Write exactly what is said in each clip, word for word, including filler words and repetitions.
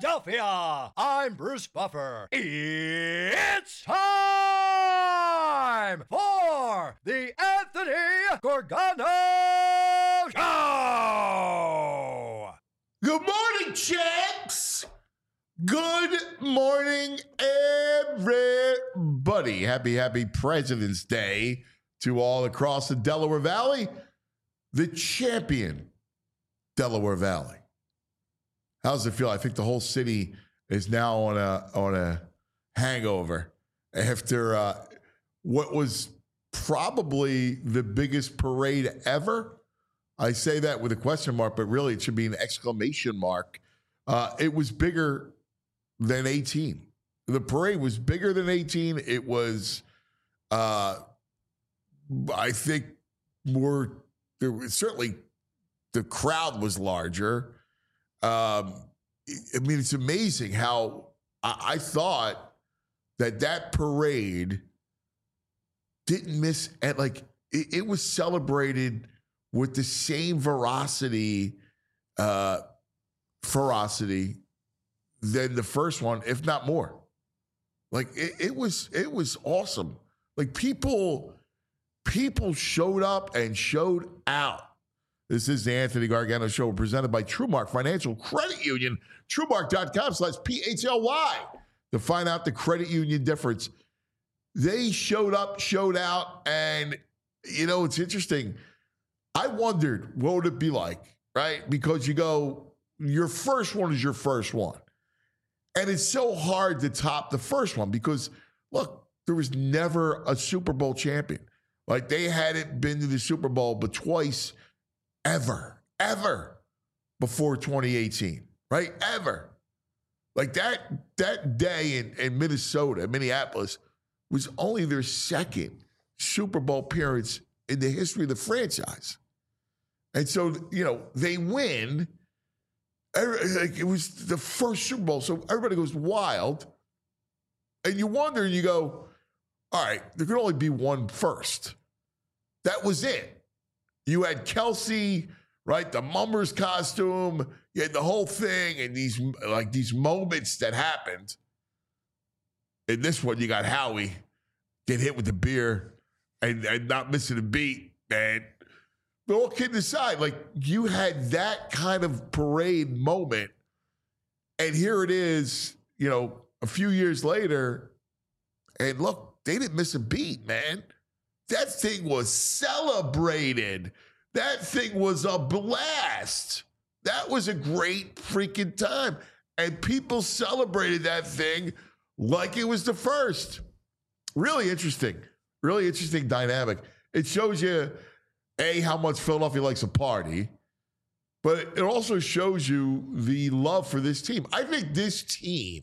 Philadelphia. I'm Bruce Buffer. It's time for the Anthony Gorgano Show. Good morning, champs. Good morning, everybody. Happy, happy President's Day to all across the Delaware Valley. The champion Delaware Valley. How does it feel? I think the whole city is now on a on a hangover after uh, what was probably the biggest parade ever. I say that with a question mark, but really it should be an exclamation mark. Uh, it was bigger than eighteen. The parade was bigger than eighteen. It was, uh, I think, more. There was certainly the crowd was larger. Um, I mean, it's amazing how I, I thought that that parade didn't miss at like it, it was celebrated with the same veracity, uh, ferocity than the first one, if not more. Like it, it was, it was awesome. Like people, people showed up and showed out. This is the Anthony Gargano Show presented by TrueMark Financial Credit Union, TrueMark.com slash P H L Y to find out the credit union difference. They showed up, showed out, and, you know, it's interesting. I wondered, what would it be like, right? Because you go, your first one is your first one. And it's so hard to top the first one because, look, there was never a Super Bowl champion. Like, they hadn't been to the Super Bowl but twice ever, ever before twenty eighteen, right? Ever. Like that that day in, in Minnesota, Minneapolis, was only their second Super Bowl appearance in the history of the franchise. And so, you know, they win. Like it was the first Super Bowl, so everybody goes wild. And you wonder, and you go, all right, there could only be one first. That was it. You had Kelsey, right? The Mummers costume. You had the whole thing and these like these moments that happened. In this one, you got Howie get hit with the beer and, and not missing a beat, man. But all kidding aside, like you had that kind of parade moment. And here it is, you know, a few years later. And look, they didn't miss a beat, man. That thing was celebrated. That thing was a blast. That was a great freaking time. And people celebrated that thing like it was the first. Really interesting. Really interesting dynamic. It shows you, A, how much Philadelphia likes a party, but it also shows you the love for this team. I think this team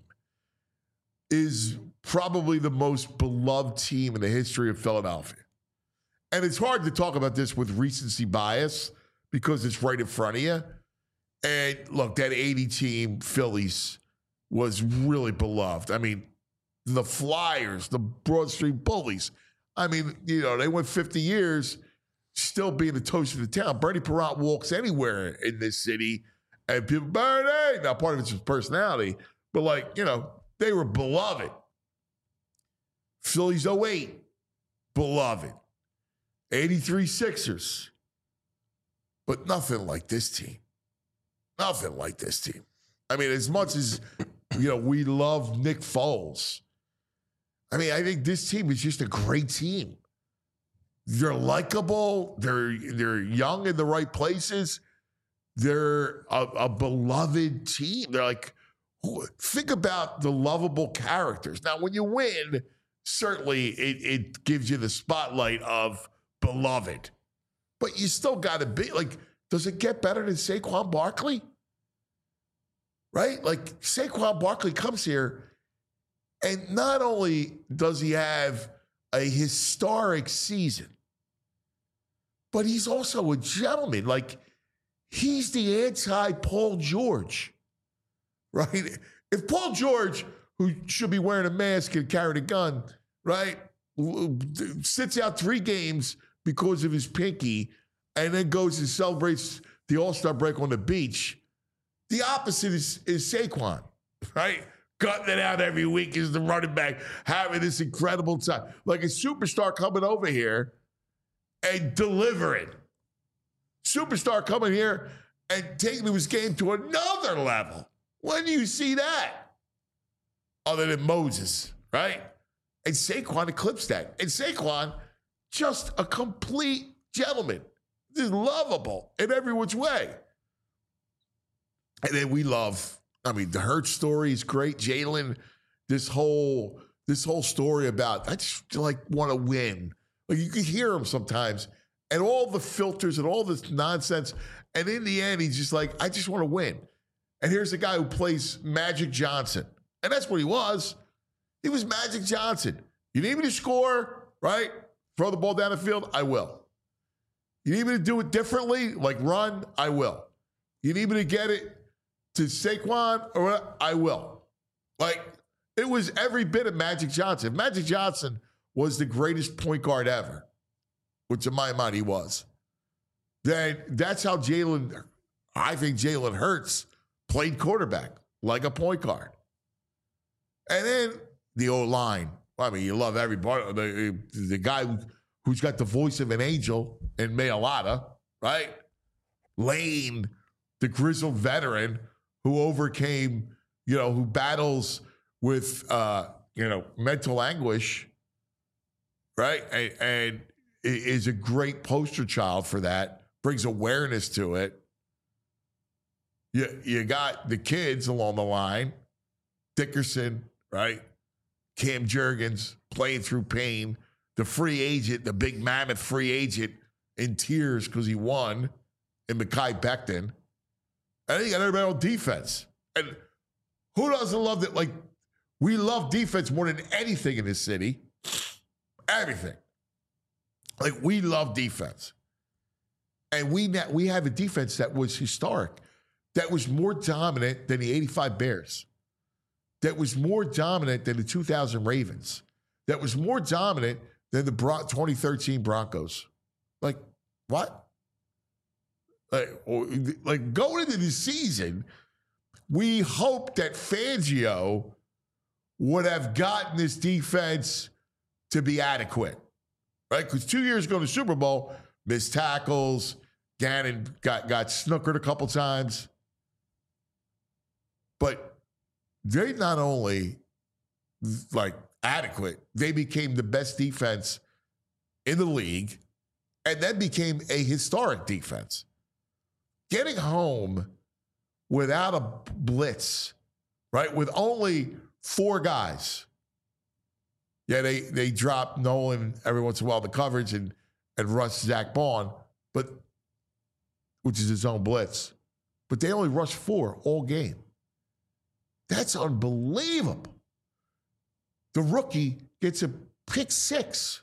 is probably the most beloved team in the history of Philadelphia. And it's hard to talk about this with recency bias because it's right in front of you. And look, that eighty team Phillies was really beloved. I mean, the Flyers, the Broad Street Bullies. I mean, you know, they went fifty years still being the toast of the town. Bernie Perrant walks anywhere in this city and people, Bernie! Now, part of it's his personality, but like, you know, they were beloved. Phillies oh eight, beloved. eighty-three Sixers. But nothing like this team. Nothing like this team. I mean, as much as, you know, we love Nick Foles, I mean, I think this team is just a great team. They're likable. They're they're young in the right places. They're a, a beloved team. They're like, think about the lovable characters. Now, when you win, certainly it, it gives you the spotlight of beloved. But you still got to be, like, does it get better than Saquon Barkley? Right? Like, Saquon Barkley comes here, and not only does he have a historic season, but he's also a gentleman. Like, he's the anti-Paul George, right? If Paul George, who should be wearing a mask and carrying a gun, right, sits out three games because of his pinky and then goes and celebrates the All-Star break on the beach, the opposite is, is Saquon. right? Cutting it out every week as the running back, having this incredible time. Like a superstar coming over here and delivering. Superstar coming here and taking his game to another level. When do you see that? Other than Moses, right? And Saquon eclipsed that. And Saquon, just a complete gentleman. Just lovable in every which way. And then we love, I mean, the Hurts story is great. Jalen, this whole, this whole story about, I just like want to win. Like you can hear him sometimes and all the filters and all this nonsense. And in the end, he's just like, I just want to win. And here's a guy who plays Magic Johnson. And that's what he was. He was Magic Johnson. You need me to score, right? Throw the ball down the field? I will. You need me to do it differently, like run? I will. You need me to get it to Saquon? Or what? I will. Like, it was every bit of Magic Johnson. Magic Johnson was the greatest point guard ever, which in my mind he was. Then that's how Jalen, I think Jalen Hurts played quarterback, like a point guard. And then the O-line. I mean, you love everybody. The, the guy who, who's got the voice of an angel in Mailata, right? Lane, the grizzled veteran who overcame, you know, who battles with, uh, you know, mental anguish, right? And, and is a great poster child for that, brings awareness to it. You, you got the kids along the line, Dickerson, right? Cam Jurgens playing through pain, the free agent, the big mammoth free agent in tears because he won, and Mekhi Becton. And then you got everybody on defense. And who doesn't love that? Like, we love defense more than anything in this city. Everything. Like, we love defense. And we we have a defense that was historic, that was more dominant than the eighty-five Bears, that was more dominant than the two thousand Ravens, that was more dominant than the Bron- twenty thirteen Broncos. Like, what? Like, like going into the season, we hoped that Fangio would have gotten this defense to be adequate, right? Because two years ago in the Super Bowl, missed tackles, Gannon got, got snookered a couple times. But they not only, like, adequate, they became the best defense in the league and then became a historic defense. Getting home without a blitz, right, with only four guys. Yeah, they they drop Nolan every once in a while, the coverage, and and rush Zach Bond, but which is his own blitz. But they only rush four all game. That's unbelievable. The rookie gets a pick six.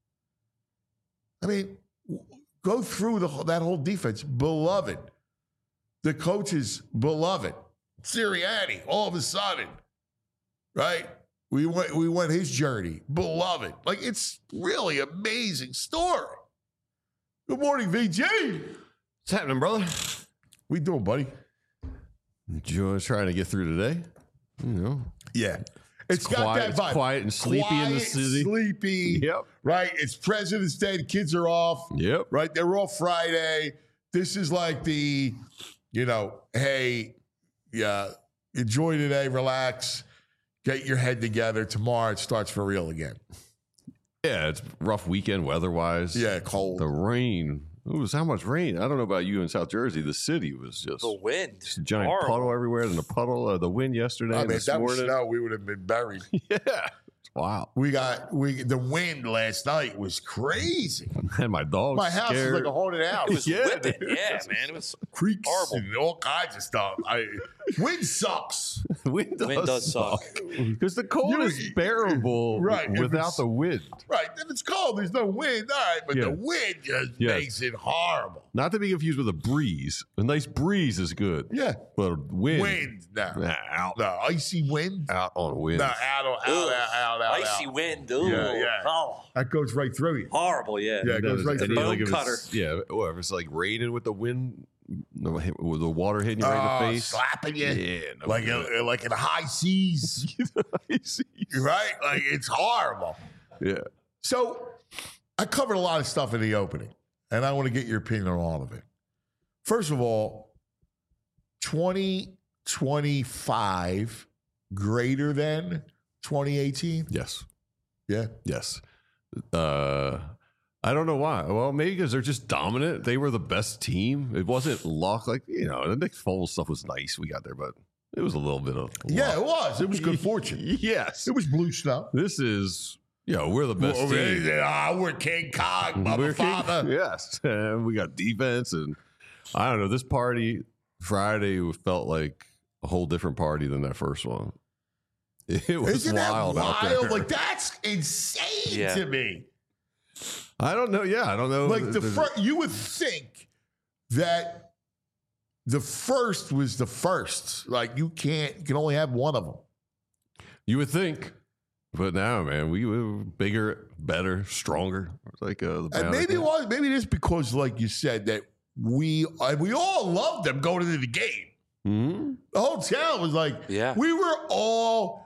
I mean, go through the, that whole defense. Beloved. The coaches, beloved. Sirianni, all of a sudden, right? We went, we went his journey. Beloved. Like, it's really amazing story. Good morning, V J. What's happening, brother? We doing, buddy? Just trying to get through today. You know. Yeah. It's, it's got quiet, that vibe. It's quiet and sleepy quiet, in the city. Sleepy. Yep. Right? It's President's Day. The kids are off. Yep. Right? They're off Friday. This is like the, you know, hey, yeah, enjoy today, relax, get your head together. Tomorrow it starts for real again. Yeah, it's a rough weekend weather-wise. Yeah, cold. The rain. It was how much rain? I don't know about you in South Jersey. The city was just the wind, just a giant horrible. puddle everywhere. And the puddle, uh, the wind yesterday. I mean, and if that morning. was snow, we would have been buried. Yeah, wow. We got we the wind last night was crazy. And my dog. My house scared. is like a haunted house. It was Yeah, whipping. dude. Yeah, man. It was Creeks horrible. and all kinds of stuff. I, wind sucks. wind does, Wind does suck. Because the cold You- is bearable Right, if without it's- the wind. Right. If it's cold, there's no wind. All right. But Yeah. the wind just Yes. makes it horrible. Not to be confused with a breeze. A nice breeze is good. Yeah. But wind. Wind. No. Nah, out, No. Icy wind. out on wind. No. Out, out, out, Ugh. out, out, out. Icy out. wind. Ooh. Yeah, yeah. Oh, That goes right through you. horrible. Yeah. Yeah, it goes right And through. even Bone like if cutter. it's, yeah, or if it's like raining with the wind with the water hitting you right Uh, in the face, slapping you. Yeah, no like good. in, like in the high seas, right? Like it's horrible. Yeah. So I covered a lot of stuff in the opening, and I want to get your opinion on all of it. First of all, twenty twenty-five greater than twenty eighteen? Yes. Yeah. Yes. Uh, I don't know why. Well, maybe because they're just dominant. They were the best team. It wasn't luck. Like, you know, the Nick Foles stuff was nice. We got there, but it was a little bit of Yeah, it luck. was. It was good fortune. Yes. It was blue snow. This is, you know, we're the best Well, team. they- ah, we're King Kong, mother We're king- father. Yes. And we got defense. And I don't know. This party Friday felt like a whole different party than that first one. It was Isn't wild, that out wild? there. Like, that's insane Yeah. to me. I don't know. Yeah, I don't know. Like, the There's- first, you would think that the first was the first. Like, you can't, you can only have one of them. You would think, but now, man, we were bigger, better, stronger. It's like uh, the And maybe it Bionic Man. was, maybe it is because, like you said, that we, and we all loved them going into the game. Mhm. The whole town was like, Yeah. we were all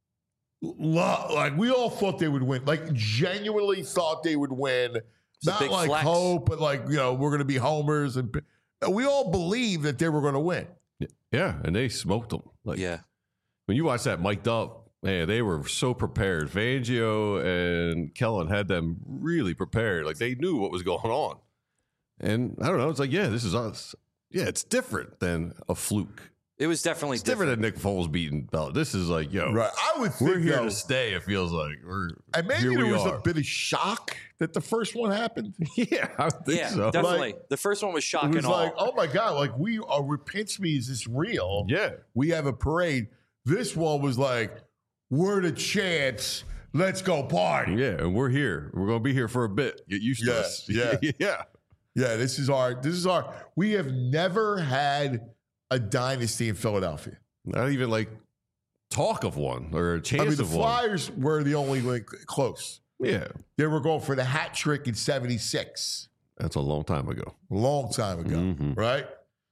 lo- like, we all thought they would win. Like, genuinely thought they would win. a Not big like flex. hope, but like, you know, we're going to be homers. And we all believed that they were going to win. Yeah, and they smoked them. Like, Yeah. when you watch that mic'd up, man, they were so prepared. Fangio and Kellen had them really prepared. Like, they knew what was going on. And I don't know. It's like, yeah, this is us. Yeah, it's different than a fluke. It was definitely It's different different. than Nick Foles beating Bell. This is like, yo, Right. I would think we're here though, to stay. It feels like we're and maybe here there we was are. a bit of shock that the first one happened. Yeah, I would think Yeah, so. definitely. the first one was It shocking. was all. like, oh my God, like we are, we pinch me, is this real? Yeah. We have a parade. This one was like, we're the chance. Let's go party. Yeah, and we're here. We're gonna be here for a bit. Get used to Yeah, us. yeah. yeah. Yeah, this is our, this is our, we have never had a dynasty in Philadelphia. Not even like talk of one or a chance I mean, the of one. Flyers were the only like, close. Yeah, They were going for the hat trick in seventy-six, that's a long time ago. a long time ago, Mhm. right?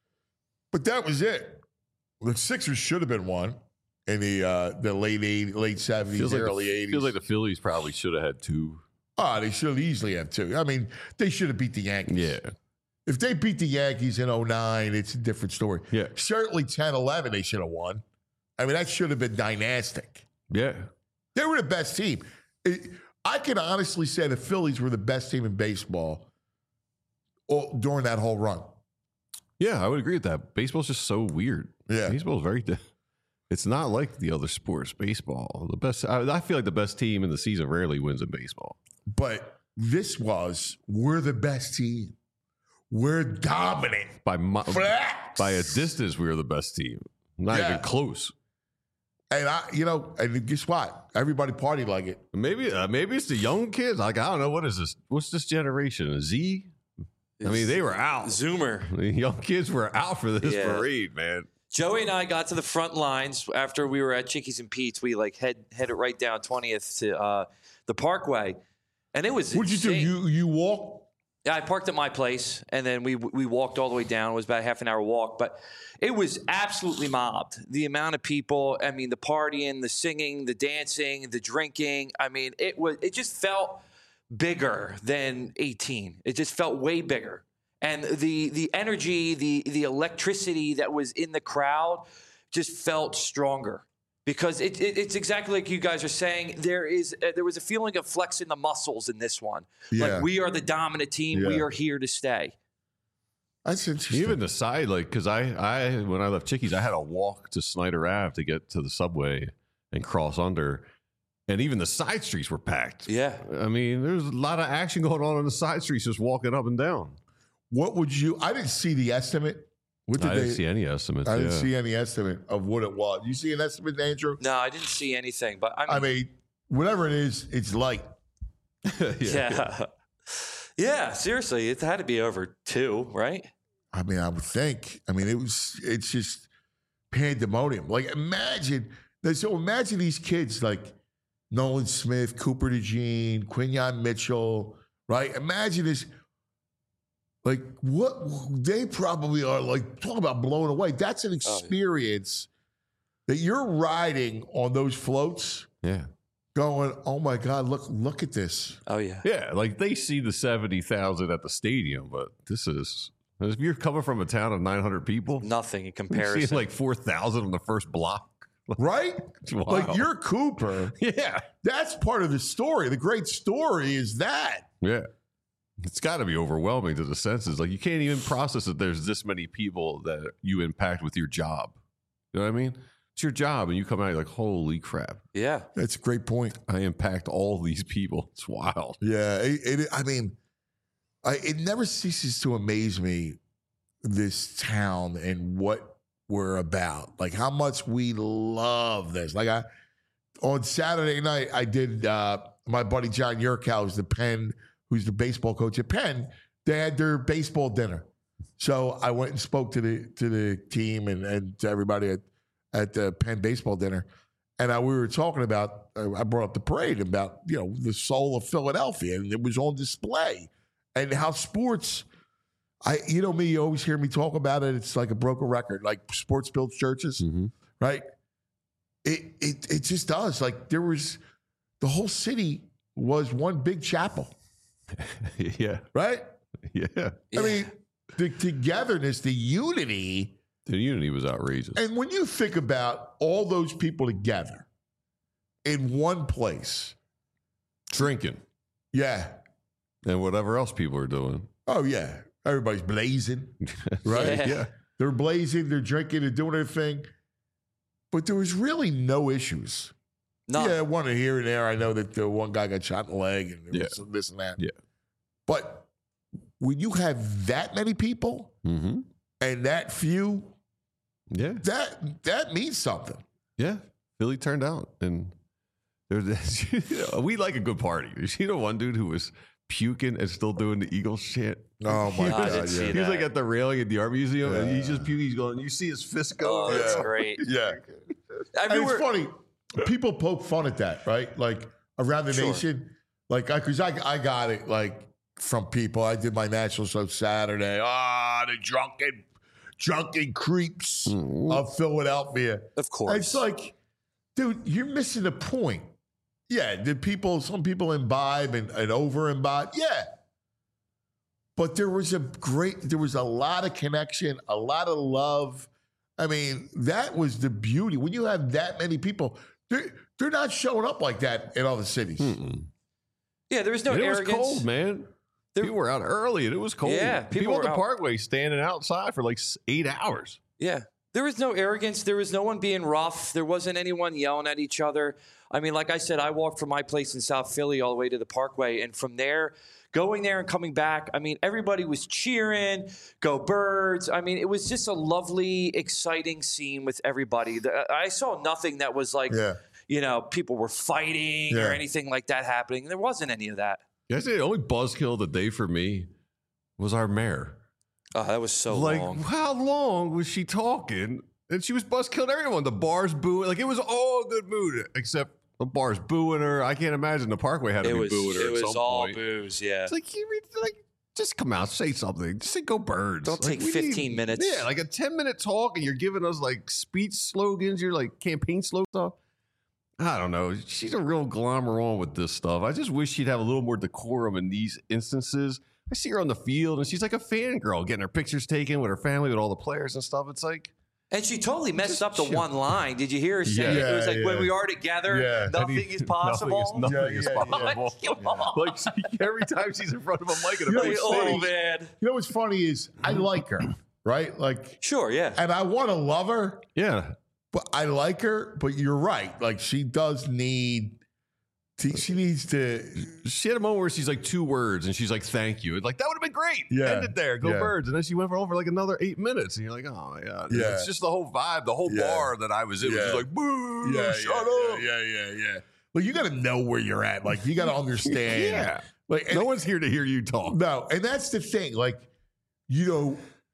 But that was it. The Sixers should have been one in the uh, the late eighties, late seventies, Feels like early the, eighties. feels like the Phillies probably should have had two. Oh, they should easily have two. I mean, they should have beat the Yankees. Yeah, If they beat the Yankees in oh nine, it's a different story. Yeah. Certainly ten eleven, they should have won. I mean, that should have been dynastic. yeah. They were the best team. It- I can honestly say the Phillies were the best team in baseball all, during that whole run. Yeah, I would agree with that. Baseball's just so weird. Yeah. Baseball's very. Di- it's not like the other sports. Baseball, the best. I, I feel like the best team in the season rarely wins in baseball. But this was, we're the best team. We're dominant. By mi- Flex. by a distance, we were the best team. Not Yeah. even close. And I, you know, and guess what? Everybody partied like it. Maybe uh, maybe it's the young kids. Like, I don't know, what is this? What's this generation? Z? I mean, they were out. Zoomer. The young kids were out for this Yeah. parade, man. Joey and I got to the front lines after we were at Chickies and Pete's. We like head headed right down twentieth to uh, the Parkway, and it was. What'd you do? insane. You you walk? Yeah, I parked at my place, and then we we walked all the way down. It was about a half an hour walk, but it was absolutely mobbed. The amount of people, I mean, the partying, the singing, the dancing, the drinking. I mean, it was it just felt bigger than eighteen. It just felt way bigger. And the the energy, the the electricity that was in the crowd just felt stronger. Because it, it, it's exactly like you guys are saying. There is uh, there was a feeling of flexing the muscles in this one. Yeah. Like, we are the dominant team. We Yeah. are here to stay. That's interesting. Even the side, like, because I, I, when I left Chickies, I had to walk to Snyder Ave to get to the subway and cross under. And even the side streets were packed. Yeah. I mean, there's a lot of action going on on the side streets just walking up and down. What would you? I didn't see the estimate. What did I they? didn't see any estimates. I didn't yeah. see any estimate of what it was. You see an estimate, Andrew? No, I didn't see anything. But I mean, I mean, whatever it is, it's light. yeah. yeah. Yeah, seriously. It had to be over two, right? I mean, I would think. I mean, it was. It's just pandemonium. Like, imagine. So imagine these kids like Nolan Smith, Cooper DeJean, Quinyon Mitchell, right? Imagine this. Like what they probably are like, talk about blown away. That's an experience that you're riding on those floats Yeah. going, oh my God, look, look at this. Oh yeah. Yeah. Like they see the seventy thousand at the stadium, but this is, if you're coming from a town of nine hundred people, Nothing in you're comparison. seeing like four thousand on the first block. Right? Wow. Like you're Cooper. Yeah. That's part of the story. The great story is that. Yeah. It's got to be overwhelming to the senses. Like you can't even process that there's this many people that you impact with your job. You know what I mean? It's your job and you come out, you're like, holy crap. yeah. That's a great point. I impact all these people. It's wild. Yeah. It, it, I mean, I, it never ceases to amaze me, this town and what we're about. Like how much we love this. Like I, on Saturday night, I did, uh, my buddy John Yurkow is the Penn, who's the baseball coach at Penn. They had their baseball dinner. So I went and spoke to the to the team and, and to everybody at, at the Penn baseball dinner. And I, we were talking about, uh, I brought up the parade about, you know, the soul of Philadelphia. And it was on display. And how sports, I you know me, you always hear me talk about it. It's like a broken record, like sports builds churches, Mm-hmm. right? It, it, it just does. Like there was, the whole city was one big chapel. Yeah. Right? Yeah. I mean, the togetherness, the unity. The unity was outrageous. And when you think about all those people together in one place, Drinking yeah. and whatever else people are doing. Oh, yeah. Everybody's blazing, right? Yeah. Yeah. They're blazing, they're drinking, they're doing their thing. But there was really no issues. No. Yeah, one here and there. I know that the one guy got shot in the leg and there Yeah. was some this and that. Yeah. But when you have that many people Mm-hmm. and that few, Yeah. that that means something. Yeah. Philly turned out. And there's we like a good party. You see the one dude who was puking and still doing the Eagles chant? Oh my I God! didn't see Yeah. He was that. like at the railing at the art museum and he's Yeah. just puking. He's going, you see his fist go. Oh, that's Yeah. great. yeah. I And mean, it's we're- funny. People poke fun at that, right? Like around the Sure. nation. Like, because I, I got it, like, from people. I did my national show Saturday. Ah, the drunken, drunken creeps Mhm. of Philadelphia. Of course. It's like, dude, you're missing the point. Yeah, did people, some people imbibe and, and over imbibe? Yeah. But there was a great, there was a lot of connection, a lot of love. I mean, that was the beauty. When you have that many people, they're, they're not showing up like that in other cities. Mm-mm. yeah, there was no And it was arrogance. cold, man. There- people were out early and it was cold. Yeah, people, people at were the out- Parkway standing outside for like s- eight hours. Yeah. There was no arrogance. There was no one being rough. There wasn't anyone yelling at each other. I mean, like I said, I walked from my place in South Philly all the way to the Parkway. And from there, going there and coming back, I mean, everybody was cheering, go Birds. I mean, it was just a lovely, exciting scene with everybody. The- I saw nothing that was like, Yeah. you know, people were fighting Yeah. or anything like that happening. There wasn't any of that. Yeah, I say the only buzzkill of the day for me was our mayor. Oh, that was so like, long. how long was she talking? And she was buzzkilling everyone. The bar's booing. Like, it was all good mood, except the bar's booing her. I can't imagine the Parkway had to It be was, booing her it at was some all point. booze, yeah. It's like, you read, like, just come out, say something. Just say go Birds. Don't Like, take we fifteen minutes. Yeah, like a ten minute talk, and you're giving us like speech slogans. You're like campaign slogan stuff. I don't know. She's a real glommer on with this stuff. I just wish she'd have a little more decorum in these instances. I see her on the field, and she's like a fangirl, getting her pictures taken with her family, with all the players and stuff. It's like, And she totally messed Just up the chill. one line. Did you hear her say Yeah. it? It was like, Yeah, when yeah. we are together, Yeah. nothing is possible. Nothing is, nothing Yeah, is yeah, yeah. possible. Come on. Like she, every time she's in front of a mic in a You know, big it's Oh, funny. man. You know what's funny is I like her, right? Like, Sure, yeah. and I want to love her, Yeah. but I like her. But you're right. Like, she does need. to- She needs to. She had a moment where she's like two words and she's like, thank you. Like, that would have been great. Yeah. End it there. Go Yeah. Birds. And then she went for over like another eight minutes. And you're like, oh my God. Yeah. It's just the whole vibe. The whole Yeah. bar that I was in was Yeah. just like, boo, Yeah, shut yeah, up. yeah, yeah, yeah. Well, you got to know where you're at. Like, you got to understand. Yeah. Like, and, No one's here to hear you talk. no, and that's the thing. Like, you know,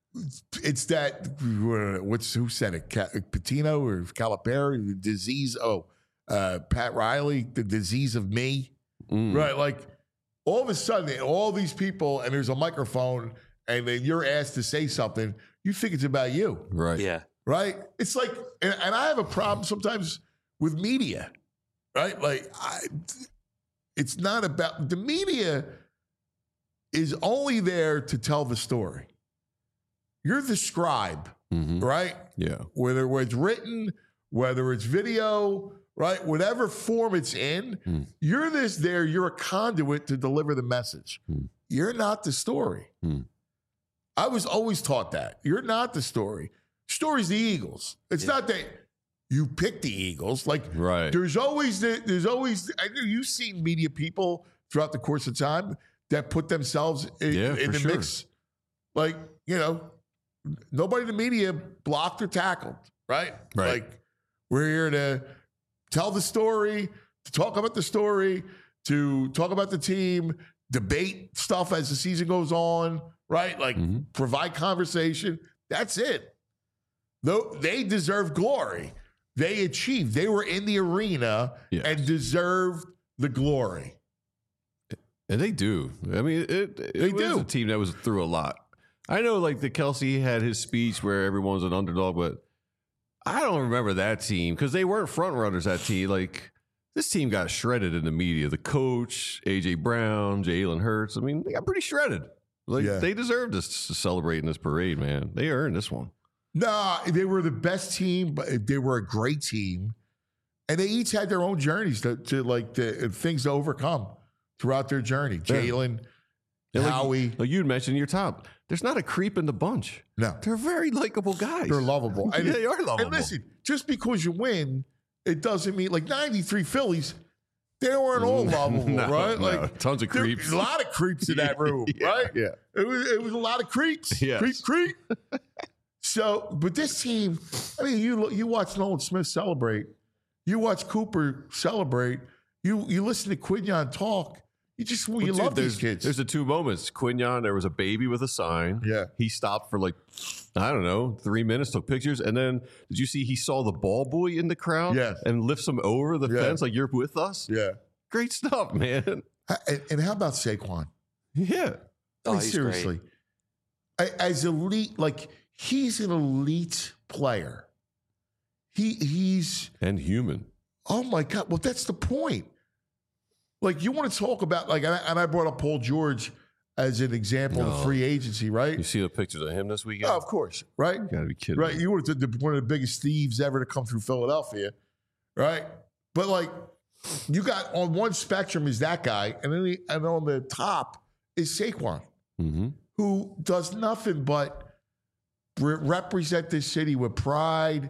it's that. What's who said it? Ca- Patino or Calipari? The disease. Oh, uh, Pat Riley. The disease of me. Mm. Right. Like, all of a sudden, all these people, and there's a microphone, and then you're asked to say something, you think it's about you, Right. Yeah. right? It's like, and, and I have a problem sometimes with media, right? Like, I, it's not about, the media is only there to tell the story. You're the scribe, Mhm. right? Yeah. Whether it's written, whether it's video, right? Whatever form it's in, Mm. you're this there, you're a conduit to deliver the message. Mm. You're not the story. Mm. I was always taught that. You're not the story. Story's the Eagles. It's Yeah. not that you pick the Eagles. Like, Right. there's always the, there's always I know you've seen media people throughout the course of time that put themselves in, Yeah, in for the sure. mix. Like, you know, nobody in the media blocked or tackled, right? Right. Like, we're here to tell the story, to talk about the story, to talk about the team, debate stuff as the season goes on, right? Like, Mhm. provide conversation. That's it. Though they deserve glory. They achieved. They were in the arena Yes. and deserved the glory. And they do. I mean, it, it They was do. a team that was through a lot. I know, like, the Kelsey had his speech where everyone's an underdog, but I don't remember that team because they weren't front runners. That team, like, this team got shredded in the media. The coach, A J Brown, Jalen Hurts. I mean, they got pretty shredded. Like, Yeah. they deserved to s- celebrate in this parade, man. They earned this one. Nah, they were the best team, but they were a great team. And they each had their own journeys to, to like, the things to overcome throughout their journey. Yeah. Jalen, And like- Howie. Like you mentioned in your top, there's not a creep in the bunch. No, They're very likable guys. they're lovable. Yeah, they are lovable. And listen, just because you win, it doesn't mean, like, ninety-three Phillies, they weren't all lovable, No, right? no, Like, tons of there- creeps. A lot of creeps in that room, Yeah, right? yeah. It was, it was a lot of creeps. Yes. Creep, creep. So, but this team, I mean, you look- you watch Nolan Smith celebrate, you watch Cooper celebrate, you you listen to Quignon talk. You just you Well, dude, love there's, these kids. There's the two moments. Quignon, there was a baby with a sign. Yeah. He stopped for like, I don't know, three minutes, took pictures. And then did you see he saw the ball boy in the crowd? Yes. And lifts him over the Yeah. fence like, you're with us? yeah. Great stuff, man. Ha- And, and how about Saquon? Yeah. Oh, I mean, he's seriously, A- as elite, like he's an elite player. He he's And human. oh my god. Well, that's the point. Like you want to talk about like, and I, and I brought up Paul George as an example No. of free agency, right? You see the pictures of him this weekend? Oh, of course, right? You gotta be kidding. Right. me. You were the, the, one of the biggest thieves ever to come through Philadelphia, right? But like, you got on one spectrum is that guy, and then the, and on the top is Saquon, Mhm. who does nothing but re- represent this city with pride,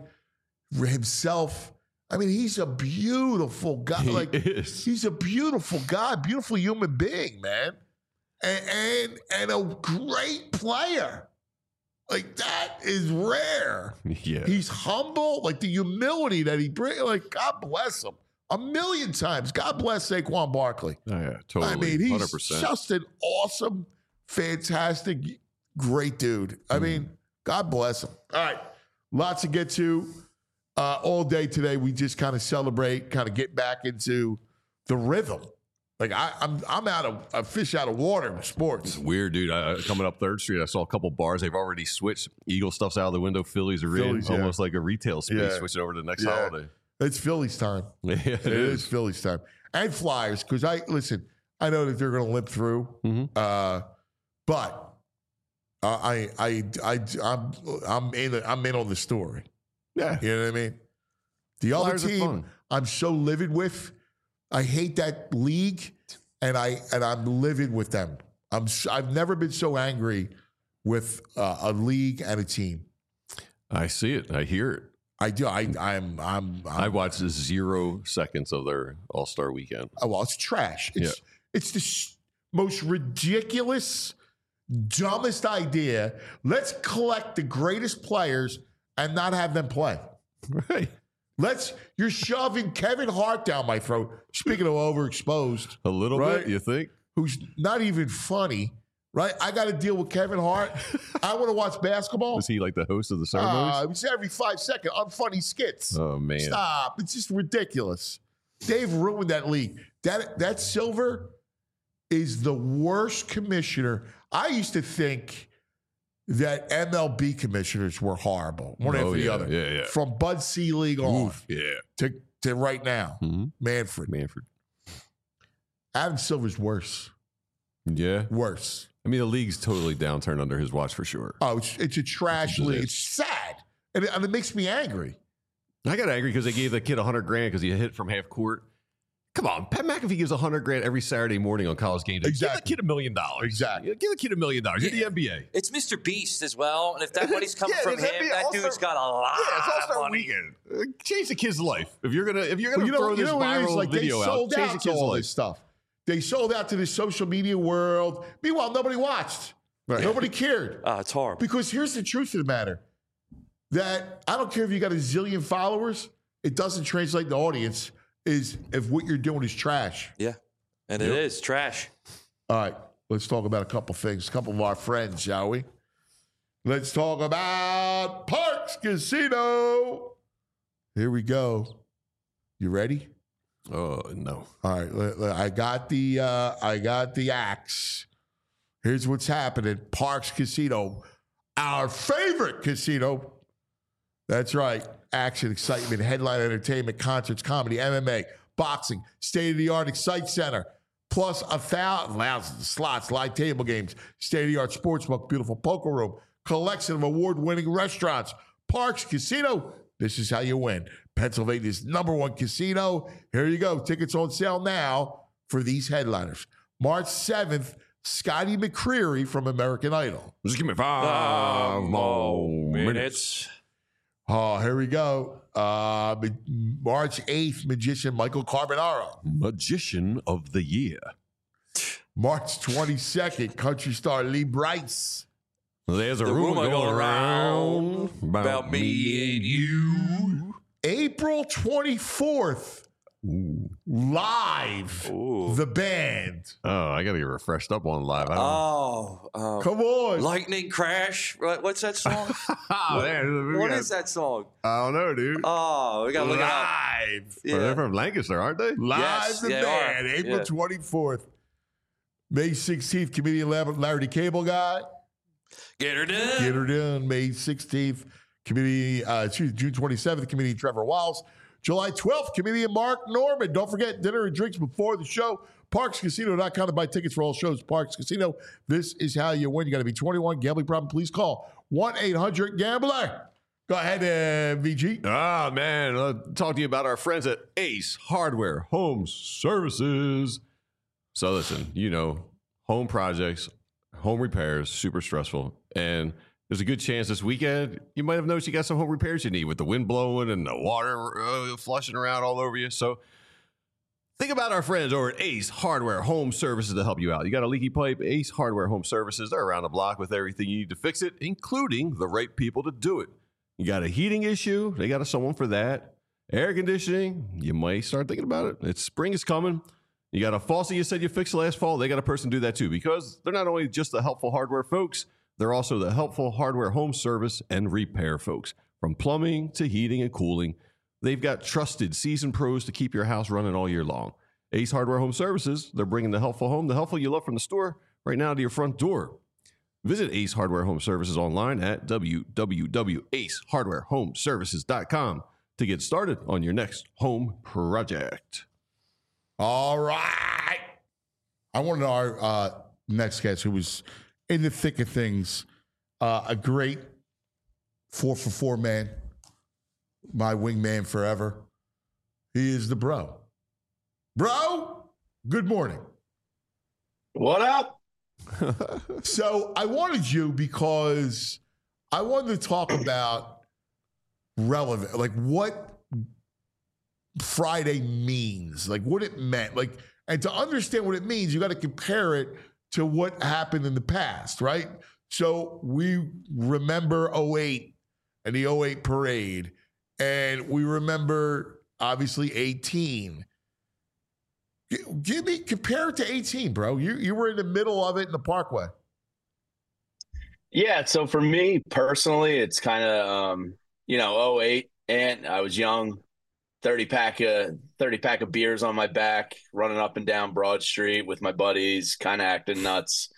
himself. I mean, he's a beautiful guy. He like is. he's a beautiful guy, beautiful human being, man, and and, and a great player. Like that is rare. Yeah. He's humble, like the humility that he brings. Like God bless him a million times. God bless Saquon Barkley. Oh, yeah, totally. I mean, he's one hundred percent. just an awesome, fantastic, great dude. I mean, God bless him. All right, lots to get to. Uh, all day today, we just kind of celebrate, kind of get back into the rhythm. Like I, I'm, I'm out of a fish out of water with sports. Weird, dude. I, coming up Third Street, I saw a couple bars. They've already switched. Eagle stuff's out of the window. Phillies are Phillies, in. yeah. Almost like a retail space, Yeah. switching over to the next Yeah. holiday. It's Phillies time. Yeah, it It is is. Phillies time and Flyers because I listen. I know that they're going to limp through, Mhm. uh, but uh, I, I, I, I'm, I'm in. I'm in on the story. Yeah. You know what I mean? The other Flyers are team, fun. I'm so livid with. I hate that league, and I and I'm livid with them. I'm. s- I've never been so angry with uh, a league and a team. I see it. I hear it. I do. I. I'm. I'm. I I'm watched zero seconds of their All Star weekend. oh, well, it's trash. It's it's the s- most ridiculous, dumbest idea. Let's collect the greatest players and not have them play. Right. Let's. You're shoving Kevin Hart down my throat. Speaking of overexposed, A little Right. bit, you think? who's not even funny, right? I got to deal with Kevin Hart. I want to watch basketball. Was he like the host of the ceremonies? Uh, it's every five second unfunny skits. oh, man. Stop! It's just ridiculous. They've ruined that league. That that Silver is the worst commissioner. I used to think that M L B commissioners were horrible, one Oh, after the yeah, other. yeah, yeah. From Bud Selig on Oof, yeah. to, to right now, Mhm. Manfred. Manfred. Adam Silver's worse. Yeah. Worse. I mean, the league's totally downturned under his watch for sure. Oh, it's, it's a trash It's a league. It's sad. And it, and it makes me angry. I got angry because they gave the kid a hundred grand because he hit from half court. Come on, Pat McAfee gives a hundred grand every Saturday morning on college game day. Exactly. Give the kid a million dollars. Exactly. Yeah, give the kid a million dollars. You're the N B A. It's Mister Beast as well, and if that money's coming Yeah, from it's him, N B A that All-Star- dude's got a lot Yeah, it's All of Star money. Weekend. Uh, Change the kid's life. If you're gonna, if you're gonna Well, you know, throw you this know what it is? viral Like, they video out, sold change the out to kid's all life. this stuff. They sold out to the social media world. Meanwhile, nobody watched. Right. Nobody cared. Uh, it's horrible. Because here's the truth of the matter. That I don't care if you got a zillion followers, it doesn't translate to audience is if what you're doing is trash. Yeah, and it is trash. All right, let's talk about a couple things. A couple of our friends, shall we? Let's talk about Parks Casino. Here we go. You ready? Oh no. All right, l- l- I got the uh, I got the axe. Here's what's happening. Parks Casino, our favorite casino. That's right. Action, excitement, headline entertainment, concerts, comedy, M M A, boxing, state-of-the-art Excite Center, plus a thousand thousands of slots, live table games, state-of-the-art sportsbook, beautiful poker room, collection of award-winning restaurants. Parks Casino, this is how you win. Pennsylvania's number one casino. Here you go. Tickets on sale now for these headliners. March seventh, Scotty McCreery from American Idol. Just give me five more minutes. Oh, here we go. Uh, Ma- March eighth, magician Michael Carbonaro. Magician of the year. March twenty-second, country star Lee Brice. There's a The rumor rumor going going around around about me and you. April twenty-fourth, Ooh. live, Ooh. the band. Oh, I got to get refreshed up on live. I don't Oh, um, Come on. Lightning Crash. What- What's that song? Oh, man, we What got- is that song? I don't know, dude. Oh, we gotta look it up. Live. Well, they're Yeah. from Lancaster, aren't they? Live, Yes, the they band. are. April Yeah. twenty-fourth. May sixteenth, comedian Larry Larry the Cable Guy. Get her done. Get her done. May sixteenth, comedian, uh, excuse me, June twenty-seventh, comedian Trevor Wiles. July twelfth, comedian Mark Norman. Don't forget dinner and drinks before the show. Parks Casino dot com to buy tickets for all shows. Parks Casino. This is how you win. You got to be twenty-one. Gambling problem, please call one eight hundred gambler. Go ahead, uh, V G. Ah, man. I'll talk to you about our friends at Ace Hardware Home Services. So listen, you know, home projects, home repairs, super stressful. And there's a good chance this weekend you might have noticed you got some home repairs you need with the wind blowing and the water uh, flushing around all over you. So think about our friends over at Ace Hardware Home Services to help you out. You got a leaky pipe? Ace Hardware Home Services, they're around the block with everything you need to fix it, including the right people to do it. You got a heating issue? They got someone for that. Air conditioning? You might start thinking about it. It's spring is coming. You got a faucet you said you fixed last fall? They got a person do that too, because they're not only just the helpful hardware folks, they're also the helpful hardware home service and repair folks. From plumbing to heating and cooling, they've got trusted seasoned pros to keep your house running all year long. Ace Hardware Home Services, they're bringing the helpful home, the helpful you love from the store, right now to your front door. Visit Ace Hardware Home Services online at w w w dot ace hardware home services dot com to get started on your next home project. All right. I wanted our uh, next guest, who was in the thick of things, uh, a great four for four man, my wingman forever. He is the bro. Bro, good morning. What up? So I wanted you because I wanted to talk about relevant, like what Friday means, like what it meant, like, and to understand what it means, you got to compare it to what happened in the past, right? So we remember oh eight and the oh eight parade, and we remember obviously eighteen. G- Give me, compare it to eighteen, bro. You you were in the middle of it in the Parkway. Yeah, so for me personally, it's kind of um, you know, oh eight, and I was young, thirty pack of thirty pack of beers on my back, running up and down Broad Street with my buddies, kind of acting nuts.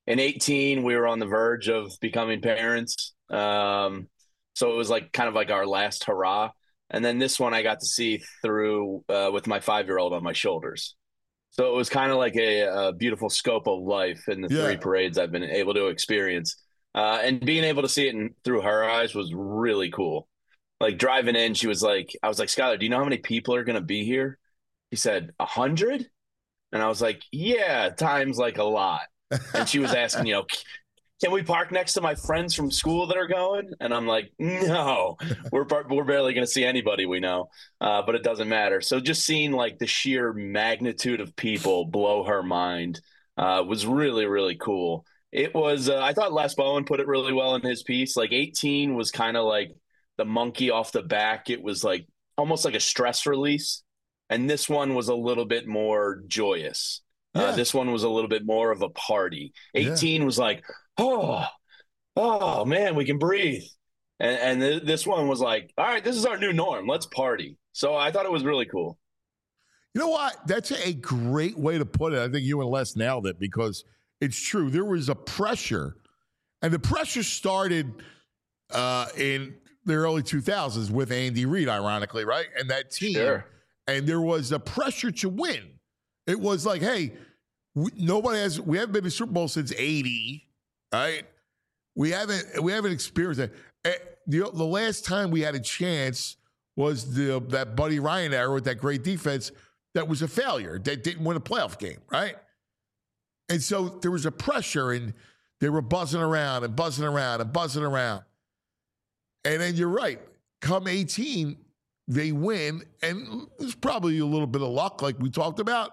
in eighteen, we were on the verge of becoming parents. Um, so it was like kind of like our last hurrah. And then this one I got to see through uh, with my five-year-old on my shoulders. So it was kind of like a, a beautiful scope of life in the Yeah. three parades I've been able to experience. Uh, and being able to see it in, through her eyes was really cool. Like driving in, she was like, I was like, Skylar, do you know how many people are going to be here? He said, a hundred? And I was like, yeah, times like a lot. And she was asking, you know, can we park next to my friends from school that are going? And I'm like, no, we're we're barely going to see anybody we know, uh, but it doesn't matter. So just seeing like the sheer magnitude of people blow her mind uh, was really, really cool. It was, uh, I thought Les Bowen put it really well in his piece. Like eighteen was kind of like the monkey off the back. It was like almost like a stress release. And this one was a little bit more joyous. Yeah. Uh, this one was a little bit more of a party. eighteen yeah. was like, oh, oh man, we can breathe. And, and th- this one was like, all right, this is our new norm. Let's party. So I thought it was really cool. You know what? That's a great way to put it. I think you and Les nailed it because it's true. There was a pressure, and the pressure started uh, in the early two thousands with Andy Reid, ironically, right? And that team. Sure. And there was a pressure to win. It was like, hey, we, nobody has, we haven't been to Super Bowl since eighty, right? We haven't, we haven't experienced that. The, the last time we had a chance was the that Buddy Ryan era with that great defense that was a failure, that didn't win a playoff game, right? And so there was a pressure, and they were buzzing around and buzzing around and buzzing around. And then you're right. Come eighteen, they win, and there's probably a little bit of luck, like we talked about.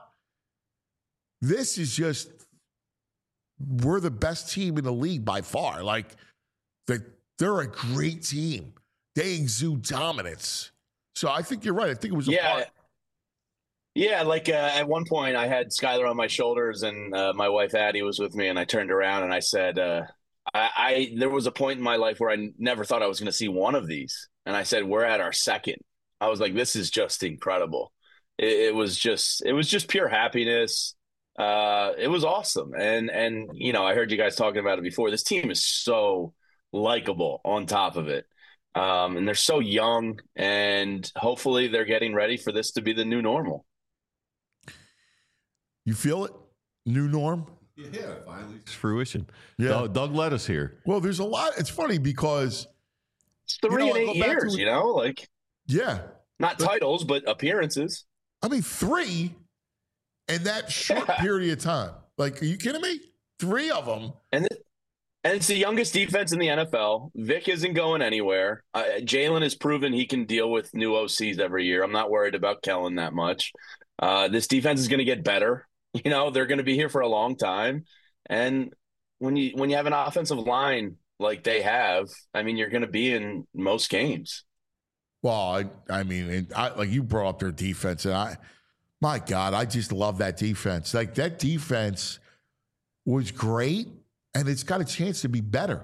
This is just, we're the best team in the league by far. Like, the, they're a great team. They exude dominance. So I think you're right. I think it was a yeah. part. Yeah, like uh, at one point I had Skylar on my shoulders, and uh, my wife Addie was with me, and I turned around and I said, uh, I, I there was a point in my life where I never thought I was going to see one of these. And I said, we're at our second. I was like, this is just incredible. It, it was just, it was just pure happiness. Uh, it was awesome. And, and, you know, I heard you guys talking about it before. This team is so likable on top of it. Um, and they're so young, and hopefully they're getting ready for this to be the new normal. You feel it? New norm? Yeah, finally. It's fruition. Yeah. Doug, Doug led us here. Well, there's a lot. It's funny because It's three you know, and I eight go back years, to- you know, like yeah, not But- titles, but appearances. I mean three in that short Yeah. period of time. Like, are you kidding me? Three of them. And th- and it's the youngest defense in the N F L. Vic isn't going anywhere. Uh, Jalen has proven he can deal with new O Cs every year. I'm not worried about Kellen that much. Uh, this defense is going to get better. You know, they're going to be here for a long time. And when you when you have an offensive line like they have, I mean, you're going to be in most games. Well, I, I mean, and I, like you brought up their defense, and I, my God, I just love that defense. Like that defense was great, and it's got a chance to be better.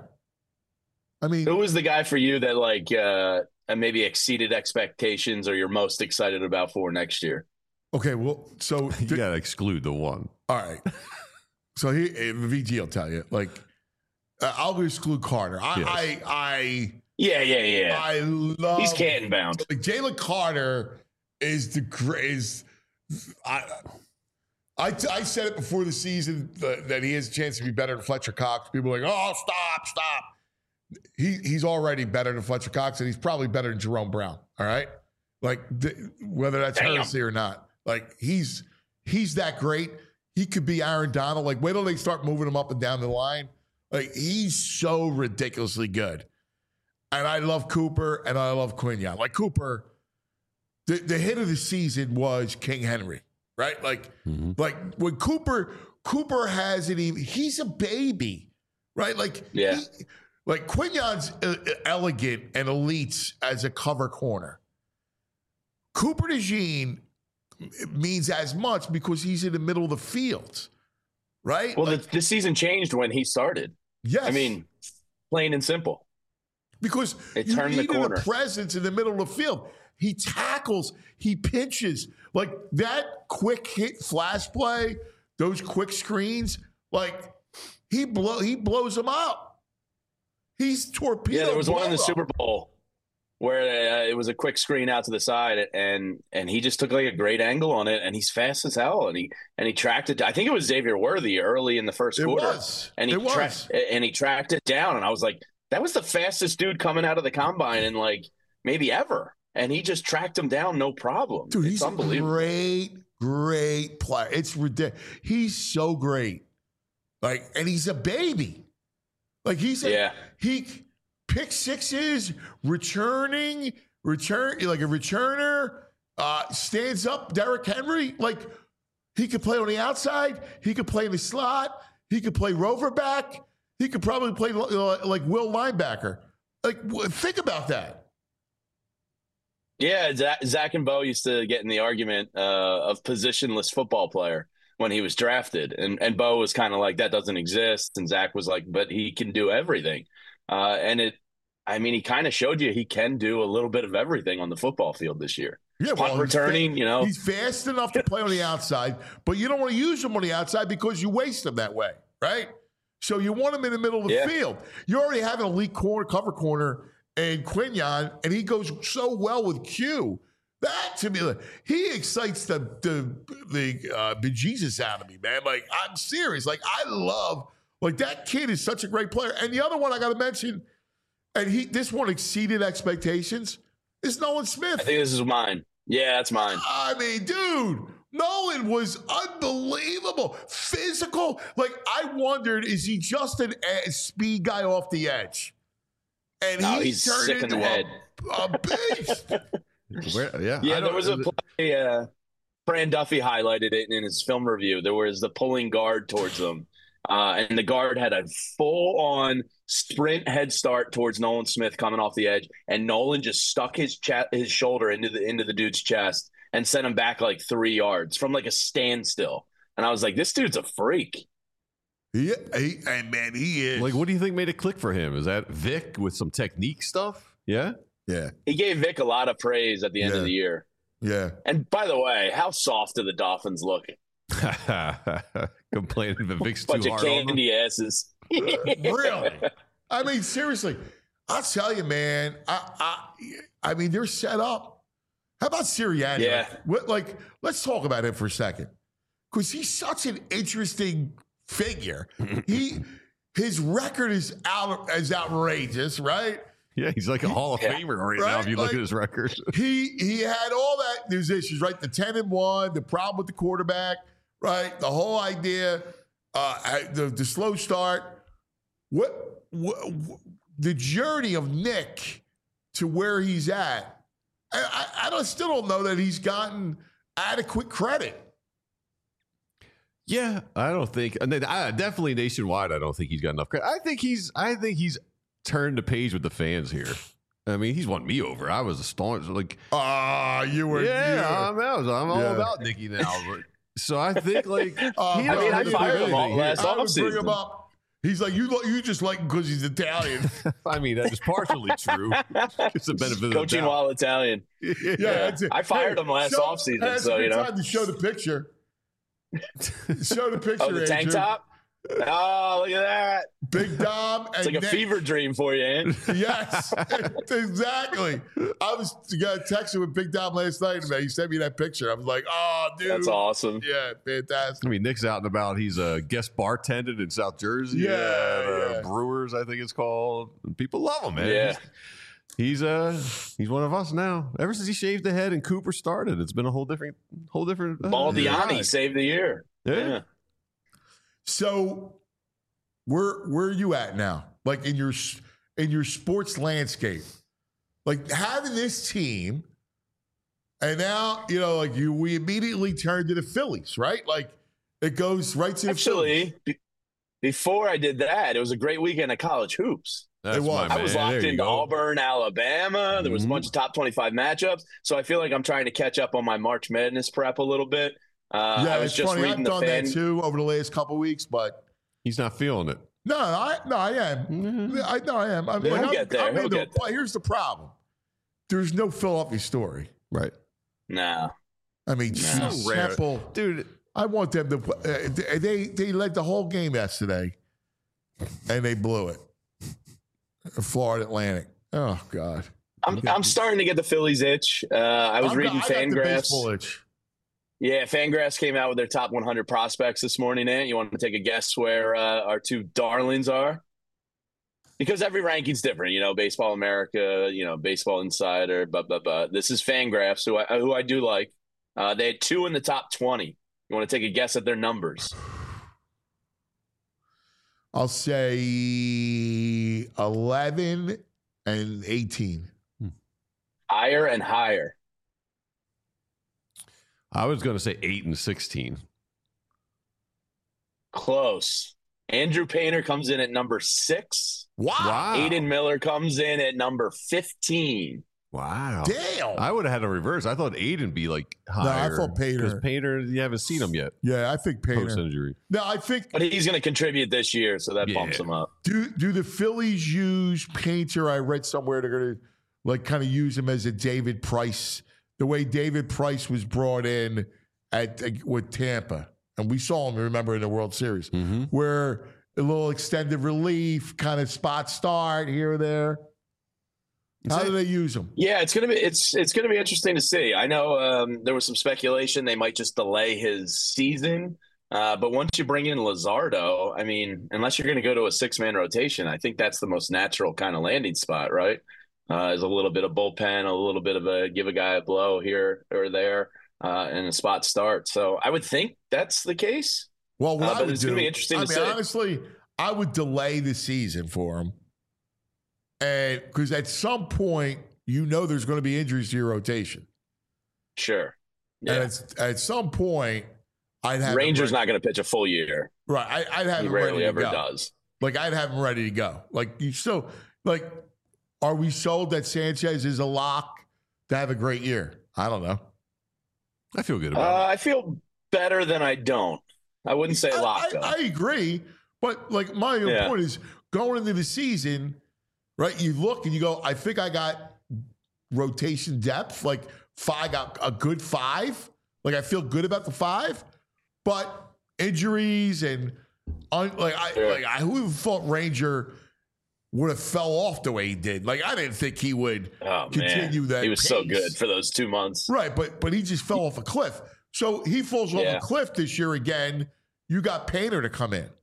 I mean, Who was the guy for you that like uh, maybe exceeded expectations, or you're most excited about for next year? okay, well, so You got to exclude the one. all right. So he, V G will tell you, like, uh, I'll exclude Carter. I, Yes. I, I, Yeah, yeah, yeah. I love. He's Canton bound. Like Jalen Carter is the greatest. I, I, I said it before the season that, that he has a chance to be better than Fletcher Cox. People are like, oh, stop, stop. He he's already better than Fletcher Cox, and he's probably better than Jerome Brown. All right, like th- whether that's Damn. heresy or not, like he's he's that great. He could be Aaron Donald. Like wait till they start moving him up and down the line. Like he's so ridiculously good. And I love Cooper and I love Quinyon. Like Cooper, the, the hit of the season was King Henry, right? Like, Mm-hmm. like when Cooper, Cooper hasn't even, he's a baby, right? Like, Yeah. he- like Quinyon's uh, elegant and elite as a cover corner. Cooper DeJean means as much because he's in the middle of the field, right? Well, like, the, this season changed when he started. yes. I mean, plain and simple. Because It you turned the needed corner. a presence in the middle of the field. He tackles, he pinches. Like that quick hit flash play, those quick screens, like he blow he blows them up. He's torpedo. Yeah, there was one in the blow-up. Super Bowl where uh, it was a quick screen out to the side, and and he just took like a great angle on it, and he's fast as hell, and he and he tracked it. I think it was Xavier Worthy early in the first It quarter, was. and he It tra- was. and he tracked it down, and I was like, that was the fastest dude coming out of the combine in like maybe ever, and he just tracked him down, no problem. Dude, it's he's a unbelievable. great, great player. It's ridiculous. He's so great. Like, and he's a baby. Like he's a, Yeah. he pick sixes, returning, return like a returner, uh, stands up. Derrick Henry, like he could play on the outside. He could play in the slot. He could play rover back. He could probably play uh, like Will linebacker. Like, w- think about that. Yeah, Zach, Zach and Bo used to get in the argument uh, of positionless football player when he was drafted, and and Bo was kind of like, that doesn't exist, and Zach was like, but he can do everything, uh, and it, I mean, he kind of showed you he can do a little bit of everything on the football field this year. Yeah, Punt he's returning, fa- you know, he's fast enough to play on the outside, but you don't want to use him on the outside because you waste him that way, right? So you want him in the middle of the Yeah. field. You already have an elite corner, cover corner, and Quinion, and he goes so well with Q. That to me, like, he excites the the the uh, bejesus out of me, man. Like, I'm serious. Like, I love like that kid is such a great player. And the other one I got to mention, and he this one exceeded expectations, is Nolan Smith. I think this is mine. Yeah, that's mine. I mean, dude, Nolan was unbelievable. Physical. Like, I wondered, is he just an a speed guy off the edge? And No, he he's turned sick in into the a, head. a beast. Where, yeah, Yeah, I there don't- was a play. Uh, Fran Duffy highlighted it in his film review. There was the pulling guard towards them, uh, and the guard had a full-on sprint head start towards Nolan Smith coming off the edge, and Nolan just stuck his cha- his shoulder into the into the dude's chest and sent him back like three yards from like a standstill. And I was like, this dude's a freak. Yeah, he, and man, he is. Like, what do you think made it click for him? Is that Vic with some technique stuff? Yeah. yeah, He gave Vic a lot of praise at the end Yeah. of the year. yeah. And by the way, how soft do the Dolphins look? Complaining that Vic's Bunch too of hard on them. candy asses. Really? I mean, seriously, I'll tell you, man. I, I, I mean, they're set up. How about Sirianni? Yeah. Like, what, like, let's talk about him for a second, because he's such an interesting figure. he, his record is out is outrageous, right? Yeah, he's like a Hall of Yeah. Famer right, now Right? if you look Like- at his record. He he had all that. There's issues, right? The ten and one, the problem with the quarterback, right? The whole idea, uh, I- the the slow start. What, what, what the journey of Nick to where he's at? I, I, I don't, still don't know that he's gotten adequate credit. Yeah, I don't think. And then, I, definitely nationwide, I don't think he's got enough credit. I think he's. I think he's turned the page with the fans here. I mean, he's won me over. I was a staunch like. Ah, you were. Yeah, you were- I'm out. I'm all Yeah. about Nicky now. But, so I think like. Uh, he I don't mean, I really fired think him all anything last here. I would bring him offseason. up. He's like, you you just like him because he's Italian. I mean, that is partially true. It's the benefit of the Coaching doubt. while Italian. Yeah, Yeah. that's it. I fired him last show- offseason, that's so, a good you know. time to show the picture. Show the picture. Oh, the tank Andrew. top? Oh, look at that. Big Dom. And It's like a Nick. fever dream for you, Ann. Yes, exactly. I was got texting with Big Dom last night, man. He sent me that picture. I was like, oh, dude. That's awesome. Yeah, fantastic. I mean, Nick's out and about. He's a guest bartender in South Jersey. Yeah, at, uh, yeah. Brewers, I think it's called. And people love him, man. Yeah. He's, he's uh he's one of us now. Ever since he shaved the head and Cooper started, it's been a whole different, whole different. Uh, Baldiani ride. saved the year. Yeah. Yeah. So, where where are you at now? Like in your in your sports landscape, like having this team, and now you know, like you, we immediately turn to the Phillies, right? Like it goes right to the Phillies. Actually, be- before I did that, it was a great weekend of college hoops. That's It was. my I man. I was There locked you into go. Auburn, Alabama. There was Mhm. a bunch of top twenty-five matchups. So I feel like I'm trying to catch up on my March Madness prep a little bit. Uh, Yeah, I was it's just funny. reading I've the done fan. that too over the last couple of weeks, but He's not feeling it. no, I no, I am. Mhm. I no, I am. I'm, He'll like, I'm- get there. I'm He'll into get it. But here's the problem: there's no Philadelphia story. Right, Nah. I mean, So rare. simple. dude. I want them to. Uh, they they led the whole game yesterday, and they blew it. Florida Atlantic. Oh God. I'm I'm starting to get the Phillies itch. Uh, I was I'm, reading I got the Fangraphs. baseball itch. Yeah, Fangraphs came out with their top one hundred prospects this morning. Ant, you want to take a guess where uh, our two darlings are? Because every ranking's different, you know. Baseball America, you know, Baseball Insider, but but but this is Fangraphs, who I who I do like. Uh, they had two in the top twenty. You want to take a guess at their numbers? I'll say eleven and eighteen. Higher and higher. I was going to say eight and sixteen. Close. Andrew Painter comes in at number six. Wow. Wow. Aiden Miller comes in at number fifteen. Wow. Damn. I would have had a reverse. I thought Aiden be like higher. thought Painter. Because Painter, you haven't seen him yet. Yeah, I think Painter. Post injury. No, I think But he's going to contribute this year, so that Yeah. bumps him up. do do the Phillies use Painter? I read somewhere they're going to like kind of use him as a David Price, the way David Price was brought in at with Tampa, and we saw him. Remember in the World Series, Mm-hmm. where a little extended relief, kind of spot start here or there. How do they use him? Yeah, it's gonna be it's it's gonna be interesting to see. I know um, there was some speculation they might just delay his season, uh, but once you bring in Luzardo, I mean, unless you're going to go to a six man rotation, I think that's the most natural kind of landing spot, right? Uh, is a little bit of bullpen, a little bit of a give a guy a blow here or there, uh, and a spot start. So I would think that's the case. Well, what Uh, I but would it's do, gonna be interesting I to mean, see. honestly, I would delay the season for him, and because at some point you know there's going to be injuries to your rotation, Sure. and Yeah. it's, at some point I'd have him Rangers ready- not going to pitch a full year. right. I, I'd have He him ready rarely to ever go. does. Like I'd have him ready to go. Like you still like. Are we sold that Sanchez is a lock to have a great year? I don't know. I feel good Uh, about I feel better than I don't. I wouldn't say I, lock I, though. I agree, but like my own Yeah. point is going into the season, right? You look and you go, I think I got rotation depth. Like five, got a good five. Like I feel good about the five, but injuries and un, like I Yeah. like I who thought Ranger would have fell off the way he did. Like I didn't think he would oh continue man, that. he was so pace. good for those two months. Right, but but he just fell off a cliff. So he falls off Yeah. a cliff this year again. You got Painter to come in.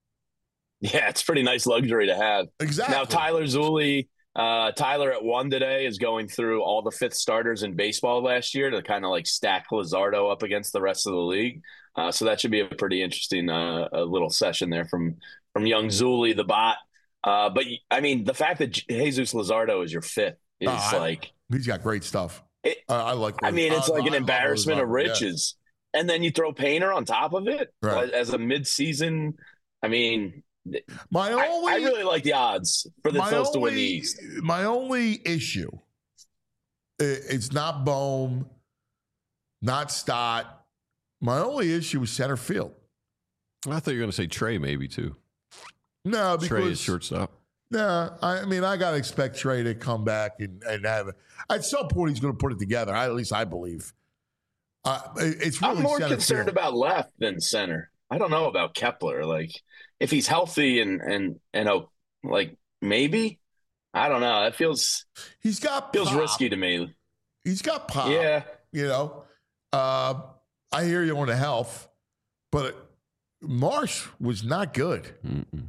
Yeah, it's a pretty nice luxury to have. Exactly. Now Tyler Zulli, uh, Tyler at one today is going through all the fifth starters in baseball last year to kind of like stack Luzardo up against the rest of the league. Uh, so that should be a pretty interesting uh, a little session there from from young Zulli, the bot. Uh, but I mean, the fact that Jesus Luzardo is your fifth is Oh, I- like, He's got great stuff. It- I, I like. I mean, it's I- like I an love embarrassment of Luzardo, yeah. riches. And then you throw Painter on top of it Right. as a mid-season. I mean, My I, only, I really like the odds for the my Phils to win the only- East. My only issue, i- it's not Bohm, not Stott. My only issue is center field. it. I thought you were going to say Trey maybe too. No, Trey is because shortstop. no, I mean I gotta expect Trey to come back and, and have it. At some point he's going to put it together. I, at least I believe. Uh, it- it's really I'm more center concerned field. about left than center. I don't know about Kepler. Like, if he's healthy and and and oh, like maybe, I don't know. That feels He's got feels pop. risky to me. He's got pop. Yeah, You know, uh, I hear you on the health, but Marsh was not good. Mm-mm.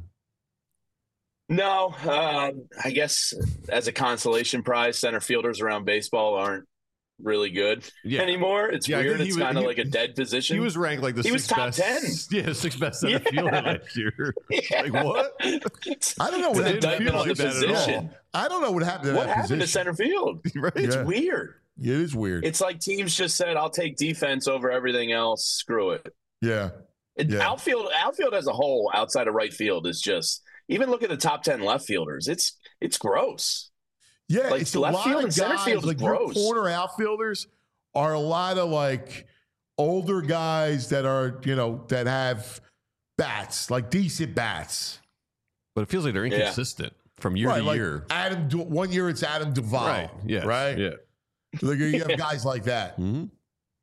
no. Uh, I guess as a consolation prize, center fielders around baseball aren't really good Yeah. anymore. It's Yeah, I weird. think he It's was- kind of he- like a dead position. He was ranked like the He was sixth top best. ten. Yeah, sixth best center Yeah. fielder last year. Yeah. Like what? I don't know It's what an happened to indictment on the feel like that at all. position. I don't know what happened to What that happened position. to center field? Right? It's Yeah. weird. It is weird. It's like teams just said, "I'll take defense over everything else. Screw it." yeah. It- Yeah. Outfield, outfield as a whole, outside of right field, is just even look at the top ten left fielders. It's it's gross. Yeah, Like, it's a left lot field of and center guys, field is like your gross. corner outfielders are a lot of like older guys that are, you know, that have bats, like decent bats. But it feels like they're Yeah. inconsistent from year right, to like year. Adam, Du- one year it's Adam Duvall. Right. Yeah. Right. Yeah. Like you have guys like that. hmm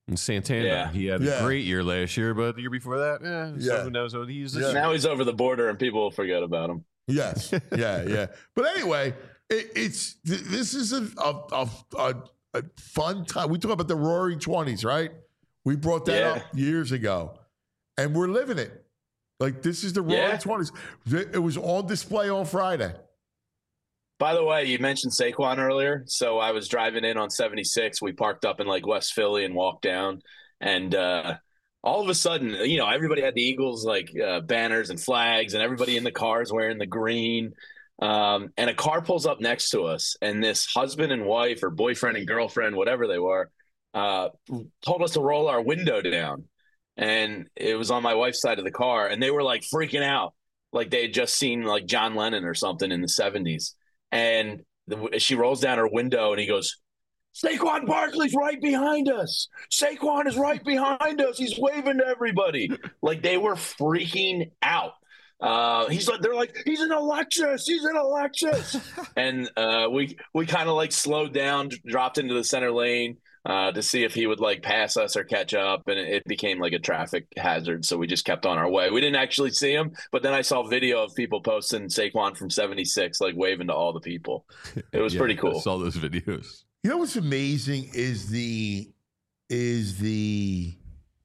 And Santana, Yeah. he had Yeah. a great year last year, but the year before that, eh, Yeah. so who knows what he's Yeah. Now he's over the border and people will forget about him. Yes. Yeah. Yeah. But anyway, it, it's th- this is a a, a a a fun time. We talk about the Roaring Twenties, right? We brought that Yeah. up years ago, and we're living it. Like this is the Roaring Yeah. Twenties. It was on display on Friday. By the way, you mentioned Saquon earlier. So I was driving in on seventy-six. We parked up in like West Philly and walked down. And uh, all of a sudden, you know, everybody had the Eagles like uh, banners and flags, and everybody in the cars wearing the green. Um, and a car pulls up next to us, and this husband and wife or boyfriend and girlfriend, whatever they were, uh, told us to roll our window down. And it was on my wife's side of the car, and they were like freaking out, like they had just seen like John Lennon or something in the seventies. And the, she rolls down her window, and he goes, Saquon Barkley's right behind us. Saquon is right behind us. He's waving to everybody. Like they were freaking out. Uh, he's like, they're like, he's in a Lexus. He's in a Lexus. And uh, we we kind of like slowed down, dropped into the center lane uh, to see if he would like pass us or catch up. And it became like a traffic hazard. So we just kept on our way. We didn't actually see him, but then I saw video of people posting Saquon from seventy-six, like waving to all the people. It was Yeah, pretty I cool. saw those videos. You know what's amazing is the is the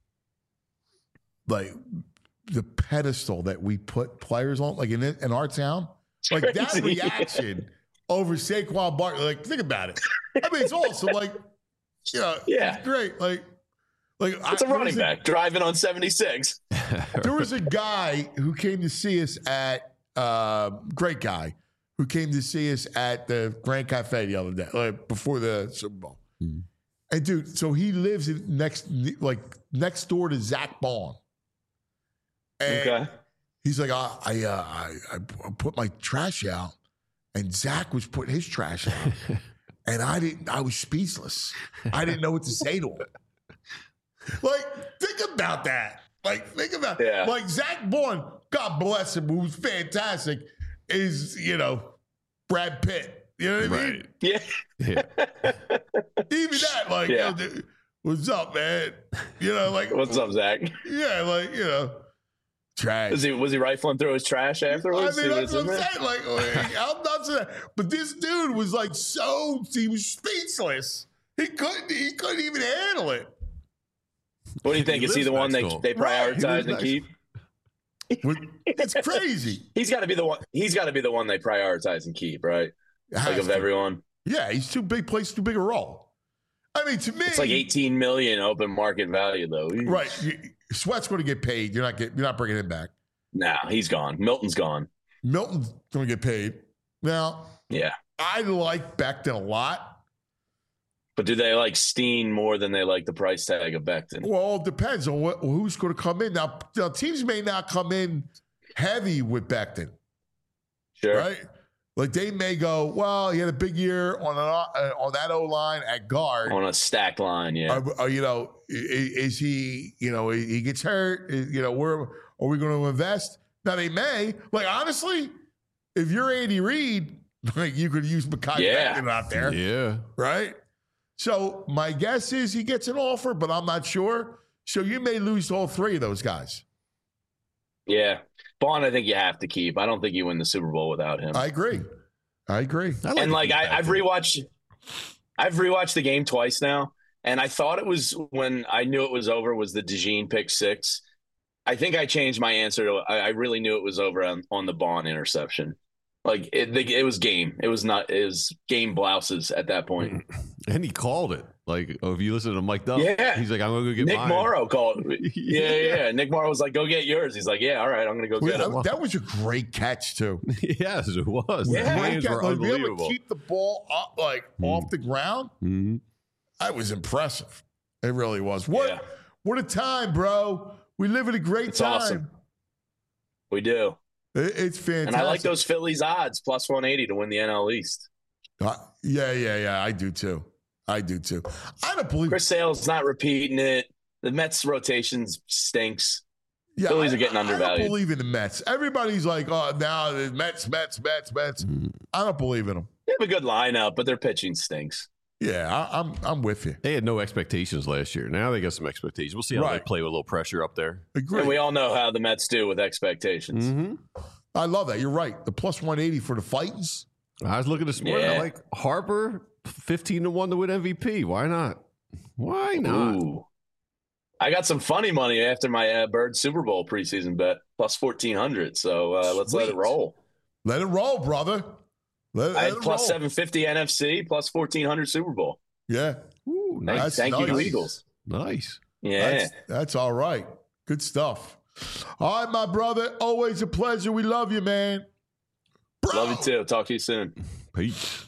like the pedestal that we put players on, like in in our town, like that Crazy. reaction over Saquon Barkley. Like, think about it. I mean, it's awesome. Like, you know, Yeah. it's great. Like, like It's a I, there running was back driving on seventy-six. There was a guy who came to see us at uh, great guy who came to see us at the Grand Cafe the other day, like before the Super Bowl. Mhm. And dude, so he lives in next, like next door to Zach Baun. And Okay. he's like, I, I, uh, I, I put my trash out, and Zach was putting his trash out, and I didn't. I was speechless. I didn't know what to say to him. Like, think about that. Like, think about Yeah. like Zach Baun, God bless him, who's fantastic, is you know Brad Pitt. You know what I mean? Right. Yeah. Yeah. Even that, like, Yeah. yo, dude, what's up, man? You know, like, What's up, Zach? yeah, like, you know, trash. Was he was he rifling through his trash afterwards? I See mean, what that's it's what in I'm there? saying. Like, like, I'm not saying that. But this dude was like so, he was speechless. He couldn't, he couldn't even handle it. What do you think? He Is he lives the one they next to him. they Right, he lives prioritize and next- keep? It's crazy. He's got to be the one. He's got to be the one they prioritize and keep, right? It Like has of to. everyone, Yeah, he's too big, plays too big a role. I mean, to me, it's like eighteen million open market value, though. right. You, Sweat's going to get paid. You're not get, you're not bringing him back. Nah, he's gone. Milton's gone. Milton's going to get paid. Now, Yeah, I like Becton a lot. but do they like Steen more than they like the price tag of Becton? Well, it depends on what, who's going to come in. Now, now, teams may not come in heavy with Becton, Sure. right? Like they may go, well, he had a big year on an, uh, on that O line at guard. On a stacked line, yeah. Are, are, you know, is, is he? You know, he gets hurt. Is- you know, where are we going to invest? Now they may. Like honestly, if you're Andy Reid, like you could use Mekhi Yeah. Becton out there, Yeah. right? So my guess is he gets an offer, but I'm not sure. So you may lose all three of those guys. Yeah. Bond, I think you have to keep. I don't think you win the Super Bowl without him. I agree. I agree. I and to like keep I, I've Becton. rewatched, I've rewatched the game twice now, and I thought it was when I knew it was over was the DeJean pick six. I think I changed my answer to I, I really knew it was over on, on the Bond interception. Like it, it was game. It was not. It was game blouses at that point. And he called it. Like, oh, if you listen to Mike Duff, Yeah. he's like, I'm going to go get Nick mine. Morrow called. Yeah, yeah, yeah. Nick Morrow was like, "Go get yours." He's like, "Yeah, all right, I'm gonna go Well, get it." that, that was a great catch too. Yes, it was. Yeah. The Great plays catch. were Like, be able to unbelievable. keep the ball up, like Mm. off the ground. Mhm. That was impressive. It really was. What? Yeah. What a time, bro. We live in a great It's time. awesome. We do, It- it's fantastic. and I like those Phillies odds plus one eighty to win the N L East. Uh, yeah, yeah, yeah. I do too. I do too. I don't believe. Chris Sale's not repeating it. The Mets rotations stinks. yeah, Phillies I- are getting I undervalued. don't believe in the Mets. Everybody's like, oh, now the Mets, Mets, Mets, Mets. Mm. I don't believe in them. They have a good lineup, but their pitching stinks. Yeah, I, I'm I'm with you. They had no expectations last year. Now they got some expectations. We'll see how they Right. play with a little pressure up there. Agree. And we all know how the Mets do with expectations. Mm-hmm. I love that. You're right. The plus one eighty for the Titans. I was looking this morning. I Yeah. like Harper, fifteen to one to win M V P. Why not? Why not? Ooh. I got some funny money after my uh, Bird Super Bowl preseason bet, plus fourteen hundred. So uh, let's let it Sweet. roll. Let it roll, brother. Let, I let had it plus roll. seven fifty N F C, plus fourteen hundred Super Bowl. Yeah, Ooh, Thank, nice. thank you to nice. Eagles. Nice. Yeah. that's, that's all right. Good stuff. All right, my brother. Always a pleasure. We love you, man. Bro. Love you too. Talk to you soon. Peace.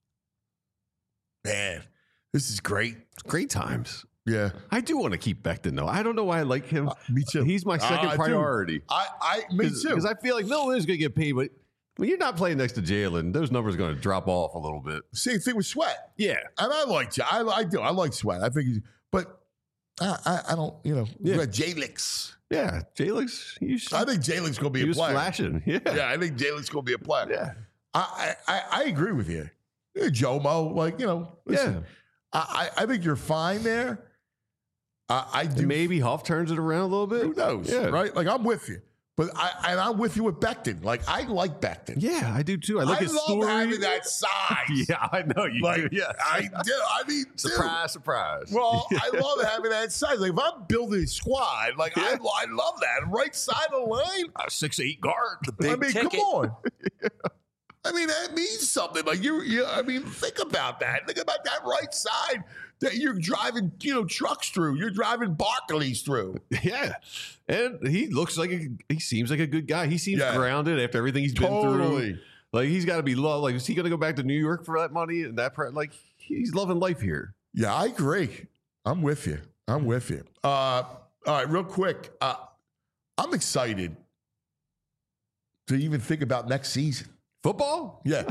Man, this is great. Great times. Yeah, I do want to keep Becton, though. I don't know why I like him. uh, me too. He's my second I do. priority. I, I, me too. Because I feel like Miller is going to get paid, but when you're not playing next to Jalen, those numbers are going to drop off a little bit. Same thing with Sweat. Yeah. And I like I, I do. I like Sweat. I think he's, but I, I, I don't, you know, Yeah. J-Lix. Yeah. Jalen's, he's, I think J-Lix going to be he a was player. flashing. Yeah. Yeah, I think J-Lix going to be a player. Yeah. I, I, I agree with you. Yeah, Jomo, like, you know, listen, Yeah. I, I I think you're fine there. I, I do. And maybe Huff turns it around a little bit. Who knows? Yeah. Right? Like, I'm with you. But I, and I'm with you with Becton. Like, I like Becton. Yeah, I do too. I like his love story. having that size. Yeah, I know you Like, do. Yeah. I do. I mean, dude. Surprise, surprise. Well, I love having that size. Like, if I'm building a squad, like, I, I love that. Right side of the line. a six eight guard. Big I mean, ticket. come on. I mean, that means something. Like, you, you, I mean, think about that. Think about that right side that you're driving, you know, trucks through. You're driving Barclays through. Yeah, and he looks like a, he seems like a good guy. He seems Yeah. grounded after everything he's been through. Totally. Like he's got to be loved. Like is he going to go back to New York for that money and that? Pre- like he's loving life here. Yeah, I agree. I'm with you. I'm with you. Uh, all right, real quick. Uh, I'm excited to even think about next season. Football. Yeah.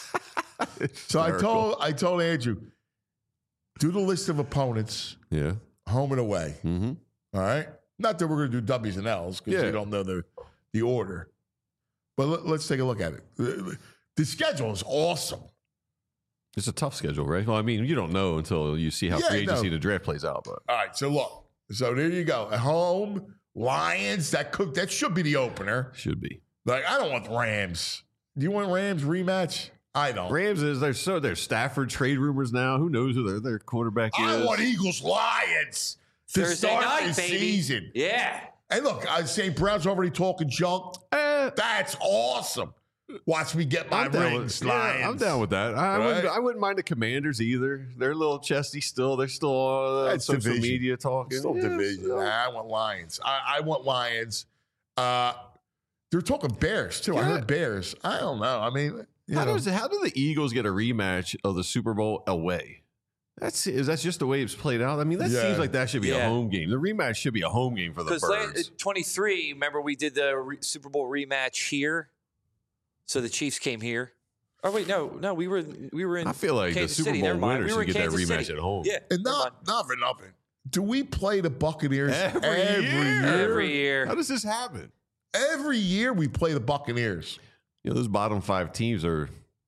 So I told I told Andrew, do the list of opponents, Yeah. home and away. Mm-hmm. All right. Not that we're going to do W's and L's because Yeah. we don't know the the order. But let, let's take a look at it. The, the schedule is awesome. It's a tough schedule, right? Well, I mean, you don't know until you see how Yeah, free agency no. the draft plays out. But All right. So look. So there you go. At home, Lions. That cook. That should be the opener. should be. Like I don't want the Rams. Do you want Rams rematch? I don't. Rams is there's so there's Stafford trade rumors now. Who knows who their their quarterback is? I want Eagles Lions to Thursday start night, the baby. season. Yeah. And look, I Saint Brown's already talking junk. Eh, That's awesome. Watch me get my I'm down rings, with, yeah, Lions. I'm down with that. I, Right? wouldn't, I wouldn't mind the Commanders either. They're a little chesty still. They're still on uh, That's social division. media talking. Still Yeah, division. so- I want Lions. I, I want Lions. Uh, they're talking Bears too. I Yeah. heard Bears. I don't know. I mean, you How know, does how do the Eagles get a rematch of the Super Bowl away? That's is that just the way it's played out? I mean, that Yeah. seems like that should be Yeah. a home game. The rematch should be a home game for the Because Birds. twenty-three, remember we did the re- Super Bowl rematch here, so the Chiefs came here. Oh wait, no, no, we were we were in. I feel like Kansas the Super City. Bowl Never mind. winner We were should in get that Kansas rematch City. at home. Yeah, and never not mind. not for nothing. Do we play the Buccaneers Every every year. year? every year. How does this happen? Every year we play the Buccaneers. You know, those bottom five teams are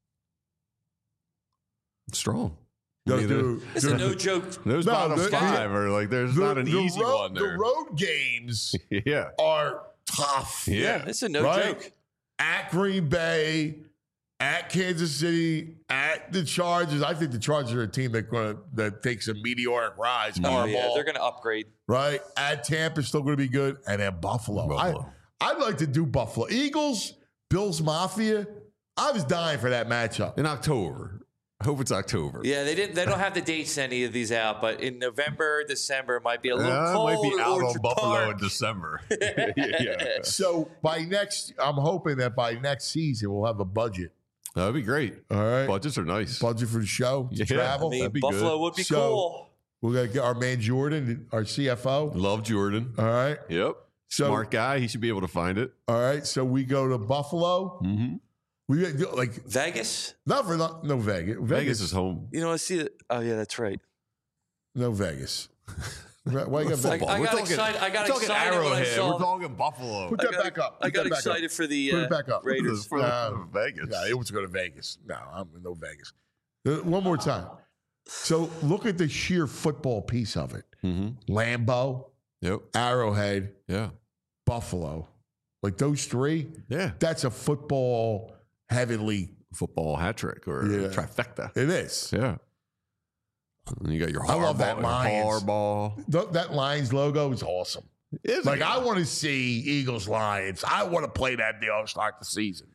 strong. I Yo, mean, dude, It's a dude, no joke. Those No, bottom the- five are like there's the- not an the easy road, one The there. road games yeah, are tough. yeah. It's a no Right? joke. At Green Bay, at Kansas City, at the Chargers. I think the Chargers are a team that gonna that takes a meteoric rise. Oh Harbaugh, yeah, they're going to upgrade. right? At Tampa, still going to be good, and then Buffalo. Buffalo. I I'd like to do Buffalo Eagles, Bills Mafia. I was dying for that matchup. In October. I hope it's October. Yeah, they didn't. They don't have the dates in any of these out, but in November, December it might be a little Uh, cold. might be at out on Orchard Buffalo Park. in December. yeah. So by next, I'm hoping that by next season we'll have a budget. That'd be great. All right, Budgets are nice. budget for the show to Yeah. travel. I mean, That'd be Buffalo good. would be So- cool. We're gonna get our man Jordan, our C F O. Love Jordan. All right. Yep. So Smart guy. He should be able to find it. all right. So we go to Buffalo. Mm-hmm. We like Vegas. not for not, no Vegas. Vegas. Vegas is home. You know, I see it. Oh yeah, that's right. No Vegas. Why you got I- Vegas? I We're got talking- excited- I got we're talking excited when I Arrowhead. saw- We're talking Buffalo. Put I that got, back up. I Put got that back excited up. for the Put uh, it back up. Raiders. For Uh, Vegas. Yeah, it wants to go to Vegas. No, I'm no Vegas. Uh, One more time. So look at the sheer football piece of it. Mm-hmm. Lambeau, Yep. Arrowhead, Yeah. Buffalo. Like those three, Yeah. that's a football heavenly. Football hat trick or Yeah. trifecta. It is. Yeah. And you got your I love that Harbaugh- Lions. Harbaugh. Th- that Lions logo is awesome. It's Like, I want to see Eagles Lions. I want to play that deal to start the season.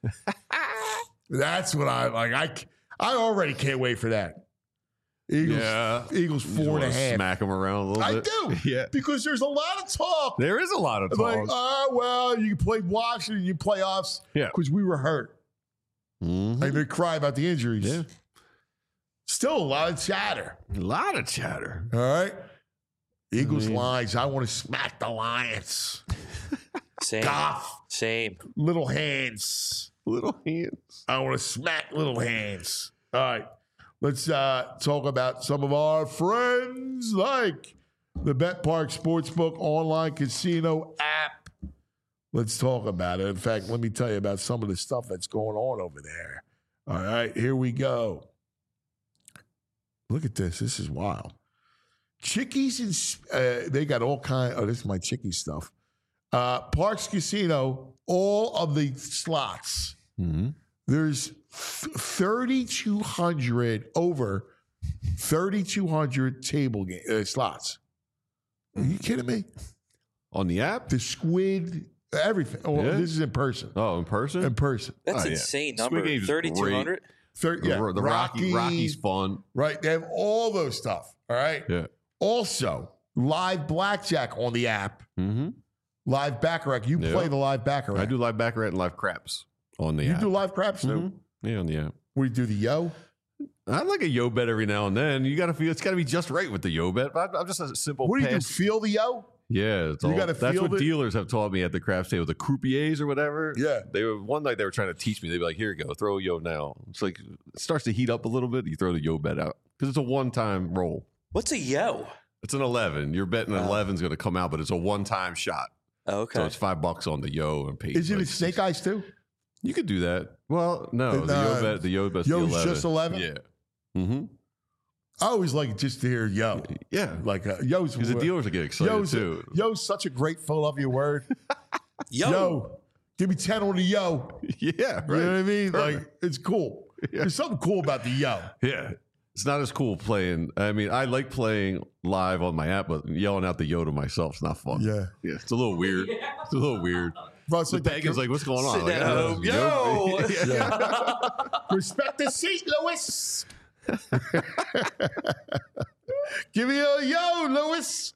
That's what I like. I, c- I already can't wait for that. Eagles, Yeah. Eagles You just four and a wanna half. Smack them around a little I bit. do. Yeah. Because there's a lot of talk. There is a lot of Like, talk. oh, well, you played Washington, you playoffs. Yeah. Because we were hurt. Mhm. And they cry about the injuries. Yeah. Still a lot of chatter. A lot of chatter. All right. Eagles I mean- Lions. I want to smack the Lions. Same. Goff, Same. little hands. Little hands. I want to smack little hands. All right. Let's uh, talk about some of our friends like the Bet Park Sportsbook online casino app. Let's talk about it. In fact, let me tell you about some of the stuff that's going on over there. All right, here we go. Look at this. This is wild. Chickies and uh, they got all kind. Oh, this is my Chickie stuff. Uh, Parks Casino, all of the slots. Mm-hmm. There's thirty-two hundred over thirty-two hundred table game, uh, slots. Are you kidding me? On the app? The squid, everything. Oh, Yeah. this is in person. Oh, in person? In person. That's Oh, yeah. insane Squid number. Game's thirty-two hundred. Thir- The, yeah, the Rocky, Rocky's fun. right? They have all those stuff. All right. Yeah. Also, live blackjack on the app. Mm-hmm. Live baccarat. You Yeah. play the live baccarat. I do live baccarat and live craps on the You app. do live craps too. Mhm. Yeah, on the app. We do the yo. I like a yo bet every now and then. You got to feel it's got to be just right with the yo bet. But I'm just a simple. What do you do? pass. Feel the yo? Yeah, it's You all, gotta that's feel what it? dealers have taught me at the craps table, the croupiers or whatever. Yeah. They were one night they were trying to teach me. They'd be like, "Here you go, throw a yo now." It's like it starts to heat up a little bit. You throw the yo bet out because it's a one-time roll. What's a yo? It's an eleven. You're betting an Oh. eleven is going to come out, but it's a one-time shot. Oh, okay. So it's five bucks on the yo and pay. Is it like a snake eyes too? You could do that. Well, no, the Uh, yo bet. The yo bet's the yo's eleven. just eleven? Yeah. Mm-hmm. I always like just to hear yo. Yeah. Like uh, yo's Because the dealers will get excited yo's, too. yo's such a great Philadelphia word. yo. Yo, give me ten on the yo. Yeah. You know Right. what I mean? Perfect. Like it's cool. There's something cool about the yo. Yeah. It's not as cool playing. I mean, I like playing live on my app, but yelling out the yo to myself is not fun. Yeah. Yeah. It's a little weird. It's a little weird. Bro, it's The like bag is like, what's going on? Sitting Like, at uh, home, yo. Yeah. respect the seat, Lewis. Give me a yo, Lewis.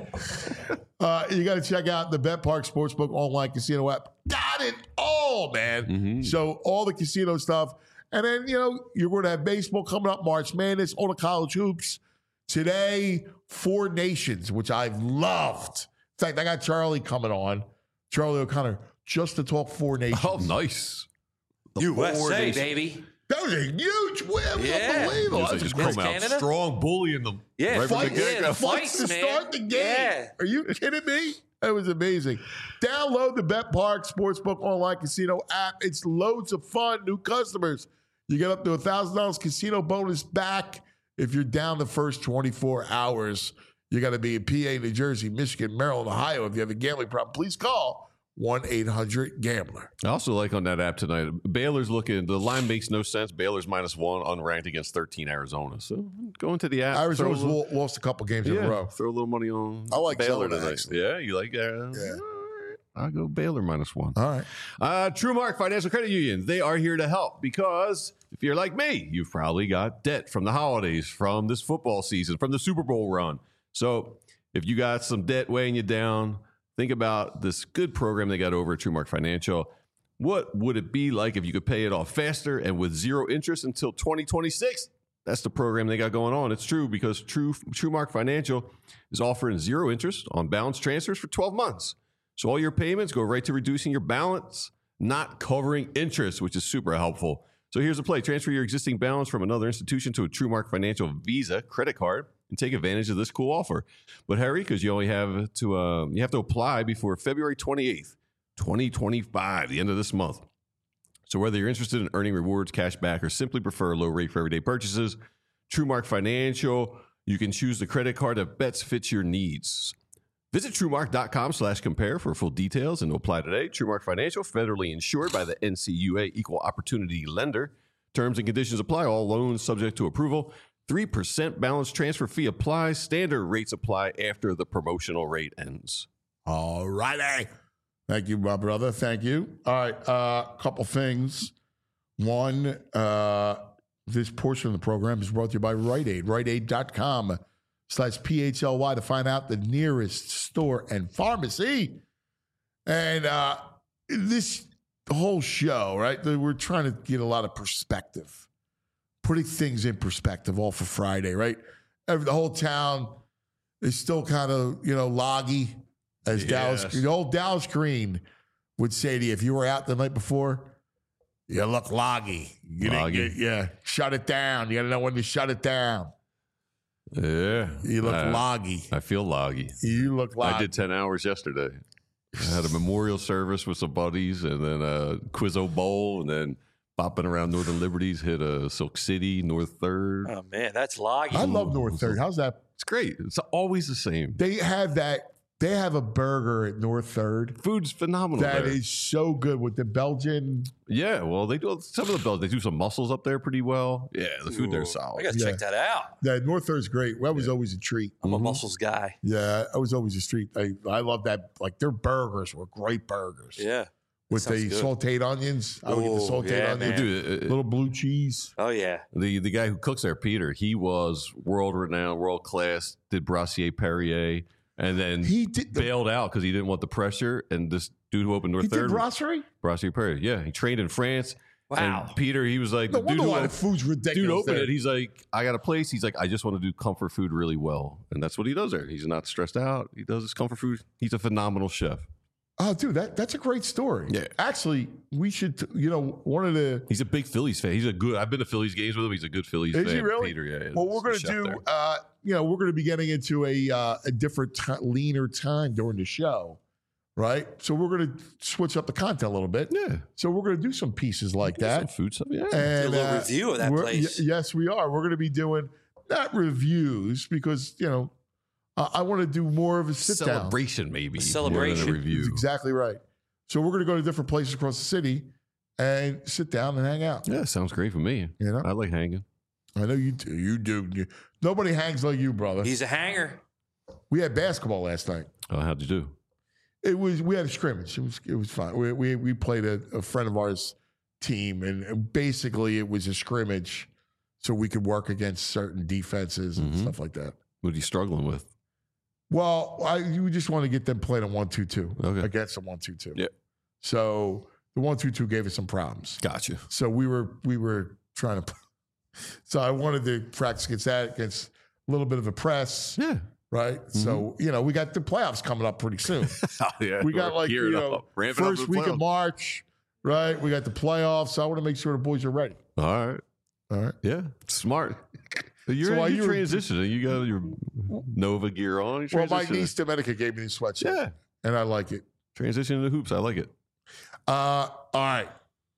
Uh, you got to check out the Bet Park Sportsbook online casino app. Got it all, man. Mhm. So all the casino stuff. And then, you know, you're going to have baseball coming up, March Madness, all the college hoops. Today, Four Nations, which I've loved. In fact, I got Charlie coming on, Charlie O'Connor, just to talk Four Nations. Oh, nice. The U S four A, days- baby. That was a huge win. It was Yeah. unbelievable. It's like That's just great. come out Canada? strong, bullying them. Yeah, right from the fight- get yeah, go. the fight- Fights to man. start the game. Yeah. Are you kidding me? That was amazing. Download the Bet Park Sportsbook online casino app. It's loads of fun. New customers. You get up to a thousand dollars casino bonus back if you're down the first twenty-four hours. You got to be in P A, New Jersey, Michigan, Maryland, Ohio. If you have a gambling problem, please call one eight hundred gambler. I also like on that app tonight, Baylor's looking, the line makes no sense. Baylor's minus one, unranked against thirteen Arizona. So go into the app. throw a Arizona's little- lo- lost a couple games in yeah, a row. throw a little money on I like Baylor Zelda, tonight. actually. Yeah, you like uh, Yeah. all right. I'll go Baylor minus one. All right. Uh, TrueMark Financial Credit Union, they are here to help because if you're like me, you've probably got debt from the holidays, from this football season, from the Super Bowl run. So if you got some debt weighing you down, think about this good program they got over at TrueMark Financial. What would it be like if you could pay it off faster and with zero interest until twenty twenty-six? That's the program they got going on. It's true because True TrueMark Financial is offering zero interest on balance transfers for twelve months. So all your payments go right to reducing your balance, not covering interest, which is super helpful. So here's the play. Transfer your existing balance from another institution to a TrueMark Financial Visa credit card and take advantage of this cool offer. But hurry, because you only have to uh, you have to apply before February twenty-eighth, twenty twenty-five, the end of this month. So whether you're interested in earning rewards, cash back, or simply prefer a low rate for everyday purchases, TrueMark Financial. You can choose the credit card that best fits your needs. Visit TrueMark.com slash compare for full details and to apply today. TrueMark Financial, federally insured by the N C U A Equal Opportunity Lender. Terms and conditions apply. All loans subject to approval. three percent balance transfer fee applies. Standard rates apply after the promotional rate ends. All righty. Thank you, my brother. Thank you. All right. A uh, couple things. One, uh, this portion of the program is brought to you by Rite Aid. Rite Aid dot com slash P H L Y to find out the nearest store and pharmacy. And uh, this whole show, right, we're trying to get a lot of perspective, putting things in perspective all for Friday, right? Every, the whole town is still kind of, you know, loggy, as Yes. Dallas, the old Dallas Green would say to you if you were out the night before, you look loggy. You didn't Loggy. get- yeah, shut it down. You got to know when to shut it down. Yeah. You look I, loggy. I feel loggy. You look loggy. I did ten hours yesterday. I had a memorial service with some buddies and then a Quizzo Bowl and then bopping around Northern Liberties, hit a Silk City, North Third. Oh man, that's loggy. I love North Third. How's that? It's great. It's always the same. They have that. They have a burger at North Third Food's phenomenal that there. is so good with the Belgian. Yeah, well, they do some of the bells. They do some mussels up there pretty well. Yeah, the food there's I solid. gotta Yeah. check that out. That North Third's great. That was always a treat. I'm Mhm. a mussels guy. Yeah, I was always a treat. I I love that. Like their burgers were great burgers. Yeah. with sounds the good. sauteed onions. I would get the Oh, sauteed yeah, onions, man. Dude, uh, little blue cheese. Oh yeah. the the guy who cooks there, Peter, he was world renowned, world class. Did Brassier Perrier, and then He did the, bailed out because he didn't want the pressure. And this dude who opened North he did Third, brasserie. Brassier Perrier, yeah, he trained in France. Wow. And Peter, he was like, No the dude wonder who why the op- food's ridiculous. dude opened there. it. He's like, I got a place. He's like, I just want to do comfort food really well, and that's what he does there. He's not stressed out. He does his comfort food. He's a phenomenal chef. Oh, dude, that, that's a great story. Yeah. Actually, we should, you know, one of the. He's a big Phillies fan. He's a good. I've been to Phillies games with him. He's a good Phillies Is fan. he really? Peter, yeah. Well, we're he's going a to chef do, there. uh, you know, we're going to be getting into a uh, a different, ti leaner time during the show, right? So we're going to switch up the content a little bit. Yeah, So we're going to do some pieces like Some that. food stuff. Yeah, And, Do a little uh, review of that we're- place. y- yes, we are. We're going to be doing not reviews because, you know, I, I want to do more of a sit down. celebration maybe. A more than celebration. a review. That's exactly right. So we're going to go to different places across the city and sit down and hang out. Yeah, sounds great for me. You know, I like hanging. I know you do. You do. You, nobody hangs like you, brother. He's a hanger. We had basketball last night. Oh, how'd you do? It was we had a scrimmage. It was it was fun. We we, we played a, a friend of ours team, and basically it was a scrimmage, so we could work against certain defenses and Mhm. stuff like that. What are you struggling with? Well, I you just want to get them playing a one two two Okay. against a one two two. Yeah. So the one two two gave us some problems. Gotcha. So we were we were trying to. So I wanted to practice against that, against a little bit of a press, Yeah. right? So you know we got the playoffs coming up pretty soon. Oh, yeah. We got We're like you gearing know up, ramping up first for the week of playoffs. March, right? We got the playoffs. So I want to make sure the boys are ready. All right. All right. Yeah. Smart. You're, So while you're you were- transitioning. You got your Nova gear on. You're Well, my transitioning. niece Domenica gave me the sweatshirt, Yeah. and I like it. Transitioning to hoops. I like it. Uh, all right.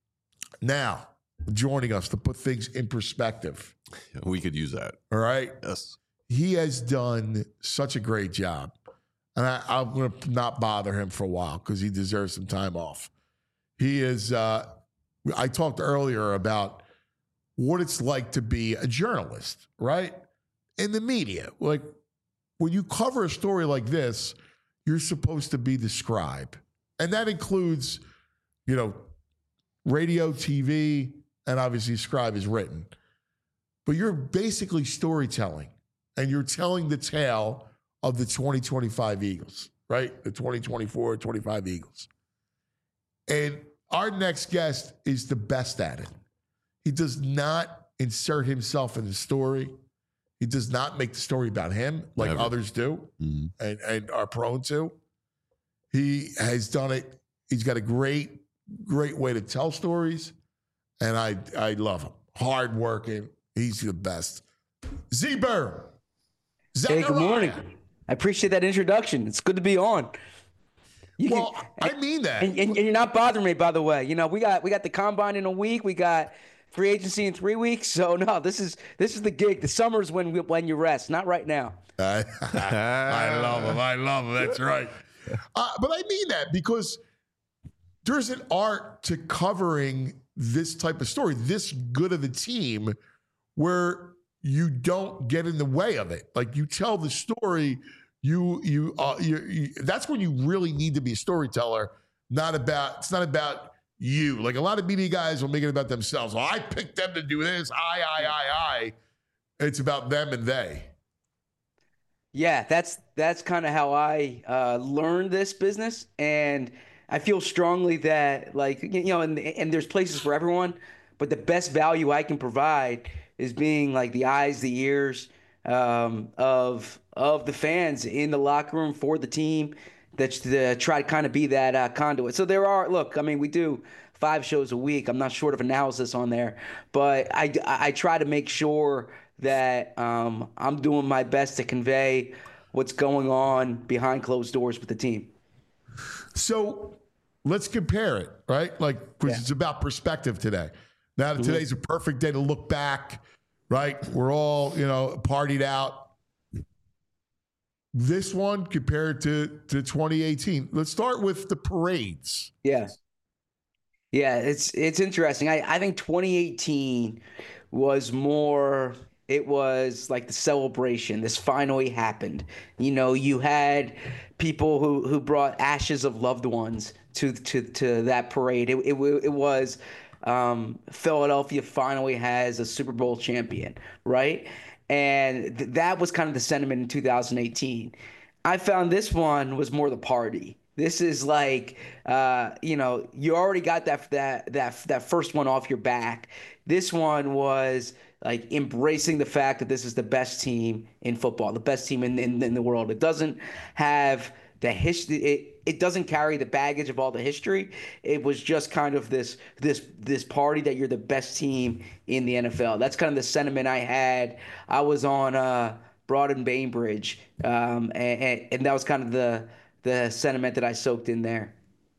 Now joining us to put things in perspective. We could use that. All right. Yes. He has done such a great job. And I, I'm going to not bother him for a while because he deserves some time off. He is, uh, I talked earlier about what it's like to be a journalist, right? In the media. Like when you cover a story like this, you're supposed to be the scribe. And that includes, you know, radio, T V, and obviously scribe is written. But you're basically storytelling. And you're telling the tale of the twenty twenty-five Eagles, right? The twenty twenty-four, twenty-five Eagles. And our next guest is the best at it. He does not insert himself in the story. He does not make the story about him like Never. others do Mm-hmm. and, and are prone to. He has done it. He's got a great, great way to tell stories. And I, I love him. Hardworking. He's the best. Z-Burr. Hey, good morning. Zachariah. I appreciate that introduction. It's good to be on. You Well, can, I mean that. and, and, and you're not bothering me, by the way. You know, we got we got the combine in a week. We got free agency in three weeks. So no, this is this is the gig. The summer's when we, when you rest, not right now. I, I love him. I love him. That's right. Uh, but I mean that because there's an art to covering this type of story, this good of a team, where you don't get in the way of it. Like you tell the story, you you, uh, you, you that's when you really need to be a storyteller. Not about it's not about you. Like a lot of media guys will make it about themselves. Well, I picked them to do this. I I I I. It's about them and they. Yeah, that's that's kind of how I uh, learned this business, and I feel strongly that, like, you know, and and there's places for everyone, but the best value I can provide is being like the eyes, the ears um, of of the fans in the locker room for the team. That to try to kind of be that uh, conduit. So there are, look, I mean, we do five shows a week. I'm not short of analysis on there, but I I try to make sure that um, I'm doing my best to convey what's going on behind closed doors with the team. So let's compare it, right? Like, because Yeah. it's about perspective today. Now, Mm-hmm. today's a perfect day to look back, right? We're all, you know, partied out. This one compared to, to twenty eighteen. Let's start with the parades. Yeah. Yeah, it's it's interesting. I, I think twenty eighteen was more, it was like the celebration. This finally happened. You know, you had people who, who brought ashes of loved ones to to, to that parade. It, it, it was um, Philadelphia finally has a Super Bowl champion, right? And th- that was kind of the sentiment in two thousand eighteen. I found this one was more the party. This is like, uh, you know, you already got that that that that first one off your back. This one was like embracing the fact that this is the best team in football, the best team in in, in the world. It doesn't have the history. It, it doesn't carry the baggage of all the history. It was just kind of this this this party that you're the best team in the N F L. That's kind of the sentiment I had. I was on uh, Broad and Bainbridge, um, and, and that was kind of the the sentiment that I soaked in there.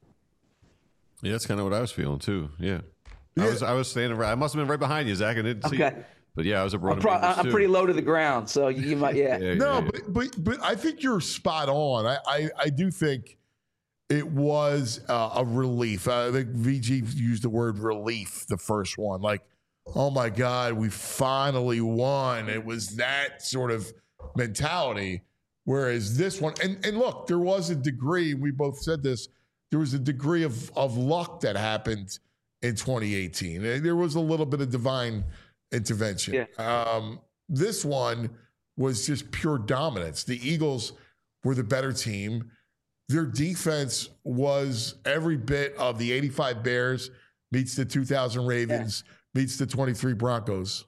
Yeah, that's kind of what I was feeling too. Yeah, I Yeah. was I was standing right. I must have been right behind you, Zach. I didn't see. Okay. You. But yeah, I was a broad. I'm, pro- I'm pretty low to the ground, so you might, yeah. Yeah, No, yeah, yeah. but but but I think you're spot on. I I, I do think it was uh, a relief. Uh, I think V G used the word relief the first one. Like, oh my God, we finally won. It was that sort of mentality. Whereas this one, and, and look, there was a degree, we both said this, there was a degree of, of luck that happened in twenty eighteen. There was a little bit of divine intervention. Yeah. Um, this one was just pure dominance. The Eagles were the better team. Their defense was every bit of the eighty-five Bears meets the two thousand Ravens meets the twenty-three Broncos.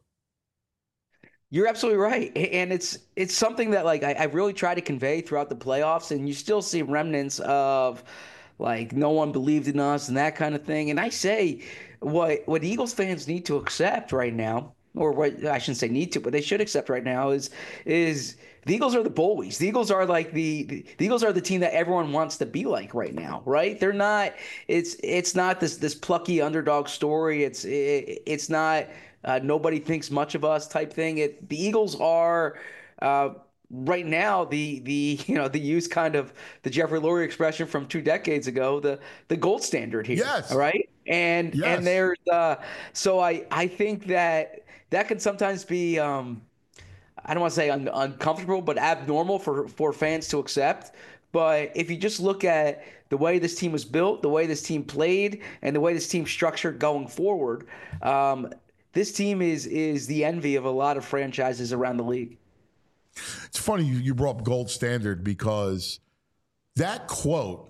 You're absolutely right, and it's it's something that like I, I really try to convey throughout the playoffs, and you still see remnants of like no one believed in us and that kind of thing. And I say what what Eagles fans need to accept right now, or what I shouldn't say need to, but they should accept right now is is the Eagles are the bullies. The Eagles are like the, the the Eagles are the team that everyone wants to be like right now, right? They're not. It's it's not this this plucky underdog story. It's it, it's not. Uh, nobody thinks much of us type thing. It the Eagles are uh, right now the the you know the use kind of the Jeffrey Lurie expression from two decades ago, the the gold standard here. Yes. All right. And Yes. and there's uh, so I I think that that can sometimes be um, I don't want to say un- uncomfortable, but abnormal for for fans to accept. But if you just look at the way this team was built, the way this team played, and the way this team structured going forward. Um, This team is is the envy of a lot of franchises around the league. It's funny you, you brought up gold standard because that quote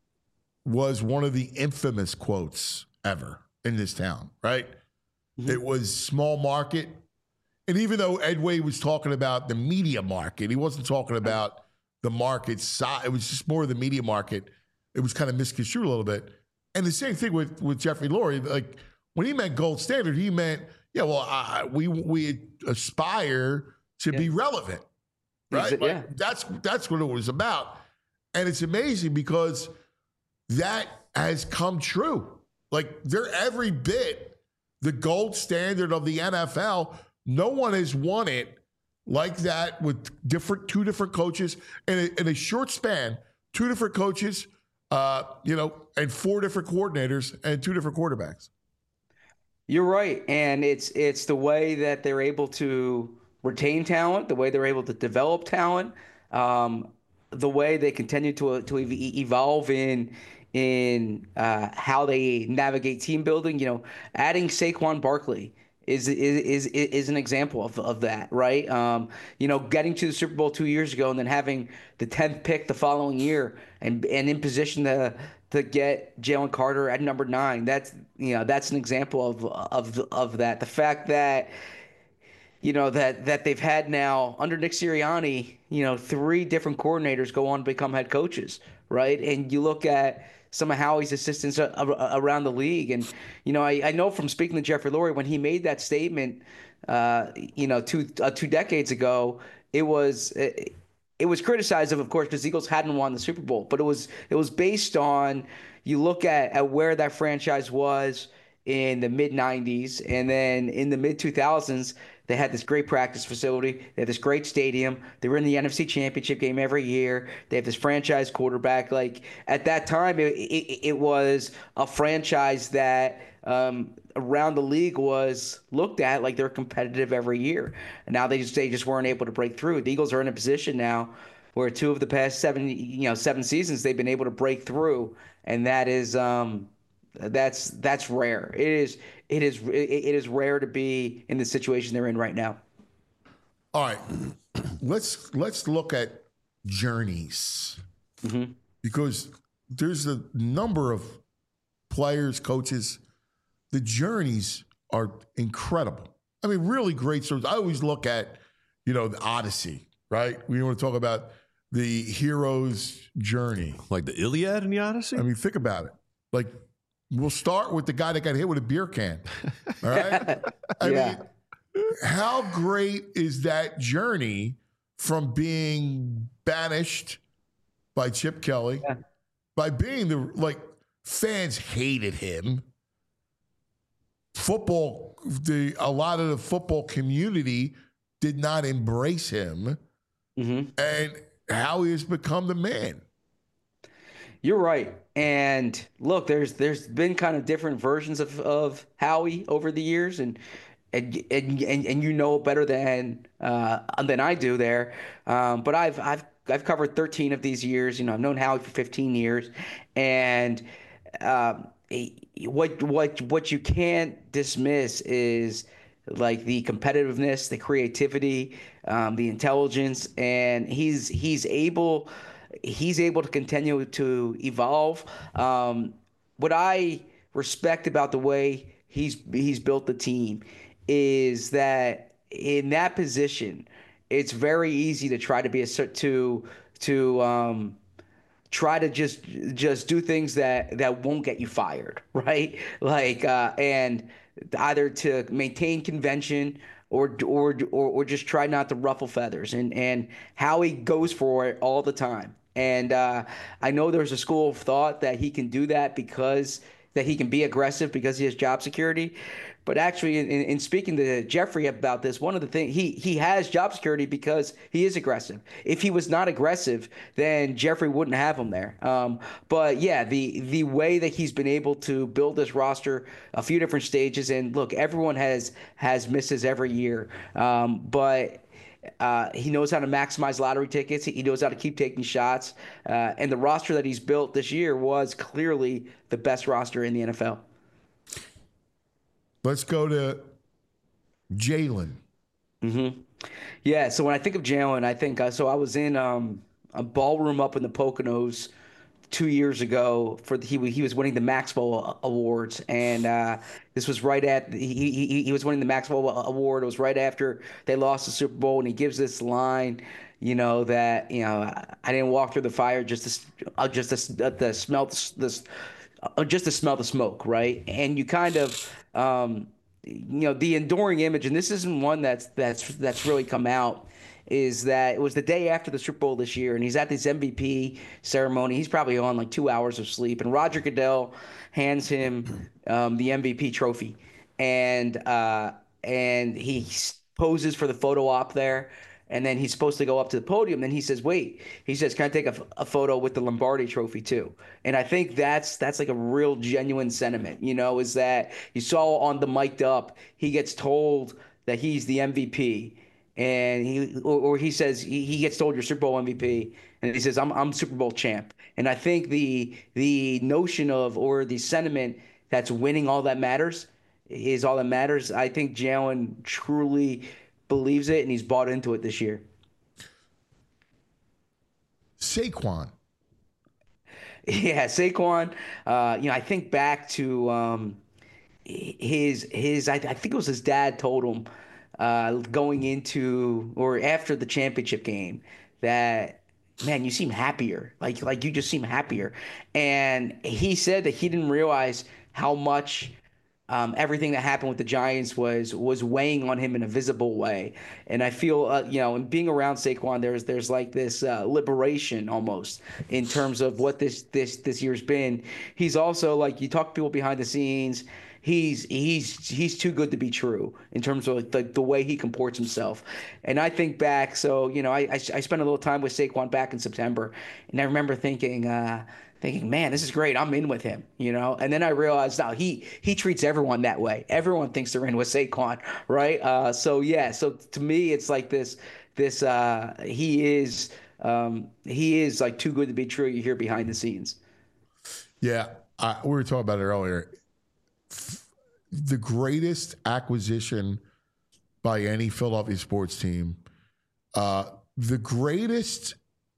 was one of the infamous quotes ever in this town, right? Mm-hmm. It was small market. And even though Ed Wade was talking about the media market, he wasn't talking about the market side. It was just more of the media market. It was kind of misconstrued a little bit. And the same thing with, with Jeffrey Lurie. Like, when he meant gold standard, he meant, yeah, well, I, we we aspire to Yeah. be relevant, right? Exa- Like, yeah. that's that's what it was about, and it's amazing because that has come true. Like they're every bit the gold standard of the N F L. No one has won it like that with different two different coaches in a, in a short span. Two different coaches, uh, you know, and four different coordinators and two different quarterbacks. You're right, and it's it's the way that they're able to retain talent, the way they're able to develop talent, um, the way they continue to to ev- evolve in in uh, how they navigate team building. You know, adding Saquon Barkley is is is is an example of of that, right? Um, you know, getting to the Super Bowl two years ago and then having the tenth pick the following year and and in position to to get Jalen Carter at number nine. That's you know that's an example of of of that. The fact that you know that that they've had now under Nick Sirianni, you know, three different coordinators go on to become head coaches, right? And you look at some of Howie's assistants around the league, and you know, I, I know from speaking to Jeffrey Lurie when he made that statement, uh, you know, two uh, two decades ago, it was. It, It was criticized of, of course, because the Eagles hadn't won the Super Bowl, but it was it was based on you look at, at where that franchise was in the mid nineties, and then in the mid two thousands, they had this great practice facility, they had this great stadium, they were in the N F C Championship game every year, they have this franchise quarterback. Like at that time, it it, it was a franchise that um, around the league was looked at like they're competitive every year. And now they just they just weren't able to break through. The Eagles are in a position now where two of the past seven you know seven seasons they've been able to break through, and that is um that's that's rare. It is it is it is rare to be in the situation they're in right now. All right, let's let's look at journeys Mm-hmm. because there's a number of players, coaches. The journeys are incredible. I mean, really great stories. I always look at, you know, the Odyssey, right? We want to talk about the hero's journey. Like the Iliad and the Odyssey? I mean, think about it. Like, we'll start with the guy that got hit with a beer can. All right? I Yeah. mean, how great is that journey from being banished by Chip Kelly, Yeah. by being the, like, fans hated him. Football, the a lot of the football community did not embrace him, Mm-hmm. and how he has become the man. You're right. And look, there's there's been kind of different versions of, of Howie over the years, and and and and, and you know better than uh, than I do there. Um, but I've I've I've covered thirteen of these years. You know, I've known Howie for fifteen years, and um, what what what you can't dismiss is like the competitiveness, the creativity, um, the intelligence, and he's he's able he's able to continue to evolve. Um, what I respect about the way he's he's built the team is that in that position, it's very easy to try to be a to to um, try to just just do things that that won't get you fired, right? Like uh, and either to maintain convention or or or or just try not to ruffle feathers. And and Howie goes for it all the time. And uh, I know there's a school of thought that he can do that because that he can be aggressive because he has job security. But actually, in, in speaking to Jeffrey about this, one of the things he he has job security because he is aggressive. If he was not aggressive, then Jeffrey wouldn't have him there. Um, but yeah, the the way that he's been able to build this roster, a few different stages, and look, everyone has has misses every year, um, but. Uh, he knows how to maximize lottery tickets. He knows how to keep taking shots. Uh, and the roster that he's built this year was clearly the best roster in the N F L. Let's go to Jalen. Mm-hmm. Yeah, so when I think of Jalen, I think uh, so I was in um, a ballroom up in the Poconos two years ago for the, he he was winning the Maxwell Awards, and uh, this was right at he, he he was winning the Maxwell Award. It was right after they lost the Super Bowl, and he gives this line, you know, that you know I didn't walk through the fire just to uh, just to, uh, to smell this uh, just to smell the smoke, right? And you kind of um, you know the enduring image, and this isn't one that's that's that's really come out. Is that it was the day after the Super Bowl this year, and he's at this M V P ceremony. He's probably on like two hours of sleep, and Roger Goodell hands him um, the M V P trophy. and uh, and he s- poses for the photo op there, and then he's supposed to go up to the podium. Then he says, "Wait," he says, "Can I take a, f- a photo with the Lombardi Trophy too?" And I think that's that's like a real genuine sentiment. You know, is that you saw on the mic'd up, he gets told that he's the M V P, and he or, or he says he, he gets told you're Super Bowl M V P, and he says I'm I'm Super Bowl champ. And I think the the notion of or the sentiment that's winning all that matters is all that matters. I think Jalen truly believes it, and he's bought into it this year. Saquon. Yeah, Saquon. Uh, you know, I think back to um, his his. I, I think it was his dad told him uh, going into or after the championship game that, man, you seem happier. Like like you just seem happier. And he said that he didn't realize how much um, everything that happened with the Giants was was weighing on him in a visible way. And I feel, uh, you know, in being around Saquon, there's there's like this uh, liberation almost in terms of what this this this year's been. He's also like you talk to people behind the scenes. He's he's he's too good to be true in terms of the the way he comports himself. And I think back, so you know, I I, I spent a little time with Saquon back in September, and I remember thinking. Uh, thinking, man, this is great. I'm in with him, you know. And then I realized now he he treats everyone that way. Everyone thinks they're in with Saquon, right? Uh, so yeah, so to me, it's like this this uh, he is um, he is like too good to be true. You hear behind the scenes. Yeah, I, we were talking about it earlier. The greatest acquisition by any Philadelphia sports team, uh, the greatest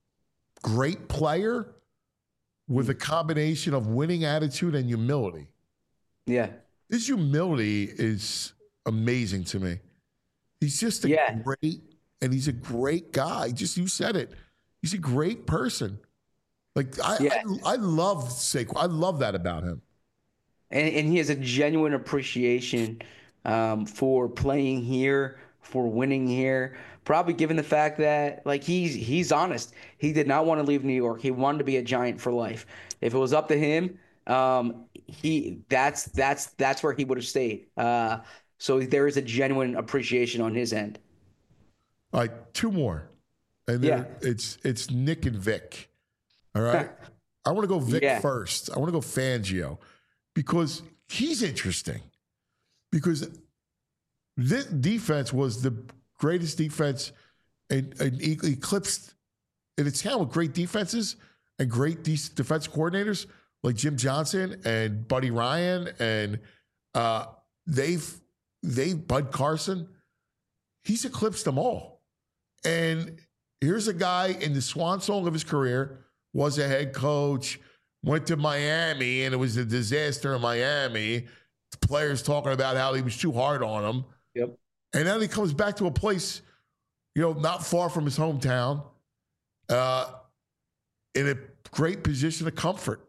great player with a combination of winning attitude and humility. Yeah. His humility is amazing to me. He's just a Yeah. great, and he's a great guy. Just you said it. He's a great person. Like I, Yeah. I, I love Saquon. I love that about him. And and he has a genuine appreciation um, for playing here, for winning here. Probably given the fact that like he's he's honest. He did not want to leave New York. He wanted to be a Giant for life. If it was up to him, um, he that's that's that's where he would have stayed. Uh, so there is a genuine appreciation on his end. All right, two more, and Yeah. then it's it's Nick and Vic. All right, I want to go Vic Yeah. first. I want to go Fangio because he's interesting. Because this defense was the greatest defense and, and e- eclipsed in its town with great defenses and great de- defense coordinators like Jim Johnson and Buddy Ryan and uh, they've they Bud Carson. He's eclipsed them all. And here's a guy in the swan song of his career, was a head coach, went to Miami, and it was a disaster in Miami. The players talking about how he was too hard on them. Yep. And then he comes back to a place, you know, not far from his hometown, uh, in a great position of comfort.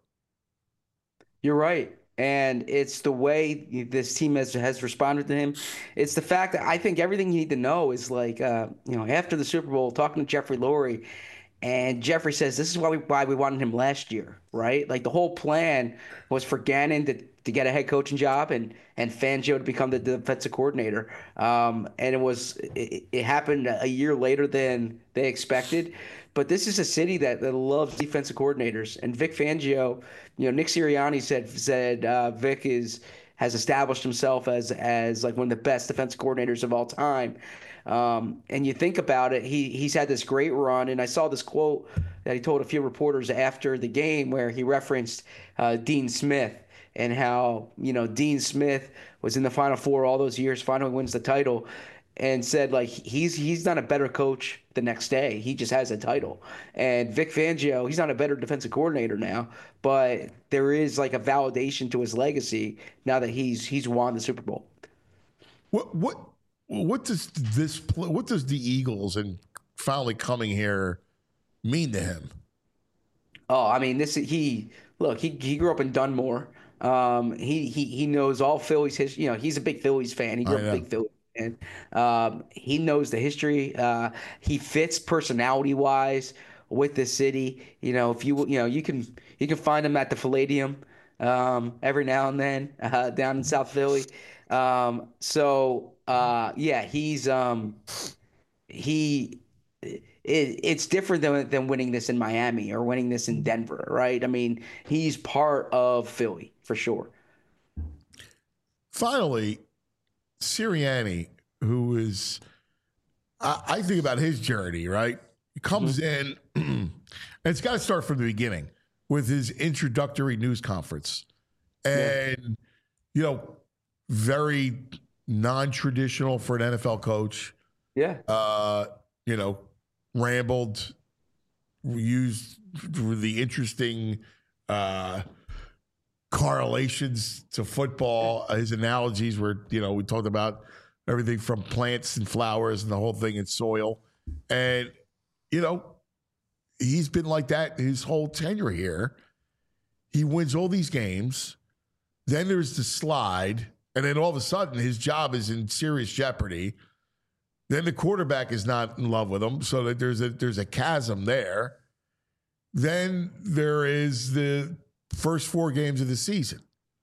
You're right. And it's the way this team has has responded to him. It's the fact that I think everything you need to know is like, uh, you know, after the Super Bowl, talking to Jeffrey Lurie, and Jeffrey says this is why we why we wanted him last year, right? Like the whole plan was for Gannon to, to get a head coaching job and and Fangio to become the defensive coordinator. Um, and it was it, it happened a year later than they expected. But this is a city that, that loves defensive coordinators. And Vic Fangio, you know, Nick Sirianni said said uh, Vic is has established himself as as like one of the best defensive coordinators of all time. Um, and you think about it, he he's had this great run. And I saw this quote that he told a few reporters after the game where he referenced uh, Dean Smith and how, you know, Dean Smith was in the Final Four all those years, finally wins the title, and said like he's he's not a better coach the next day. He just has a title. And Vic Fangio, he's not a better defensive coordinator now, but there is like a validation to his legacy now that he's he's won the Super Bowl. What what what does this what does the Eagles and finally coming here mean to him? Oh, I mean, this he look he he grew up in Dunmore. Um, he he he knows all Phillies history. You know, he's a big Phillies fan. He grew I up know. a big Phillies fan. Um, he knows the history. Uh, he fits personality wise with the city. You know, if you you know you can you can find him at the Palladium. um, every now and then uh, down in South Philly. Um, so uh, yeah, he's um, he. It, it's different than than winning this in Miami or winning this in Denver, right? I mean, he's part of Philly for sure. Finally, Sirianni, who is, I, I think about his journey, right? He comes mm-hmm. in, and it's got to start from the beginning with his introductory news conference. And, yeah. you know, very non-traditional for an N F L coach. Yeah. Uh, you know, rambled, used the interesting uh, correlations to football. His analogies were, you know, we talked about everything from plants and flowers and the whole thing in soil. And, you know, he's been like that his whole tenure here. He wins all these games. Then there's the slide. And then all of a sudden his job is in serious jeopardy. Then the quarterback is not in love with him. So that there's a there's a chasm there. Then there is the first four games of the season.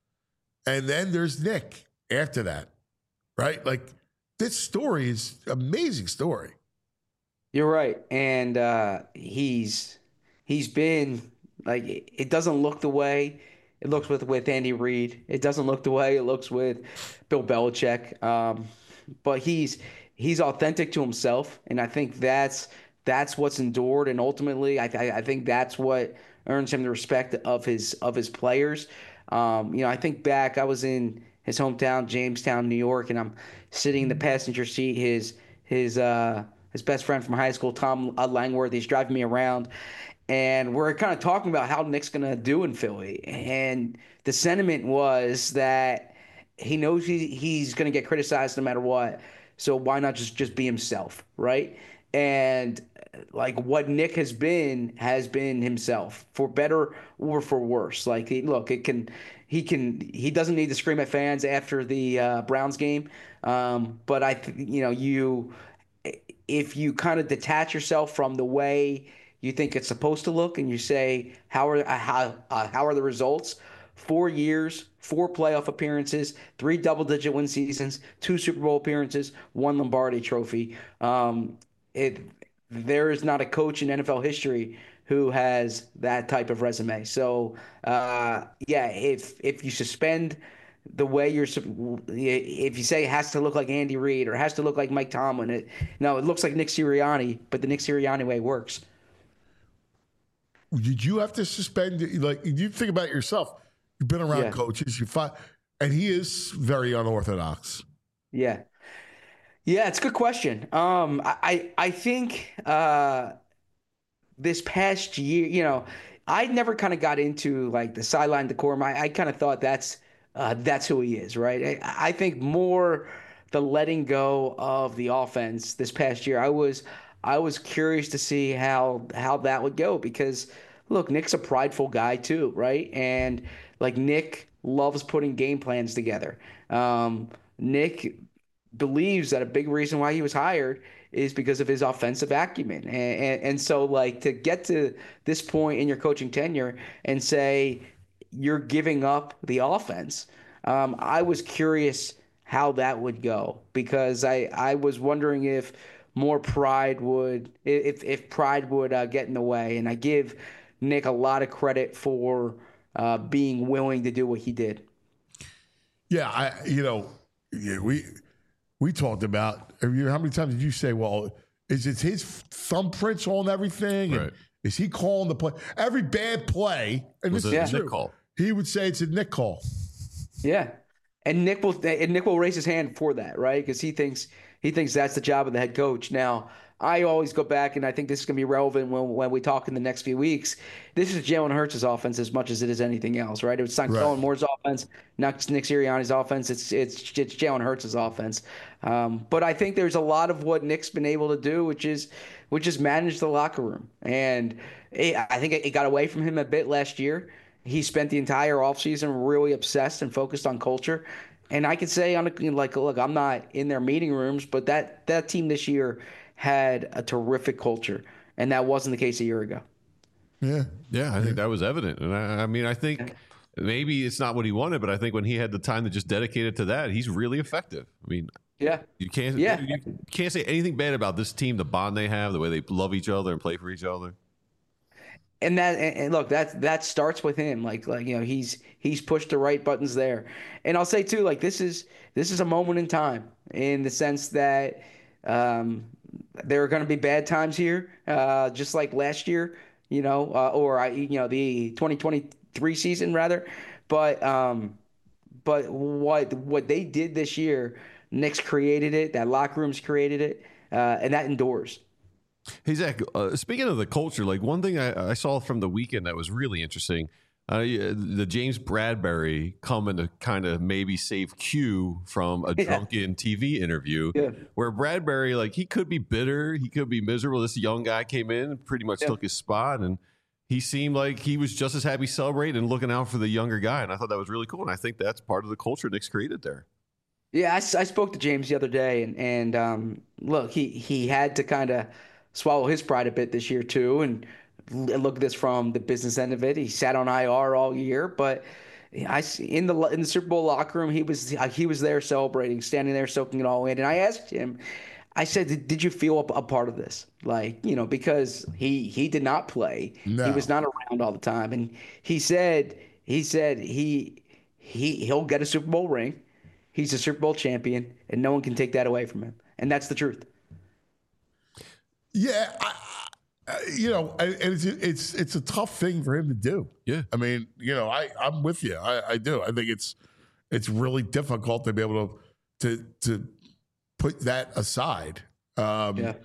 And then there's Nick after that. Right? Like, this story is an amazing story. You're right. And uh, he's he's been, like, it doesn't look the way it looks with, with Andy Reid. It doesn't look the way it looks with Bill Belichick. Um, but he's he's authentic to himself. And I think that's that's what's endured. And ultimately, I, I, I think that's what earns him the respect of his of his players. Um, you know, I think back, I was in his hometown, Jamestown, New York, and I'm sitting in the passenger seat. His his uh, his best friend from high school, Tom Langworth, he's driving me around, and we're kind of talking about how Nick's gonna do in Philly. And the sentiment was that he knows he, he's gonna get criticized no matter what, so why not just just be himself, right? And like, what Nick has been has been himself, for better or for worse. Like, look, it can. He can. He doesn't need to scream at fans after the uh, Browns game, um, but I, th- you know, you, if you kind of detach yourself from the way you think it's supposed to look, and you say, how are uh, how uh, how are the results? Four years, four playoff appearances, three double-digit win seasons, two Super Bowl appearances, one Lombardi Trophy. Um, it there is not a coach in N F L history who has that type of resume. So, uh, yeah, if if you suspend the way you're, if you say it has to look like Andy Reid or has to look like Mike Tomlin, it, no, it looks like Nick Sirianni, but the Nick Sirianni way works. Did you have to suspend? Like, you think about yourself. You've been around yeah. coaches. You find, and he is very unorthodox. Yeah, yeah, it's a good question. Um, I I think. Uh, This past year, you know, I never kind of got into like the sideline decorum. I, I kind of thought that's uh, that's who he is, right? I, I think more the letting go of the offense this past year. I was I was curious to see how how that would go, because look, Nick's a prideful guy too, right? And like, Nick loves putting game plans together. Um, Nick believes that a big reason why he was hired is because of his offensive acumen. And, and, and so, like, to get to this point in your coaching tenure and say you're giving up the offense, um, I was curious how that would go, because I, I was wondering if more pride would, if, if pride would uh, get in the way. And I give Nick a lot of credit for uh, being willing to do what he did. Yeah, I, you know, yeah, we – We talked about, how many times did you say, well, is it his thumbprints on everything? Right. And is he calling the play? Every bad play, and was this it is a true, Nick call? He would say it's a Nick call. Yeah. And Nick will and Nick will raise his hand for that, right? Because he thinks he thinks that's the job of the head coach. Now, I always go back, and I think this is going to be relevant when when we talk in the next few weeks. This is Jalen Hurts' offense as much as it is anything else, right? It's not Kellen Moore's offense, not Nick Sirianni's offense. It's it's it's Jalen Hurts' offense. Um, but I think there's a lot of what Nick's been able to do, which is which is manage the locker room. And it, I think it got away from him a bit last year. He spent the entire offseason really obsessed and focused on culture. And I could say, on a, like, look, I'm not in their meeting rooms, but that that team this year had a terrific culture, and that wasn't the case a year ago. Yeah, yeah, I think that was evident. And I, I mean, I think maybe it's not what he wanted, but I think when he had the time to just dedicate it to that, he's really effective. I mean, Yeah. you can't Yeah. you can't say anything bad about this team, the bond they have, the way they love each other and play for each other. And that and and look, that that starts with him. Like like you know, he's he's pushed the right buttons there. And I'll say too, like this is this is a moment in time in the sense that um, there are going to be bad times here, uh, just like last year, you know, uh, or I you know the twenty twenty-three season rather. But um, but what what they did this year, Knicks created it. That locker room's created it, uh, and that endures. Hey, Zach, uh, speaking of the culture, like one thing I, I saw from the weekend that was really interesting, uh, the James Bradbury coming to kind of maybe save Q from a Yeah. drunken T V interview Yeah. where Bradbury, like he could be bitter, he could be miserable. This young guy came in and pretty much Yeah. took his spot, and he seemed like he was just as happy celebrating and looking out for the younger guy. And I thought that was really cool. And I think that's part of the culture Nick's created there. Yeah, I, s- I spoke to James the other day, and and um, look, he he had to kind of swallow his pride a bit this year too, and l- look at this from the business end of it. He sat on I R all year, but I s- in the lo- in the Super Bowl locker room, he was he was there celebrating, standing there soaking it all in. And I asked him, I said, did, did you feel a, a part of this? Like, you know, because he he did not play, No. he was not around all the time, and he said he said he he he'll get a Super Bowl ring. He's a Super Bowl champion, and no one can take that away from him. And that's the truth. Yeah, I, I, you know, and it's it's it's a tough thing for him to do. Yeah. I mean, you know, I I'm with you. I, I do. I think it's it's really difficult to be able to to to put that aside. Um, Yeah.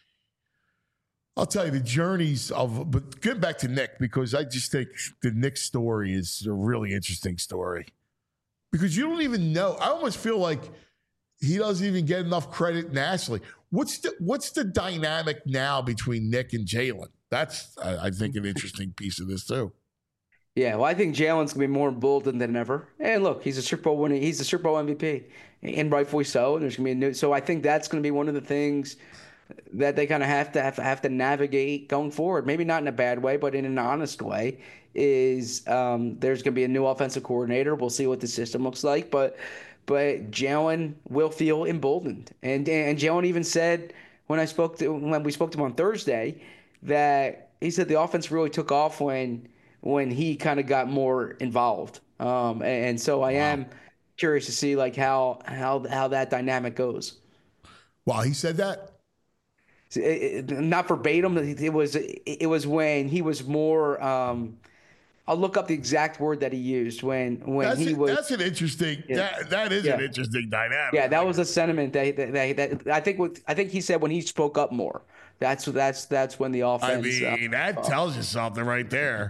I'll tell you the journeys of, but get back to Nick because I just think the Nick story is a really interesting story because you don't even know. I almost feel like he doesn't even get enough credit nationally. What's the what's the dynamic now between Nick and Jalen? That's I, I think an interesting piece of this too. Yeah, well, I think Jalen's gonna be more emboldened than ever. And look, he's a Super Bowl winner. He's a Super Bowl M V P, and rightfully so. And there's gonna be a new. So I think that's gonna be one of the things that they kind of have to have, have to navigate going forward. Maybe not in a bad way, but in an honest way. Is um, there's gonna be a new offensive coordinator. We'll see what the system looks like, but but Jalen will feel emboldened. And and Jalen even said when I spoke to when we spoke to him on Thursday that he said the offense really took off when when he kind of got more involved. Um, and, and so I am curious to see like how how how that dynamic goes. Wow, he said that. It, it, not verbatim. It was it was when he was more. Um, I'll look up the exact word that he used when when That's he a- was. that's an interesting. Yeah. That that is an Yeah. interesting dynamic. Yeah, that was a sentiment that that, that, that I think. What, I think he said when he spoke up more. That's that's that's when the I offense. mean, uh, that tells you something right there.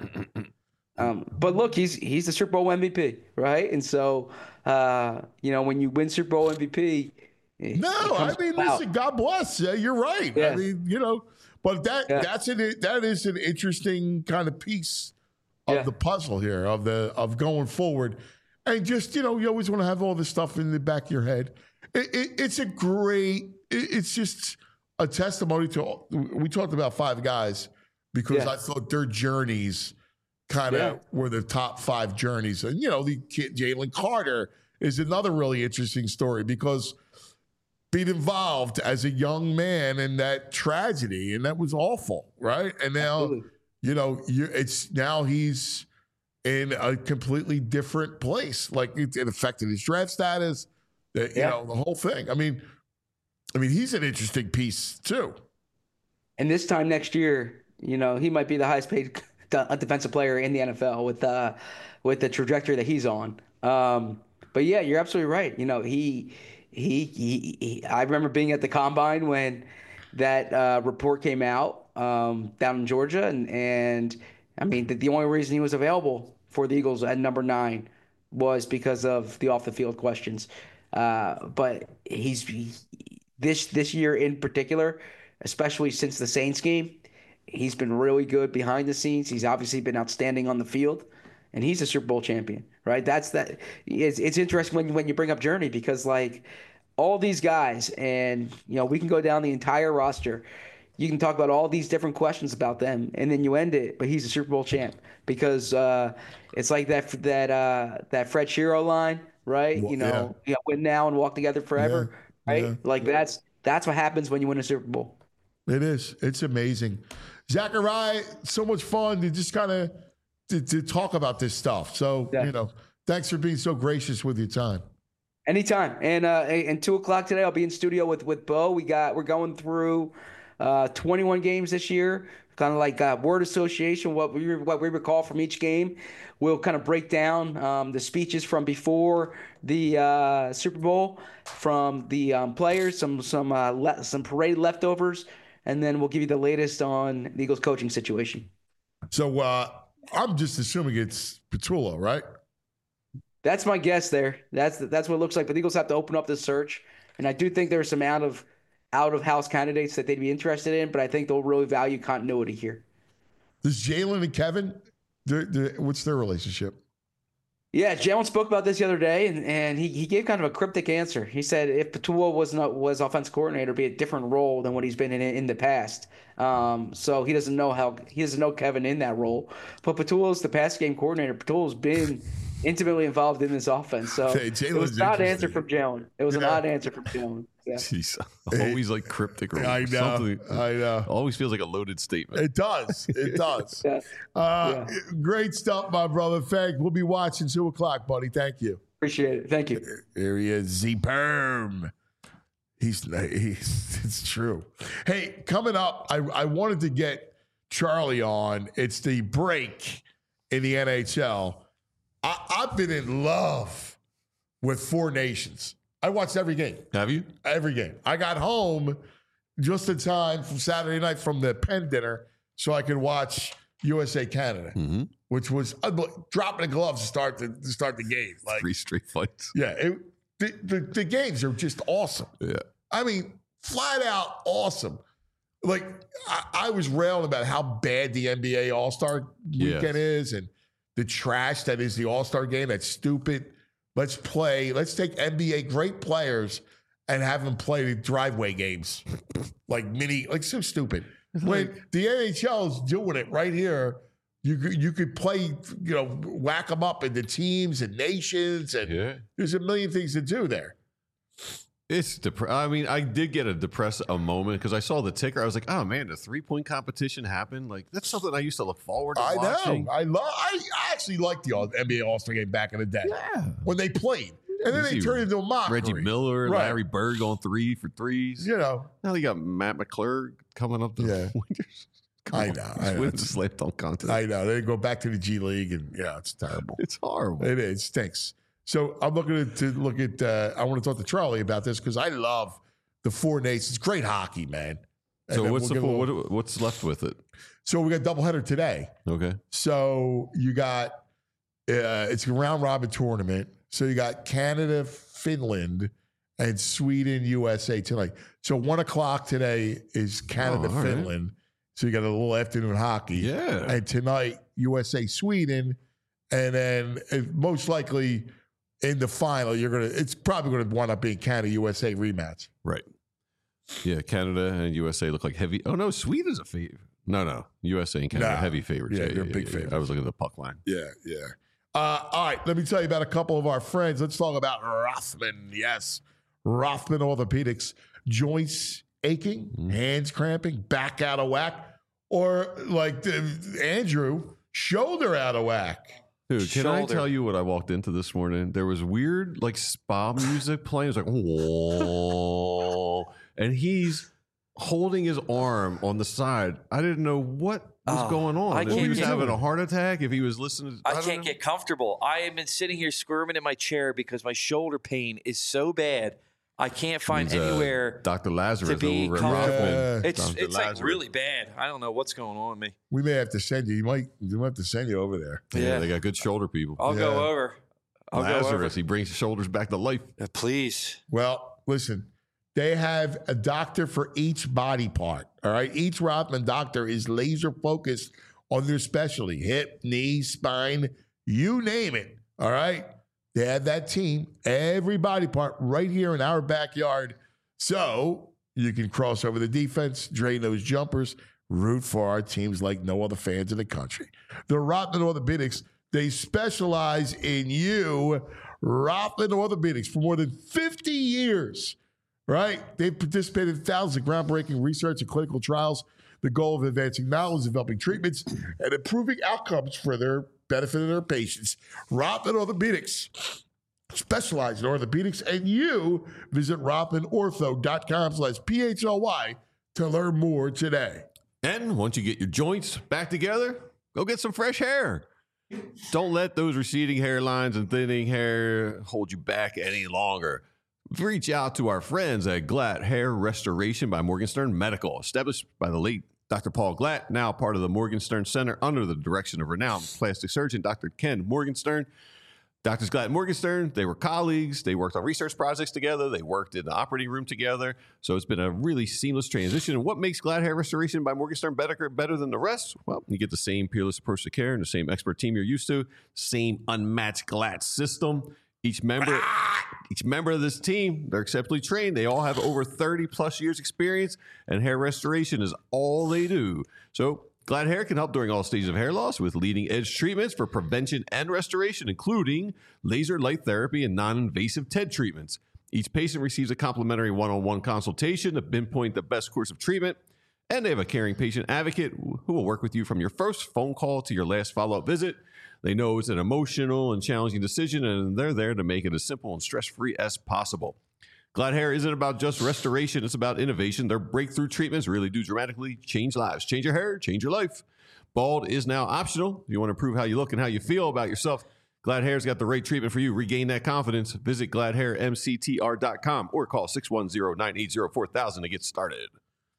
um, but look, he's he's the Super Bowl M V P, right? And so, uh, you know, when you win Super Bowl M V P, it- No, it I comes mean, out. listen, God bless. Yeah, you're right. I Yeah. mean, you know, but that Yeah. that's an that is an interesting kind of piece of Yeah. the puzzle here of the of going forward, and just you know, you always want to have all this stuff in the back of your head. It, it, it's a great. It, it's just a testimony to. We talked about five guys because Yeah. I thought their journeys kind of Yeah. were the top five journeys, and you know, the kid Jalen Carter is another really interesting story because being involved as a young man in that tragedy, and that was awful, right? And now, Absolutely. you know, you it's now he's in a completely different place. Like it, it affected his draft status, the, you Yeah. know, the whole thing. I mean, I mean, he's an interesting piece too. And this time next year, you know, he might be the highest paid de- defensive player in the N F L with uh, with the trajectory that he's on. Um, but yeah, you're absolutely right. You know, he, he, he, he I remember being at the combine when that uh, report came out um, down in Georgia, and and I mean, the, the only reason he was available for the Eagles at number nine was because of the off the field questions. Uh, but he's he, this this year in particular, especially since the Saints game, he's been really good behind the scenes. He's obviously been outstanding on the field, and he's a Super Bowl champion, right? That's that. It's, it's interesting when when you bring up Journey because like all these guys, and you know we can go down the entire roster. you can talk about all these different questions about them, and then you end it. But he's a Super Bowl champ because uh, it's like that that uh, that Fred Shero line, right? Well, you know, yeah. win now and walk together forever, Yeah, right? yeah. Like that's that's what happens when you win a Super Bowl. It is. It's amazing. Zachariah, so much fun to just kind of to, to talk about this stuff. So, Yeah. you know, thanks for being so gracious with your time. Anytime. And uh, and two o'clock today, I'll be in studio with with Bo. We got we're going through uh, twenty-one games this year, kind of like uh, word association, what we what we recall from each game. We'll kind of break down um, the speeches from before the uh, Super Bowl from the um, players, some some uh, le- some parade leftovers, and then we'll give you the latest on the Eagles coaching situation. So uh, I'm just assuming it's Petula, right? That's my guess there. That's that's what it looks like. But the Eagles have to open up the search, and I do think there's some out of out of house candidates that they'd be interested in. But I think they'll really value continuity here. Does Jalen and Kevin, they're, they're, what's their relationship? Yeah, Jalen spoke about this the other day, and, and he, he gave kind of a cryptic answer. He said if Petua was not was offensive coordinator, it'd be a different role than what he's been in in the past. Um, so he doesn't know how he doesn't know Kevin in that role. But Petua's the pass game coordinator. Petua's been intimately involved in this offense. So Hey, it was Jalen's an odd interesting. answer from Jalen. It was an Yeah. odd answer from Jalen. Yeah. Jeez, always like cryptic or I know. something. I know. Always feels like a loaded statement. It does. It does. Yeah. Uh, Great stuff, my brother. Thanks. We'll be watching two o'clock, buddy. Thank you. Appreciate it. Thank you. Here he is, Z Perm. He's, he's it's true. Hey, coming up, I, I wanted to get Charlie on. It's the break in the N H L. I, I've been in love with Four Nations. I watched every game. Have you? Every game. I got home just in time from Saturday night from the Penn dinner so I could watch U S A Canada, Mm-hmm. which was unbel- dropping the gloves to start the, to start the game. Like, Three straight fights. yeah, it, the, the the games are just awesome. Yeah. I mean, flat out awesome. Like I, I was railing about how bad the N B A All Star Yes. weekend is, and the trash that is the All Star game. That's stupid. Let's play. Let's take N B A great players and have them play the driveway games, like mini, like so stupid. When the N H L is doing it right here, you could you could play, you know, whack them up into teams and nations, and Yeah. there's a million things to do there. It's depre- I mean, I did get a depressed a moment because I saw the ticker. I was like, oh man, the three point competition happened. Like that's something I used to look forward to I watching. know. I love. I actually liked the all, N B A All Star game back in the day Yeah. when they played, and then You they see turned into a mockery. Reggie Miller, Right. Larry Bird going three for threes. You know, Now they got Matt McClure coming up the Yeah. winters. Come I on. know, I know. With the slam dunk contest. I know they go back to the G League, and yeah, it's terrible. it's horrible. It is. It stinks. So I'm looking at, to look at. Uh, I want to talk to Charlie about this because I love the Four Nations. Great hockey, man. And so then what's we'll the get a full, little- what, what's left with it? So we got doubleheader today. Okay. So you got uh, it's a round robin tournament. So you got Canada, Finland, and Sweden, U S A tonight. So one o'clock today is Canada, Oh, all right. Finland. So you got a little afternoon hockey. Yeah. And tonight, U S A, Sweden, and then uh, most likely in the final, you're gonna. It's probably gonna wind up being Canada, U S A rematch. Right. Yeah, Canada and U S A look like heavy. Oh no, Sweden's a favorite. No, no, U S A and Canada Nah. are heavy favorites. Yeah, they're big favorites. I was looking at the puck line. Yeah, yeah. Uh, all right, let me tell you about a couple of our friends. Let's talk about Rothman. Yes, Rothman Orthopedics. Joints aching, Mm-hmm. hands cramping, back out of whack, or like the, Andrew, shoulder out of whack. Dude, can I Shoulder. tell you what I walked into this morning? There was weird like spa music playing. It was like, whoa. And he's holding his arm on the side. I didn't know what was Oh, going on. I If he can't was get- having a heart attack, if he was listening to I, don't can't know. get comfortable. I have been sitting here squirming in my chair because my shoulder pain is so bad. I can't find Means, uh, anywhere. Doctor Lazarus to be over at comfortable. Rothman. Yeah. It's Doctor it's like Lazarus. really bad. I don't know what's going on with me. We may have to send you. You might. You might have to send you over there. Yeah, Yeah. they got good shoulder people. I'll Yeah. go over. I'll go over. Lazarus, he brings his shoulders back to life. Uh, Please. Well, listen, they have a doctor for each body part. All right. Each Rothman doctor is laser focused on their specialty hip, knee, spine, you name it. All right. They have that team, every body part right here in our backyard. So You can cross over the defense, drain those jumpers, root for our teams like no other fans in the country. The Rothman Orthopedics, they specialize in you. Rothman Orthopedics for more than fifty years, right? They've participated in thousands of groundbreaking research and clinical trials. The goal of advancing knowledge, developing treatments, and improving outcomes for their benefit of their patients. Rothman Orthopedics specialize in orthopedics, and you visit rothman ortho dot com slash P H L Y to learn more today. And once you get your joints back together, go get some fresh hair. Don't let those receding hairlines and thinning hair hold you back any longer. Reach out to our friends at Glatt Hair Restoration by Morgenstern Medical, established by the late Doctor Paul Glatt, now part of the Morgenstern Center under the direction of renowned plastic surgeon Doctor Ken Morgenstern. Doctors Glatt and Morgenstern, they were colleagues. They worked on research projects together. They worked in the operating room together. So it's been a really seamless transition. And what makes Glatt Hair Restoration by Morgenstern better, better than the rest? Well, you get the same peerless approach to care and the same expert team you're used to, same unmatched Glatt system. Each member, each member of this team, they're exceptionally trained. They all have over thirty plus years experience, and hair restoration is all they do. So Glatt Hair can help during all stages of hair loss with leading-edge treatments for prevention and restoration, including laser light therapy and non-invasive T E D treatments. Each patient receives a complimentary one-on-one consultation to pinpoint the best course of treatment, and they have a caring patient advocate who will work with you from your first phone call to your last follow-up visit. They know it's an emotional and challenging decision, and they're there to make it as simple and stress-free as possible. Glatt Hair isn't about just restoration. It's about innovation. Their breakthrough treatments really do dramatically change lives. Change your hair, change your life. Bald is now optional. If you want to improve how you look and how you feel about yourself, Glatt Hair's got the right treatment for you. Regain that confidence. Visit glatt hair m c t r dot com or call six one zero, nine eight zero, four thousand to get started.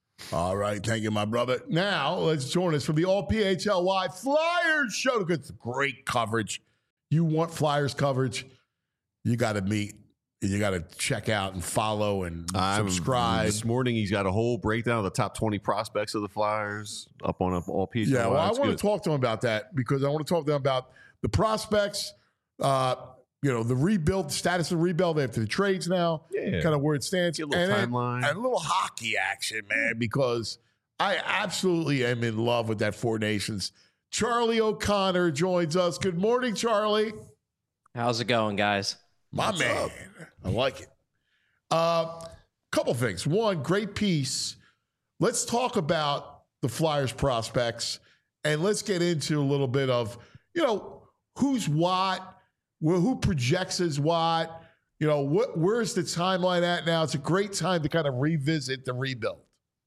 All right. Thank you, my brother. Now, let's join us from the All P H L Y Flyers show. It's great coverage. You want Flyers coverage, you got to meet. You got to check out and follow and subscribe. Um, this morning, he's got a whole breakdown of the top twenty prospects of the Flyers up on up all P H L Y. Yeah, well, I That's want good. to talk to him about that because I want to talk to him about the prospects, uh, you know, the rebuild, status of rebuild after the trades now, Yeah. kind of where it stands. Get a little and, then- timeline. and a little hockey action, man, because I absolutely am in love with that Four Nations. Charlie O'Connor joins us. Good morning, Charlie. How's it going, guys? My What's man. up? I like it. Uh, couple things. One, great piece. Let's talk about the Flyers prospects and let's get into a little bit of, you know, who's what, wh- who projects as what, you know, what, where's the timeline at now? It's a great time to kind of revisit the rebuild.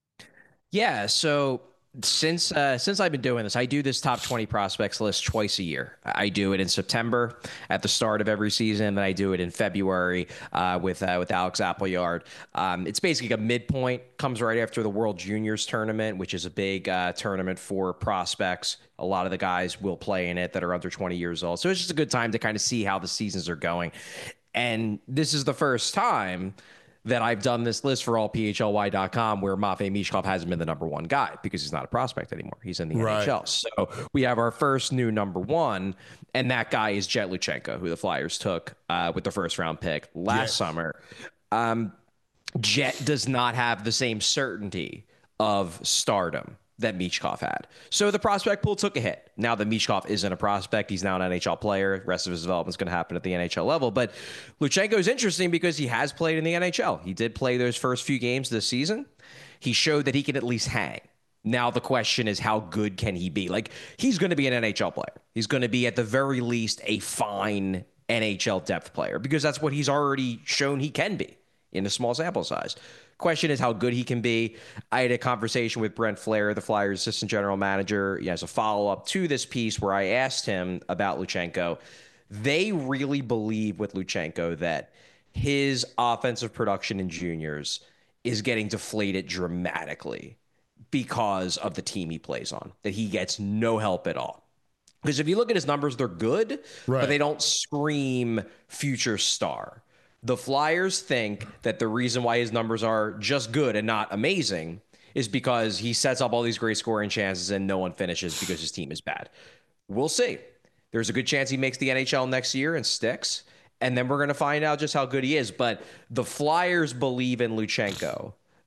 Yeah, so since uh, since I've been doing this, I do this top twenty prospects list twice a year. I do it in September at the start of every season, then I do it in February uh, with uh, with Alex Appleyard. Um, it's basically a midpoint, comes right after the World Juniors tournament, which is a big uh, tournament for prospects. A lot of the guys will play in it that are under twenty years old. So it's just a good time to kind of see how the seasons are going. And this is the first time that I've done this list for all P H L Y dot com where Matvei Michkov hasn't been the number one guy because he's not a prospect anymore. He's in the Right. N H L. So we have our first new number one, and that guy is Jet Luchenko, who the Flyers took uh, with the first round pick last Yes. summer. Um, Jet does not have the same certainty of stardom that Michkov had. So the prospect pool took a hit. Now that Michkov isn't a prospect, he's now an N H L player. The rest of his development is going to happen at the N H L level. But Luchenko is interesting because he has played in the N H L. He did play those first few games this season. He showed that he can at least hang. Now the question is, how good can he be? Like, he's going to be an N H L player. He's going to be, at the very least, a fine N H L depth player because that's what he's already shown he can be in a small sample size. Question is how good he can be. I had a conversation with Brent Flair, the Flyers assistant general manager, as a follow-up to this piece where I asked him about Luchenko. They really believe with Luchenko that his offensive production in juniors is getting deflated dramatically because of the team he plays on, that he gets no help at all. Because if you look at his numbers, they're good, Right. but they don't scream future star. The Flyers think that the reason why his numbers are just good and not amazing is because he sets up all these great scoring chances and no one finishes because his team is bad. We'll see. There's a good chance he makes the N H L next year and sticks, and then we're going to find out just how good he is. But the Flyers believe in Luchenko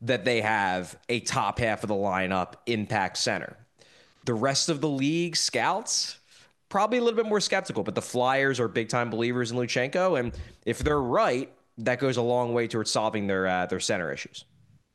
that they have a top half of the lineup impact center. The rest of the league scouts, probably a little bit more skeptical, but the Flyers are big time believers in Luchenko. And if they're right, that goes a long way towards solving their uh, their center issues.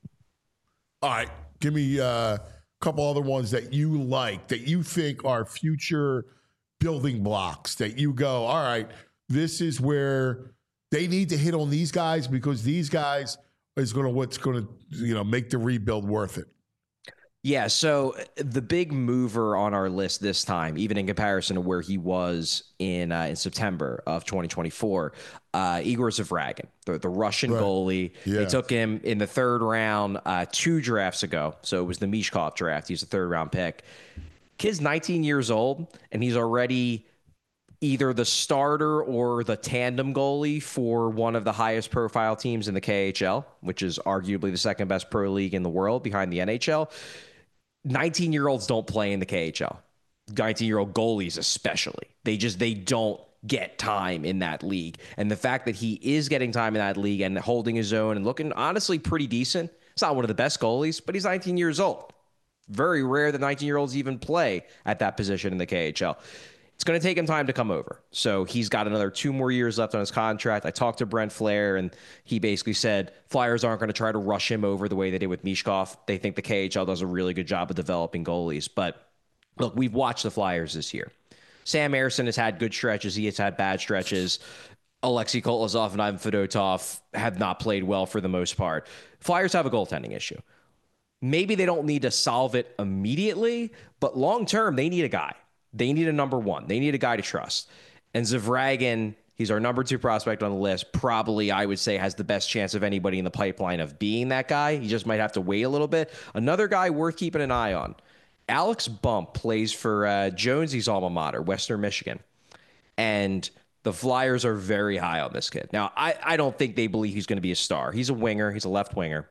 All right. Give me uh, a couple other ones that you like, that you think are future building blocks, that you go, all right, this is where they need to hit on these guys because these guys is going to what's going to, you know, make the rebuild worth it. Yeah, so the big mover on our list this time, even in comparison to where he was in uh, in September of twenty twenty-four, uh, Igor Zavragin, the, the Russian right. goalie. Yeah. They took him in the third round uh, two drafts ago. So it was the Mishkov draft. He's a third round pick. Kid's nineteen years old, and he's already either the starter or the tandem goalie for one of the highest profile teams in the K H L, which is arguably the second best pro league in the world behind the N H L. nineteen-year-olds don't play in the K H L. nineteen-year-old goalies especially. They just, they don't get time in that league. And the fact that he is getting time in that league and holding his own and looking honestly pretty decent. It's not one of the best goalies, but he's nineteen years old. Very rare that nineteen-year-olds even play at that position in the K H L. It's going to take him time to come over. So he's got another two more years left on his contract. I talked to Brent Flair, and he basically said Flyers aren't going to try to rush him over the way they did with Mishkov. They think the K H L does a really good job of developing goalies. But look, we've watched the Flyers this year. Sam Ersson has had good stretches. He has had bad stretches. Alexei Kolosov and Ivan Fedotov have not played well for the most part. Flyers have a goaltending issue. Maybe they don't need to solve it immediately, but long-term, they need a guy. They need a number one. They need a guy to trust. And Zavragin, he's our number two prospect on the list. Probably, I would say, has the best chance of anybody in the pipeline of being that guy. He just might have to wait a little bit. Another guy worth keeping an eye on. Alex Bump plays for uh, Jonesy's alma mater, Western Michigan. And the Flyers are very high on this kid. Now, I, I don't think they believe he's going to be a star. He's a winger. He's a left winger.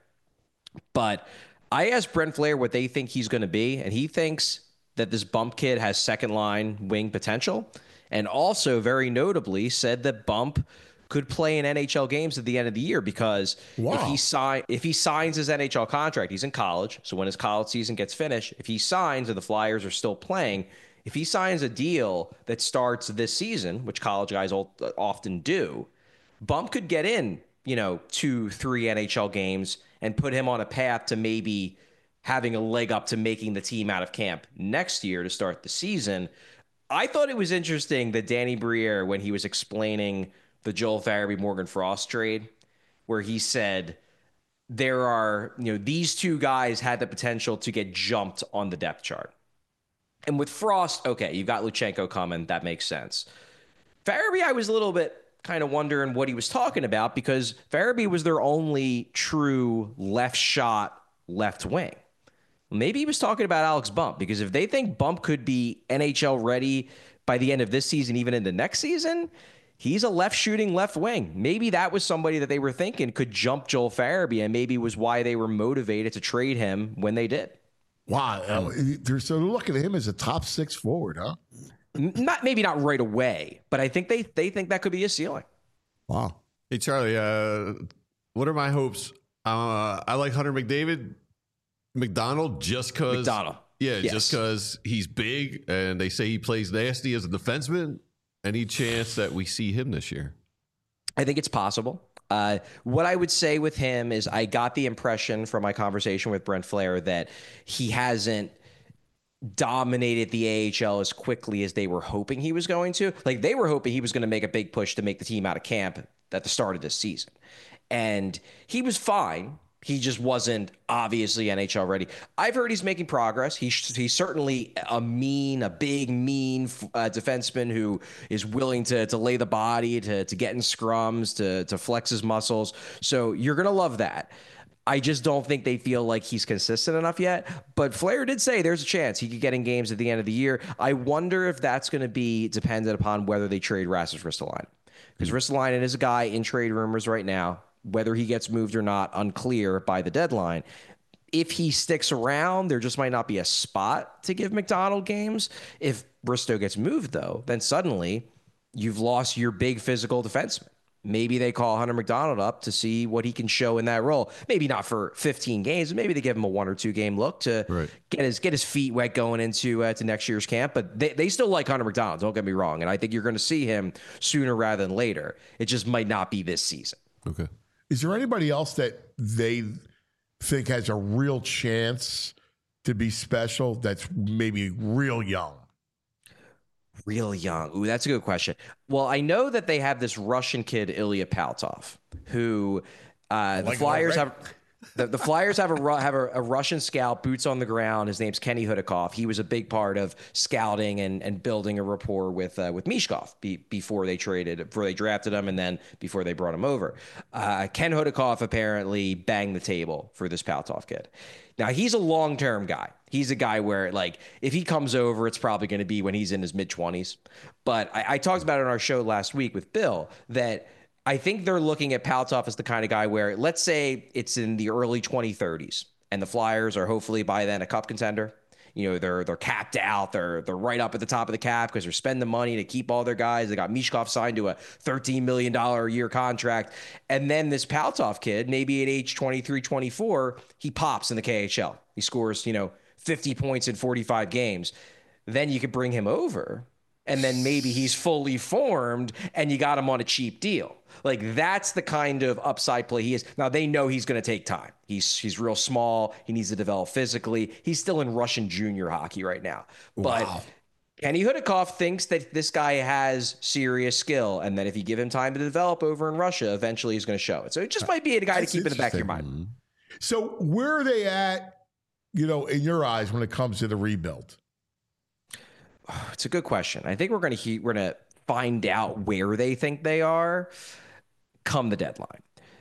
But I asked Brent Flair what they think he's going to be, and he thinks that this Bump kid has second line wing potential, and also very notably said that Bump could play in N H L games at the end of the year because wow. if he sign if he signs his N H L contract, he's in college. So when his college season gets finished, if he signs and the Flyers are still playing, if he signs a deal that starts this season, which college guys often do, Bump could get in, you know, two, three N H L games and put him on a path to maybe having a leg up to making the team out of camp next year to start the season. I thought it was interesting that Danny Briere, when he was explaining the Joel Farabee Morgan Frost trade, where he said there are, you know, these two guys had the potential to get jumped on the depth chart. And with Frost, okay, you've got Luchenko coming. That makes sense. Farabee, I was a little bit kind of wondering what he was talking about because Farabee was their only true left shot left wing. Maybe he was talking about Alex Bump, because if they think Bump could be N H L ready by the end of this season, even into next season, he's a left shooting left wing. Maybe that was somebody that they were thinking could jump Joel Farabee, and maybe was why they were motivated to trade him when they did. Wow. They're so looking at him as a top six forward, huh? Not maybe not right away, but I think they they think that could be a ceiling. Wow. Hey, Charlie, uh, what are my hopes? Uh, I like Hunter McDavid. McDonald, just because, McDonald. yeah, Yes. just because he's big and they say he plays nasty as a defenseman. Any chance that we see him this year? I think it's possible. Uh, what I would say with him is I got the impression from my conversation with Brent Flair that he hasn't dominated the A H L as quickly as they were hoping he was going to. Like, they were hoping he was going to make a big push to make the team out of camp at the start of this season. And he was fine. He just wasn't obviously N H L ready. I've heard he's making progress. He's he's certainly a mean, a big, mean uh, defenseman who is willing to to lay the body, to to get in scrums, to to flex his muscles. So you're gonna love that. I just don't think they feel like he's consistent enough yet. But Flair did say there's a chance he could get in games at the end of the year. I wonder if that's going to be dependent upon whether they trade Rasmus Ristolainen. Because Ristolainen is a guy in trade rumors right now. Whether he gets moved or not, unclear by the deadline. If he sticks around, there just might not be a spot to give McDonald games. If Bristow gets moved, though, then suddenly you've lost your big physical defenseman. maybe they call Hunter McDonald up to see what he can show in that role. Maybe not for fifteen games, but maybe they give him a one or two game look to Right. get his get his feet wet going into uh, to next year's camp. But they, they still like Hunter McDonald, don't get me wrong. And I think you're going to see him sooner rather than later. It just might not be this season. Okay. Is there anybody else that they think has a real chance to be special that's maybe real young? Real young. Ooh, that's a good question. Well, I know that they have this Russian kid, Ilya Paltov, who uh, the like Flyers it have. The, the Flyers have a Ru- have a, a Russian scout, boots on the ground. His name's Kenny Hudakov. He was a big part of scouting and, and building a rapport with uh, with Mishkov be, before they traded, before they drafted him, and then before they brought him over. Uh, Ken Hudakov apparently banged the table for this Paltov kid. Now, he's a long-term guy. He's a guy where, like, if he comes over, it's probably going to be when he's in his mid-twenties. But I, I talked about it on our show last week with Bill that I think they're looking at Paltov as the kind of guy where, let's say it's in the early twenty thirties, and the Flyers are hopefully by then a cup contender. You know, they're they're capped out. They're they're right up at the top of the cap because they're spending money to keep all their guys. They got Mishkov signed to a thirteen million dollars a year contract. And then this Paltov kid, maybe at age twenty-three, twenty-four, he pops in the K H L. He scores, you know, fifty points in forty-five games. Then you could bring him over, and then maybe he's fully formed, and you got him on a cheap deal. Like, that's the kind of upside play he is. Now, they know he's going to take time. He's he's real small. He needs to develop physically. He's still in Russian junior hockey right now. But Wow. Kenny Hudakov thinks that this guy has serious skill, and that if you give him time to develop over in Russia, eventually he's going to show it. So it just might be a guy That's to keep in the back of your interesting. mind. So where are they at, you know, in your eyes when it comes to the rebuild? It's a good question. I think we're going to he- we're going to find out where they think they are come the deadline.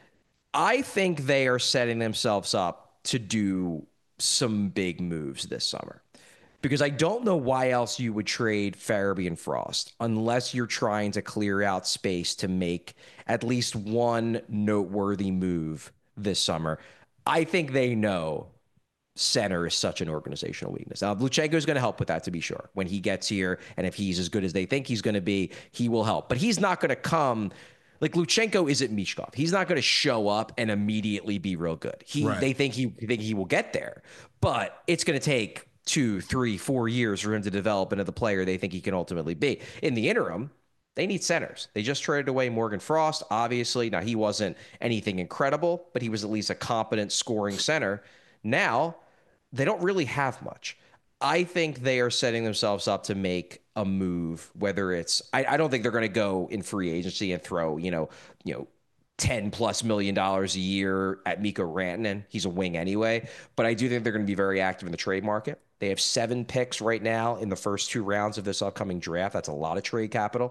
I think they are setting themselves up to do some big moves this summer, because I don't know why else you would trade Farabee and Frost unless you're trying to clear out space to make at least one noteworthy move this summer. I think they know center is such an organizational weakness. Now, Luchenko is going to help with that, to be sure. When he gets here, and if he's as good as they think he's going to be, he will help. But he's not going to come... Like, Luchenko isn't Mishkov. He's not going to show up and immediately be real good. He, Right. They think he think he will get there. But it's going to take two, three, four years for him to develop into the player they think he can ultimately be. In the interim, they need centers. They just traded away Morgan Frost, obviously. Now, he wasn't anything incredible, but he was at least a competent scoring center. Now, they don't really have much. I think they are setting themselves up to make a move, whether it's, I, I don't think they're going to go in free agency and throw, you know, you know, ten plus million dollars a year at Mikko Rantanen. He's a wing anyway, but I do think they're going to be very active in the trade market. They have seven picks right now in the first two rounds of this upcoming draft. That's a lot of trade capital.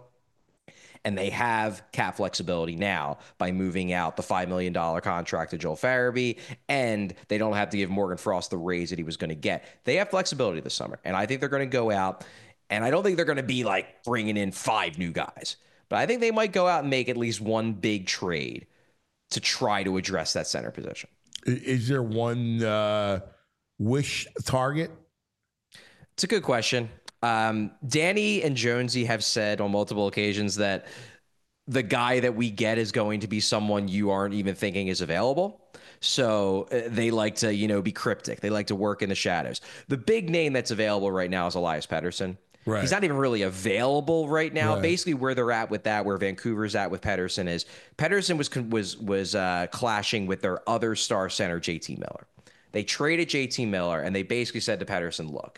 And they have cap flexibility now by moving out the five million dollars contract to Joel Farabee, and they don't have to give Morgan Frost the raise that he was going to get. They have flexibility this summer, and I think they're going to go out, and I don't think they're going to be like bringing in five new guys, but I think they might go out and make at least one big trade to try to address that center position. I- Is there one uh, wish target? It's a good question. Um, Danny and Jonesy have said on multiple occasions that the guy that we get is going to be someone you aren't even thinking is available. So uh, they like to, you know, be cryptic. They like to work in the shadows. The big name that's available right now is Elias Pettersson. Right. He's not even really available right now. Right. Basically, where they're at with that, where Vancouver's at with Pettersson is Pettersson was was was uh, clashing with their other star center, J T Miller. They traded J T Miller, and they basically said to Pettersson, "Look,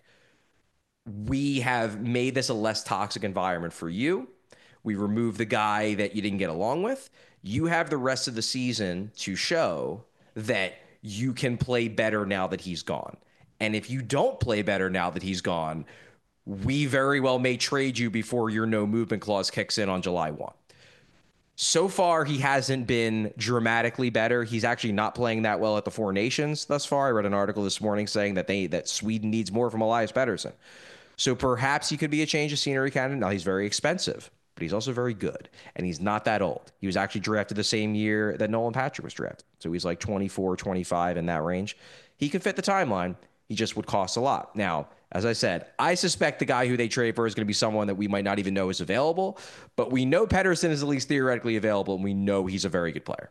we have made this a less toxic environment for you. We removed the guy that you didn't get along with. You have the rest of the season to show that you can play better now that he's gone. And if you don't play better now that he's gone, we very well may trade you before your no movement clause kicks in on July first. So far, he hasn't been dramatically better. He's actually not playing that well at the Four Nations thus far. I read an article this morning saying that they that Sweden needs more from Elias Pettersson. So perhaps he could be a change of scenery candidate. Now, he's very expensive, but he's also very good, and he's not that old. He was actually drafted the same year that Nolan Patrick was drafted. So he's like twenty-four, twenty-five in that range. He could fit the timeline. He just would cost a lot. Now, As I said, I suspect the guy who they trade for is going to be someone that we might not even know is available, but we know Pettersson is at least theoretically available, and we know he's a very good player.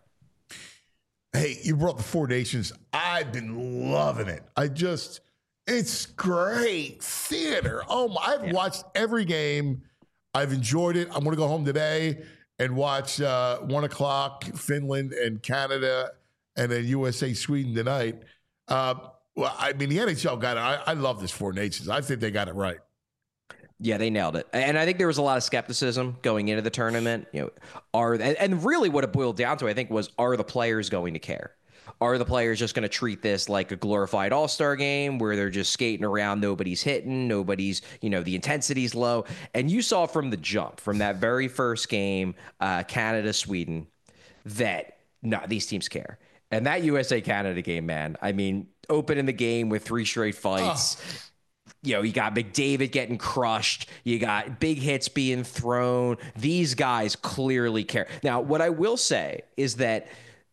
Hey, you brought the Four Nations. I've been loving it. I just, it's great theater. Oh, my, I've yeah. watched every game. I've enjoyed it. I'm going to go home today and watch uh, one o'clock Finland and Canada, and then U S A Sweden tonight. Uh, well, I mean, the N H L got it. I, I love this Four Nations. I think they got it right. Yeah, they nailed it. And I think there was a lot of skepticism going into the tournament. You know, are and, and really what it boiled down to, I think, was are the players going to care? Are the players just going to treat this like a glorified all-star game where they're just skating around, nobody's hitting, nobody's, you know, the intensity's low? And you saw from the jump, from that very first game, uh, Canada, Sweden, that no, these teams care. And that U S A Canada game, man, I mean, opening the game with three straight fights. Oh. You know, you got McDavid getting crushed. You got big hits being thrown. These guys clearly care. Now, what I will say is that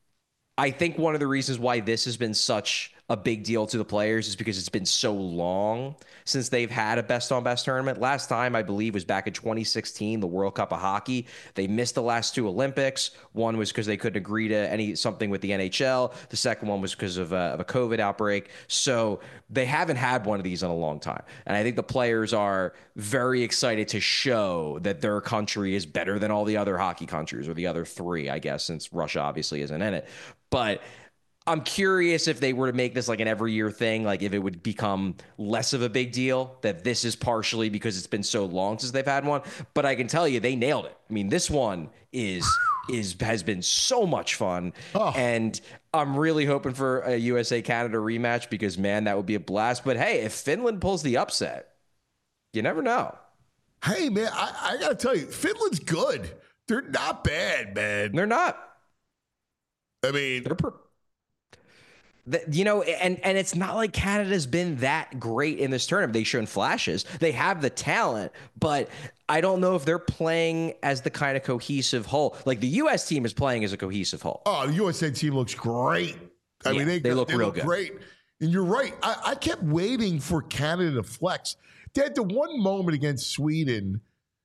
I think one of the reasons why this has been such a big deal to the players is because it's been so long since they've had a best on best tournament. Last time, I believe, was back in twenty sixteen, the World Cup of Hockey. They missed the last two Olympics. One was because they couldn't agree to any something with the N H L. The second one was because of a, of a COVID outbreak. So they haven't had one of these in a long time. And I think the players are very excited to show that their country is better than all the other hockey countries, or the other three, I guess, since Russia obviously isn't in it. But I'm curious if they were to make this like an every year thing, like if it would become less of a big deal, that this is partially because it's been so long since they've had one. But I can tell you they nailed it. I mean, this one is is has been so much fun. Oh. And I'm really hoping for a U S A Canada rematch because, man, that would be a blast. But hey, if Finland pulls the upset, you never know. Hey, man, I, I got to tell you, Finland's good. They're not bad, man. They're not. I mean, they're per- The, you know, and and it's not like Canada's been that great in this tournament. They've shown flashes. They have the talent, but I don't know if they're playing as the kind of cohesive whole. Like the U S team is playing as a cohesive whole. Oh, the U S A team looks great. I yeah, mean, they, they look they real look good. Great. And you're right. I, I kept waiting for Canada to flex. They had the one moment against Sweden,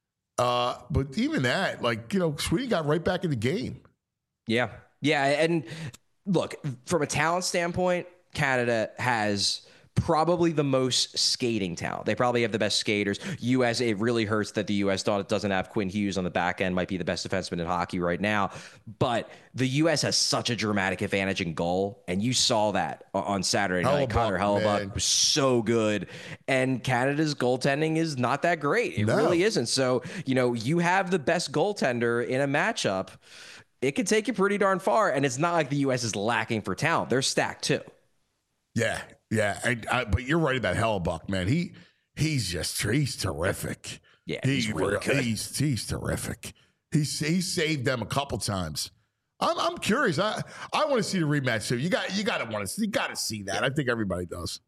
uh, but even that, like, you know, Sweden got right back in the game. Yeah. Yeah. And look, from a talent standpoint, Canada has probably the most skating talent. They probably have the best skaters. U S, it really hurts that the U S doesn't have Quinn Hughes on the back end, might be the best defenseman in hockey right now. But the U S has such a dramatic advantage in goal, and you saw that on Saturday night. Hellebuyck, Connor Hellebuyck man. was so good, and Canada's goaltending is not that great. It No. really isn't. So, you know, you have the best goaltender in a matchup. It could take you pretty darn far, and it's not like the U S is lacking for talent. They're stacked too. Yeah, yeah. I, I, but you're right about Hellebuyck, man. He he's just he's terrific. Yeah, he, he's really good. He's he's terrific. He's he saved them a couple times. I'm I'm curious. I I want to see the rematch too. You got you got to want to you got to see that. I think everybody does.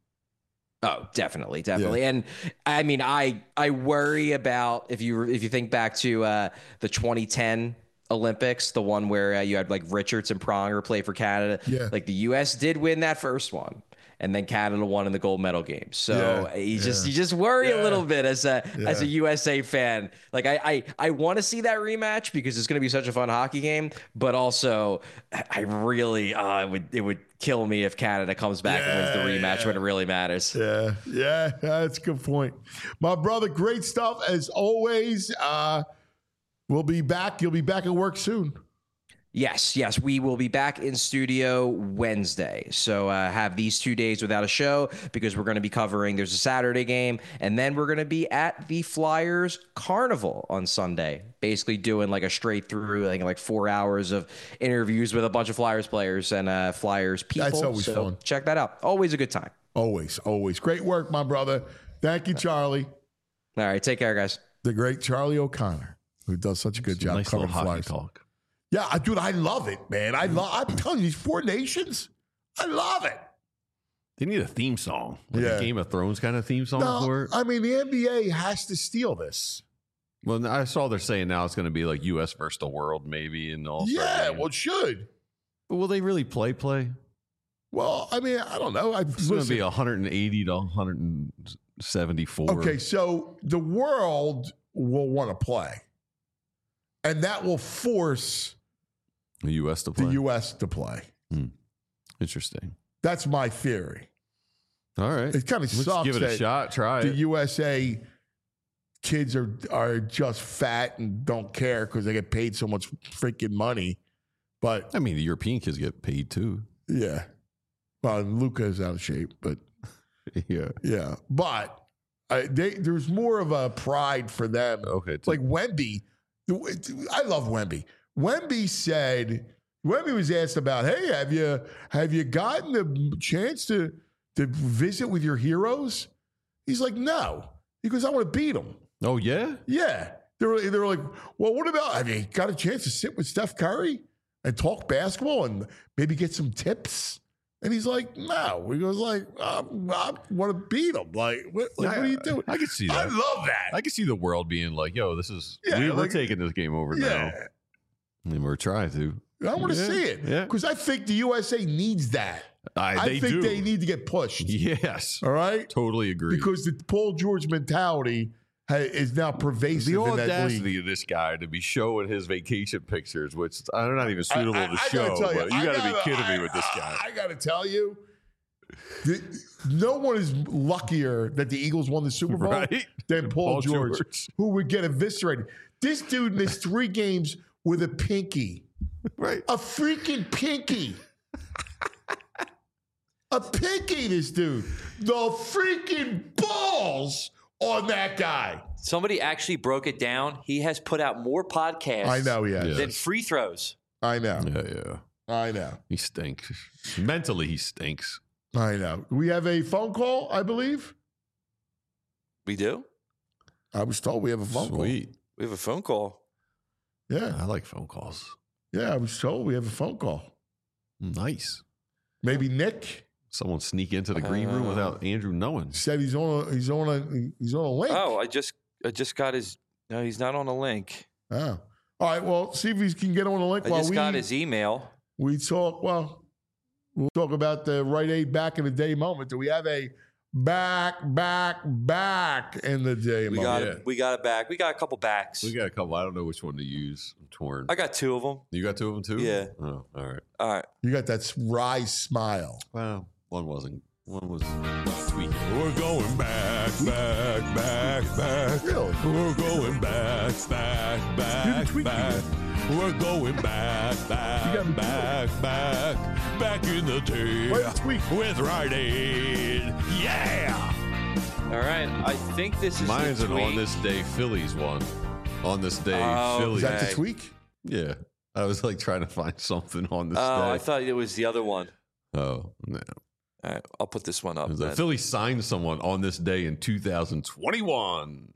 Oh, definitely, definitely. Yeah. And I mean, I I worry about if you if you think back to uh, the twenty ten Olympics, the one where uh, you had like Richards and Pronger play for Canada. Yeah. Like the U S did win that first one, and then Canada won in the gold medal game. So Yeah, you just yeah. you just worry Yeah. a little bit as a Yeah. as a U S A fan. Like I I, I want to see that rematch because it's going to be such a fun hockey game. But also, I really uh, it would it would kill me if Canada comes back and wins the Yeah, rematch yeah. when it really matters. Yeah, yeah, that's a good point. My brother, great stuff as always. Uh, we'll be back. You'll be back at work soon. Yes, yes, we will be back in studio Wednesday. So uh, have these two days without a show because we're going to be covering, there's a Saturday game, and then we're going to be at the Flyers Carnival on Sunday, basically doing like a straight through, I think like four hours of interviews with a bunch of Flyers players and uh, Flyers people. That's always so fun. Check that out. Always a good time. Always, always. Great work, my brother. Thank you, Charlie. All right, take care, guys. The great Charlie O'Connor, who does such a good job Nice covering little hockey Flyers. talk. Yeah, I, dude, I love it, man. I love. I'm telling you, these four nations, I love it. They need a theme song, like Yeah. a Game of Thrones kind of theme song No, for it. I mean, the N B A has to steal this. Well, I saw they're saying now it's going to be like U S versus the world, maybe, and all. Yeah, well, it should. But will they really play? Play? Well, I mean, I don't know. I, It's going to be one hundred eighty to one seventy-four. Okay, so the world will want to play, and that will force The U S to play. the U S to play. Hmm. Interesting. That's my theory. All right. It kind of Let's sucks give it a that shot. Try the it. U S A kids are are just fat and don't care because they get paid so much freaking money. But I mean, the European kids get paid too. yeah, well, Luca is out of shape, but Yeah. yeah, but I, they, there's more of a pride for them. Okay. It's like Wemby. I love Wemby. Wemby said, Wemby was asked about, hey, have you have you gotten the chance to to visit with your heroes? He's like, no. He goes, I want to beat them. Oh, yeah? Yeah. They were, they were like, well, what about, have you got a chance to sit with Steph Curry and talk basketball and maybe get some tips? And he's like, no. He goes like, um, I want to beat him. Like, what, like, what are you doing? I can see that. I love that. I can see the world being like, yo, this is, Yeah, we, we're like- taking this game over yeah. now. And we're trying to. I want to Yeah, see it yeah. because I think the U S A needs that. I, I they think do. they need to get pushed. Yes. All right? Totally agree. Because the Paul George mentality ha- is now pervasive the in that league. audacity of this guy to be showing his vacation pictures, which are not even suitable I- I- to I gotta show, tell but you I got to gotta- be kidding I- me with this guy. I, I got to tell you, the, no one is luckier that the Eagles won the Super Bowl Right? than Paul, Paul George, George. who would get eviscerated. This dude missed three games with a pinky. Right. A freaking pinky. A pinky, this dude. The freaking balls on that guy. Somebody actually broke it down. He has put out more podcasts I know he has. Yeah. than free throws. I know. Yeah, yeah. I know. He stinks. Mentally, he stinks. I know. We have a phone call, I believe. We do? I was told we have a phone Sweet. We have a phone call. call. Yeah. I like phone calls. Yeah, I was told we have a phone call. Nice. Maybe Nick Someone sneak into the green room Uh, without Andrew knowing. said he's on a he's on a he's on a link. Oh, I just I just got his no, he's not on a link. Oh. All right, well, see if he can get on a link I while just we got his email. we talk. Well, we'll talk about the Rite Aid back in the day moment. Do we have a back, back, back in the day We moment? got yeah. it. We got it back. We got a couple backs. We got a couple. I don't know which one to use. I'm torn. I got two of them. You got two of them too? Yeah. Oh, all right. All right. You got that wry smile. Well, one wasn't. One was tweaking. We're going back, back, back, back. Really? We're going back, back, back, tweaking. back. We're going back, You back, got me back, back, back in the day Wait, tweak. with Rite Aid. Yeah! All right. I think this is Mine's the an tweet. on this day Phillies one. On this day Oh, Is Phillies. that the Okay. tweak? Yeah. I was like trying to find something on this Oh, day. I thought it was the other one. oh, no. All right. I'll put this one up. The then. Phillies signed someone on this day in two thousand twenty-one.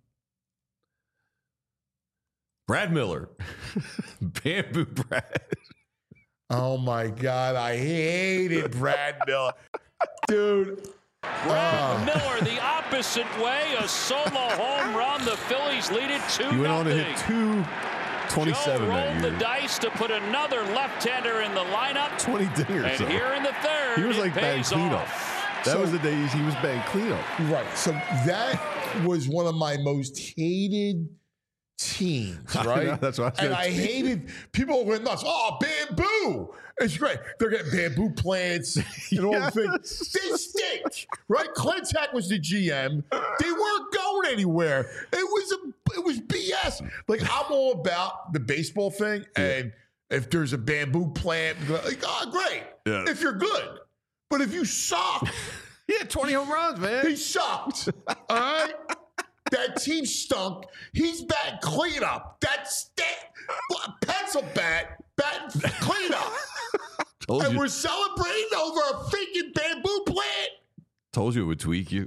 Brad Miller. Bamboo Brad. Oh my God, I hated Brad Miller, dude. Brad Oh. Miller the opposite way, a solo home run. The Phillies lead it two He went on to nothing. hit two twenty-seven Joe that rolled year. the dice to put another left-hander in the lineup. twenty dingers. And so. here in the third, He was it like bang pays cleanup. off. That So- was the days he was bang cleanup. Right. So that was one of my most hated teams, I right? know, that's what I And said. I hated people went nuts. Oh, bamboo. It's great. They're getting bamboo plants and all the things. They stink, right? Clintack was the G M. They weren't going anywhere. It was a, it was B S. Like I'm all about the baseball thing, and if there's a bamboo plant, like, oh, great. Yeah. If you're good, but if you suck, He had twenty home runs, man. he sucked. All right. That team stunk. He's batting cleanup. That's that pencil bat, bat cleanup. Told And you, we're celebrating over a freaking bamboo plant. told you it would tweak you.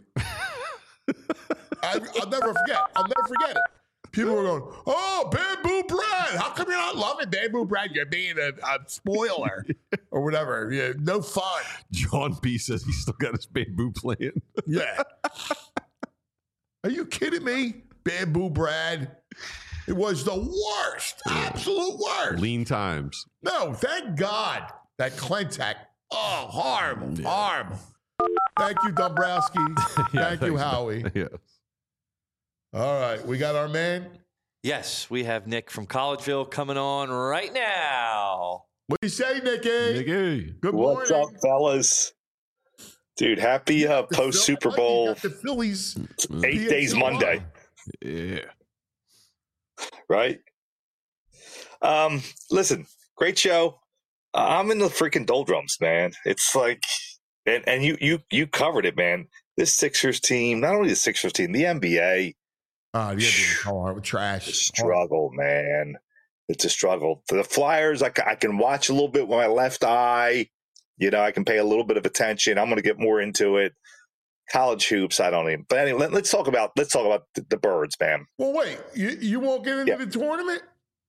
I, I'll never forget. I'll never forget it. People were going, oh, Bamboo Brad. How come you're not loving Bamboo Brad? You're being a, a spoiler or whatever. Yeah, no fun. John B says he's still got his bamboo plant. Yeah. Are you kidding me? Bamboo Brad. It was the worst, absolute worst. Lean times. No, thank God that Clintack Oh, horrible, yeah. horrible. Thank you, Dombrowski. yeah, Thank you, Howie. Yes. All right, we got our man. Yes, we have Nick from Collegeville coming on right now. What do you say, Nicky? Nicky. Good morning. What's up, fellas? Dude, happy uh, post Super Bowl. The Phillies. Eight days Monday. Yeah. Right? Um, listen, great show. Uh, I'm in the freaking doldrums, man. It's like, and, and you you you covered it, man. This Sixers team, not only the Sixers team, the N B A. Oh, the N B A hard, trash. Struggle, man. It's a struggle. For the Flyers, I, I can watch a little bit with my left eye. You know, I can pay a little bit of attention. I'm going to get more into it. College hoops, I don't even. But anyway, let, let's talk about let's talk about the, the Birds, man. Well, wait, you you won't get into yeah. the tournament?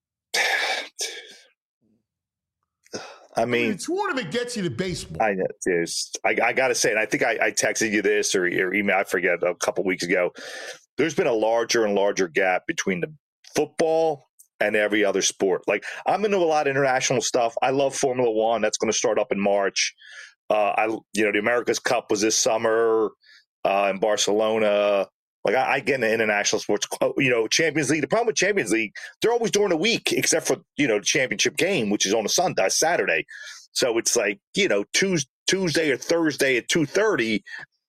I mean, I mean, the tournament gets you to baseball. I know. I, I got to say, and I think I, I texted you this or, or email, I forget, a couple weeks ago. There's been a larger and larger gap between the football and every other sport. Like, I'm into a lot of international stuff. I love Formula One. That's going to start up in March. Uh, I, you know, the America's Cup was this summer uh, in Barcelona. Like, I, I get into international sports. You know, Champions League. The problem with Champions League, they're always during the week, except for, you know, the championship game, which is on a Sunday, Saturday. So it's like, you know, Tuesday, Tuesday or Thursday at two thirty.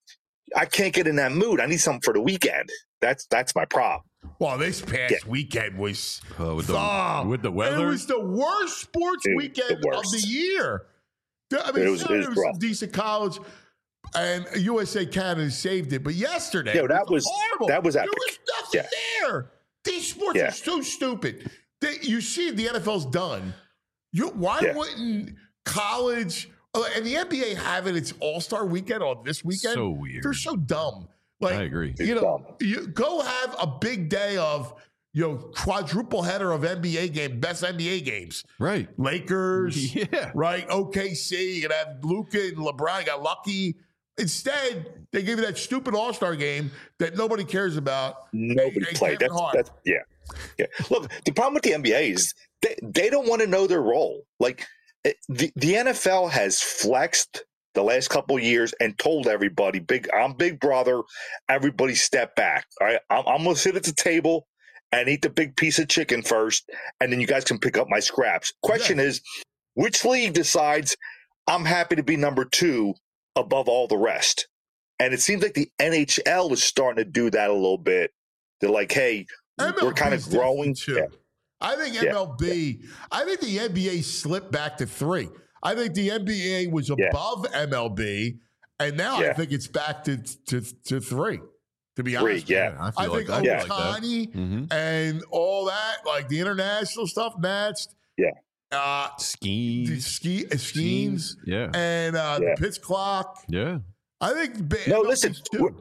I can't get in that mood. I need something for the weekend. That's that's my problem. Well, this past yeah. weekend was uh, with, the, oh, with the weather. It was the worst sports Dude, weekend the worst. of the year. I mean, it was, sure, it was, was some decent college, and U S A Canada saved it. But yesterday, Yo, that was, was horrible. That was epic. There was nothing yeah. there. These sports yeah. are so stupid. They, you see, the N F L's done. You, why yeah. wouldn't college and the N B A having its All-Star weekend on this weekend? So weird. They're so dumb. Like, I agree. You know, you go have a big day of, you know, quadruple header of N B A game, best N B A games. Right. Lakers. Yeah. Right. O K C. You can have Luka and LeBron. Got lucky. Instead, they give you that stupid All-Star game that nobody cares about. Nobody played. That's, that's yeah. Yeah. Look, the problem with the N B A is they, they don't want to know their role. Like, the, the N F L has flexed the last couple of years and told everybody, "Big, I'm Big Brother. Everybody step back. All right, I'm, I'm going to sit at the table and eat the big piece of chicken first, and then you guys can pick up my scraps." Question yeah. is, which league decides I'm happy to be number two above all the rest? And it seems like the N H L is starting to do that a little bit. They're like, "Hey, M L B we're kind of growing." Too. Yeah. I think M L B. Yeah. I think the N B A slipped back to three. I think the N B A was above yeah. M L B, and now yeah. I think it's back to to, to three. To be three, honest, yeah, I, I think like Ohtani like mm-hmm. and all that, like the international stuff, matched. Yeah, uh, skis, ski, uh, skis, yeah, and uh, yeah. the pitch clock. Yeah, I think. No, listen.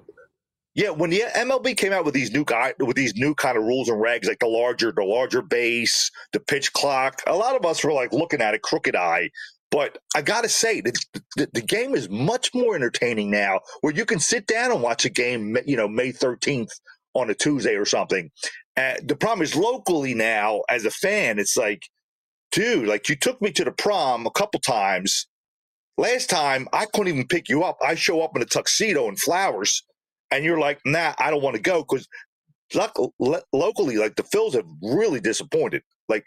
Yeah, when the M L B came out with these new guy, with these new kind of rules and regs, like the larger, the larger base, the pitch clock, a lot of us were like looking at it crooked eye. But I got to say, the, the, the game is much more entertaining now, where you can sit down and watch a game, you know, May thirteenth on a Tuesday or something. Uh, the problem is locally now, as a fan, it's like, dude, like you took me to the prom a couple times. Last time, I couldn't even pick you up. I show up in a tuxedo and flowers. And you're like, nah, I don't want to go because lo- lo- locally, like the Phils have really disappointed. Like,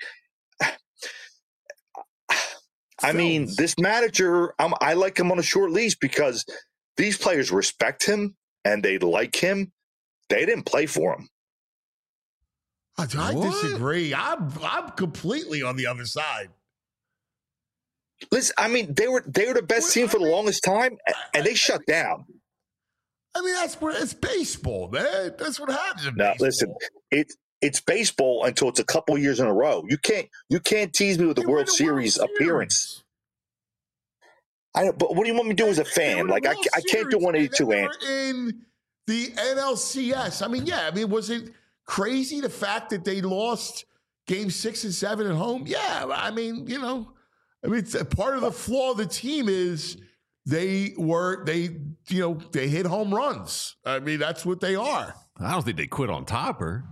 I mean, this manager, I'm, I like him on a short leash because these players respect him and they like him. They didn't play for him. I, I disagree. I'm I'm completely on the other side. Listen, I mean, they were they were the best well, team for I the mean, longest time, and they shut down. I mean, that's what it's baseball, man. That's what happens in now, baseball. Listen, it it's baseball until it's a couple years in a row. You can't you can't tease me with the World Series World appearance. Series. I but what do you want me to do as a fan? Like I, I can't do one eighty-two, and in the N L C S. I mean, yeah. I mean, was it crazy the fact that they lost game six and seven at home? Yeah. I mean, you know, I mean, it's, part of the flaw of the team is. They were, they, you know, they hit home runs. I mean, that's what they are. I don't think they quit on Topper.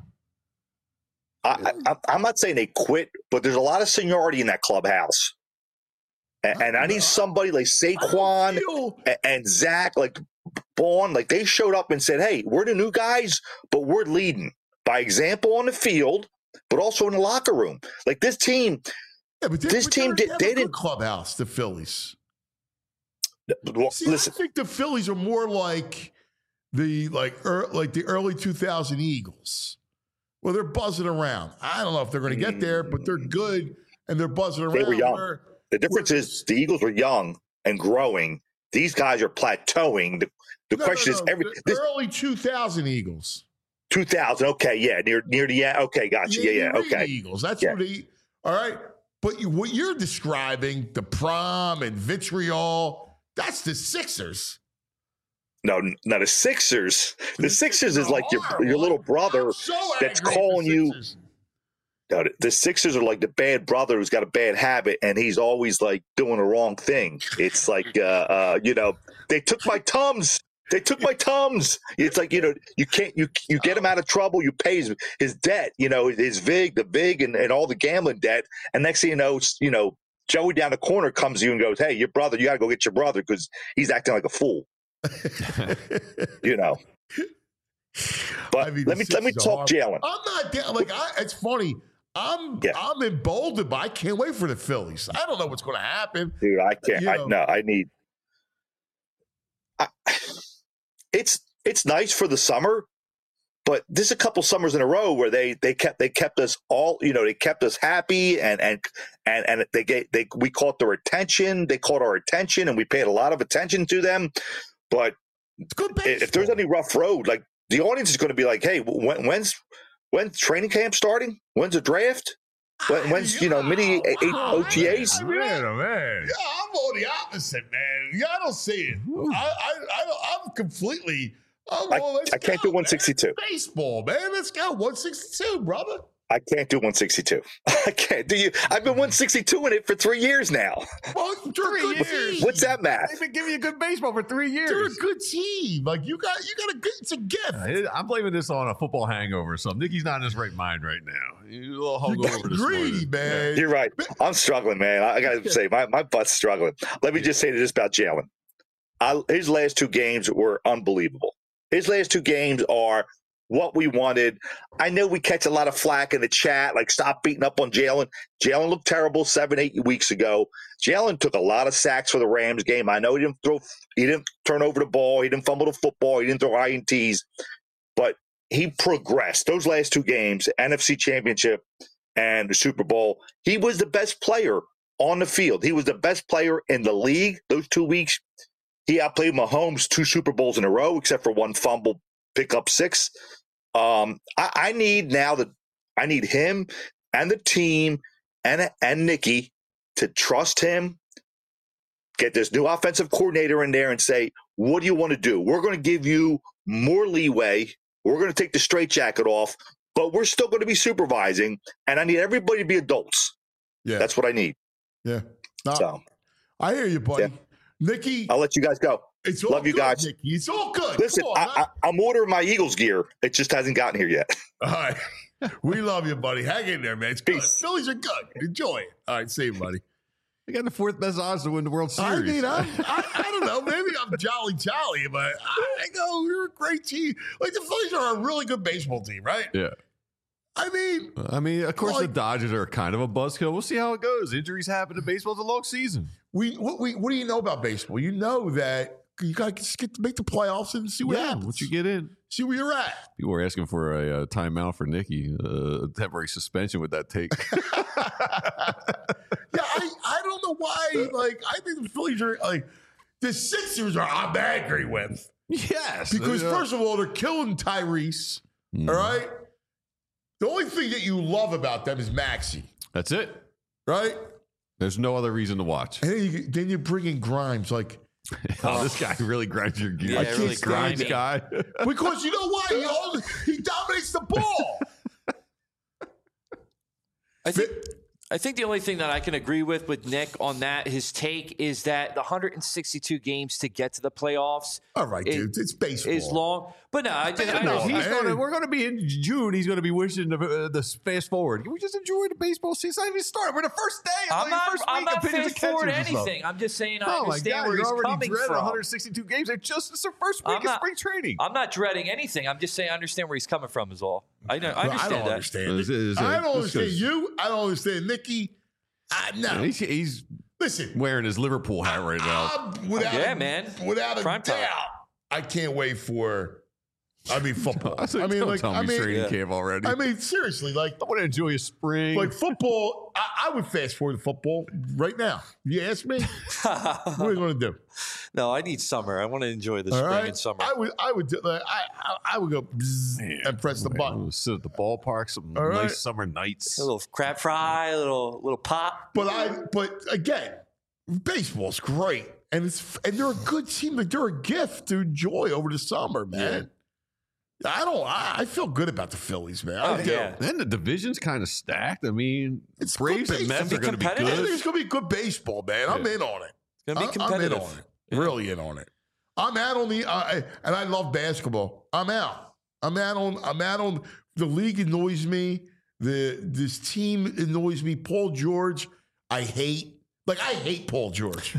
I, I, I'm not saying they quit, but there's a lot of seniority in that clubhouse. And, and I need somebody like Saquon feel- and, and Zach, like Vaughn, like they showed up and said, hey, we're the new guys, but we're leading by example on the field, but also in the locker room. Like this team, yeah, but they, this but team they did, have they a good didn't. clubhouse, the Phillies. Well, See, listen, I think the Phillies are more like the like er, like the early two thousand Eagles. Well, they're buzzing around. I don't know if they're going to get there, but they're good and they're buzzing around. they were young. Where, The difference where, is the Eagles were young and growing. These guys are plateauing. The, the no, question no, no, is every the this, early two thousand Eagles. two thousand. Okay, yeah, near near the end. Okay, gotcha. Yeah, yeah, Andy Reid okay. Eagles. That's Yeah. what he. All right, but you, what you're describing, the prom and vitriol, that's the Sixers. No, no, the Sixers. The, The Sixers is are like your horrible. your little I'm brother so that's angry at the calling you. Sixers. No, the- the Sixers are like the bad brother who's got a bad habit, and he's always like doing the wrong thing. It's like, uh, uh, you know, they took my Tums. They took my Tums. It's like, you know, you can't, you you get him out of trouble. You pay his, his debt, you know, his vig, the vig, and, and all the gambling debt. And next thing you know, it's, you know, Joey down the corner comes to you and goes, hey, your brother, you got to go get your brother because he's acting like a fool. You know. But I mean, let the me let me Sixers are talk horrible. Jalen. I'm not down. Like, I, it's funny. I'm Yeah. I'm emboldened, but I can't wait for the Phillies. I don't know what's going to happen. Dude, I can't. You I know. no, I need. I, it's it's nice for the summer, but there's a couple summers in a row where they they kept they kept us all, you know, they kept us happy and and and and they get they we caught their attention. They caught our attention, and we paid a lot of attention to them. But It's good i- if there's baseball. any rough road, like the audience is going to be like, hey, when, when's when's training camp starting? When's the draft? When, when's you know mini eight O T As? Man, oh, man. Yeah, I'm on the opposite, man. Yeah, I don't see it. I, I, I don't, I'm completely. I'm I- all, let's I can't go, do one sixty-two. Man. It's baseball, man. Let's go one sixty-two, brother. I can't do one sixty-two. I can't do you. I've been one sixty-two in it for three years now. Well, you're a good years. team. What's that math? They've been giving you good baseball for three You're a years. good team. Like you got, you got a good. It's a gift. I'm blaming this on a football hangover or something. Nicky's not in his right mind right now. He's a little You got hungover this greedy, morning. man. You're right. I'm struggling, man. I, I got to say, my, my butt's struggling. Let me just say this about Jalen. I, his last two games were unbelievable. His last two games are what we wanted. I know we catch a lot of flack in the chat, like stop beating up on Jalen. Jalen looked terrible seven, eight weeks ago. Jalen took a lot of sacks for the Rams game. I know he didn't throw, he didn't turn over the ball, he didn't fumble the football, he didn't throw I N Ts, but he progressed. Those last two games, N F C Championship and the Super Bowl, he was the best player on the field. He was the best player in the league those two weeks. He outplayed Mahomes two Super Bowls in a row, except for one fumble, pick up six. Um, I, I need now that I need him and the team and and Nicky to trust him. Get this new offensive coordinator in there and say, "What do you want to do? We're going to give you more leeway. We're going to take the straitjacket off, but we're still going to be supervising. And I need everybody to be adults. Yeah, That's what I need. yeah. No, So I hear you, buddy. Yeah. Nicky, I'll let you guys go. it's all love you good, guys. Nicky. It's all good. Listen, Come on, I, man. I, I'm ordering my Eagles gear. It just hasn't gotten here yet. All right. We love you, buddy. Hang in there, man. It's good. Peace. Phillies are good. Enjoy it. All right, see you, buddy. They got the fourth best odds to win the World I Series. mean, I, I, I don't know. Maybe I'm jolly jolly, but I go, you're a great team. Like, the Phillies are a really good baseball team, right? yeah. I mean, I mean, of course, Like- the Dodgers are kind of a buzzkill. We'll see how it goes. Injuries happen in baseball. It's a long season. we what, we what do you know about baseball? You know that you got to get to make the playoffs and see what yeah, happens. once you get in. see where you're at. People were asking for a, uh timeout for Nicky, uh, a temporary suspension with that take. Yeah, I, I don't know why. Like, I think the Phillies are like the Sixers are I'm angry with yes. because uh, first of all they're killing Tyrese. mm, All right. The only thing that you love about them is Maxey, That's it. right? There's no other reason to watch. And then you, then you bring in Grimes, like Oh, this guy really grinds your gears. Yeah, I can't really stand Grimes grimy. guy. because you know why he always, he dominates the ball. I think Fi- I think the only thing that I can agree with with Nick on that, his take, is that the one hundred sixty-two games to get to the playoffs. All right, it, dude. It's baseball. Is long. But no, I, just, I No, know. he's man. gonna, we're going to be in June. He's going to be wishing the, uh, the fast forward. Can we just enjoy the baseball season? It's not even started. We're the first day. Of I'm the not, first I'm week not of pitchers and fast forward catchers and stuff. anything. I'm just saying I Oh my understand God! where You're he's already coming dreading from. one hundred sixty-two games. They're just it's the first week I'm of not- spring training. I'm not dreading anything. I'm just saying I understand where he's coming from is all. I know. I Well, understand I don't that. understand. It's- it. it's- I don't it's understand just- you. I don't understand Nikki. I, no. he's, he's Listen, wearing his Liverpool hat right now. I'm, without Yeah, a, man. Without a Prime doubt, time. I can't wait for. I mean, football. I, said, I mean, don't like, tell I me mean, training yeah. camp already. I mean, seriously, like, I want to enjoy a spring. like football. I, I would fast forward to football right now. You ask me, what are you going to do? No, I need summer. I want to enjoy the All spring right, and summer. I would, I would, do, like, I, I, I would go bzzz Man, and press the man, button. I'm gonna sit at the ballpark, some All nice right. summer nights. a little crab fry, a little little pop. But I, but again, baseball's great, and it's and they're a good team. Like they're a gift to enjoy over the summer, man. I don't. I, I feel good about the Phillies, man. I Oh, do. yeah. Then the division's kind of stacked. I mean, It's Braves good and Mets baseball. are going to be Be I good. think it's going to be good baseball, man. I'm Yeah. in on it. It's gonna be I- competitive. I'm in on it. Really in on it. I'm out on the, uh, and I love basketball. I'm out. I'm out on. I'm out on. The league annoys me. The this team annoys me. Paul George, I hate. Like I hate Paul George.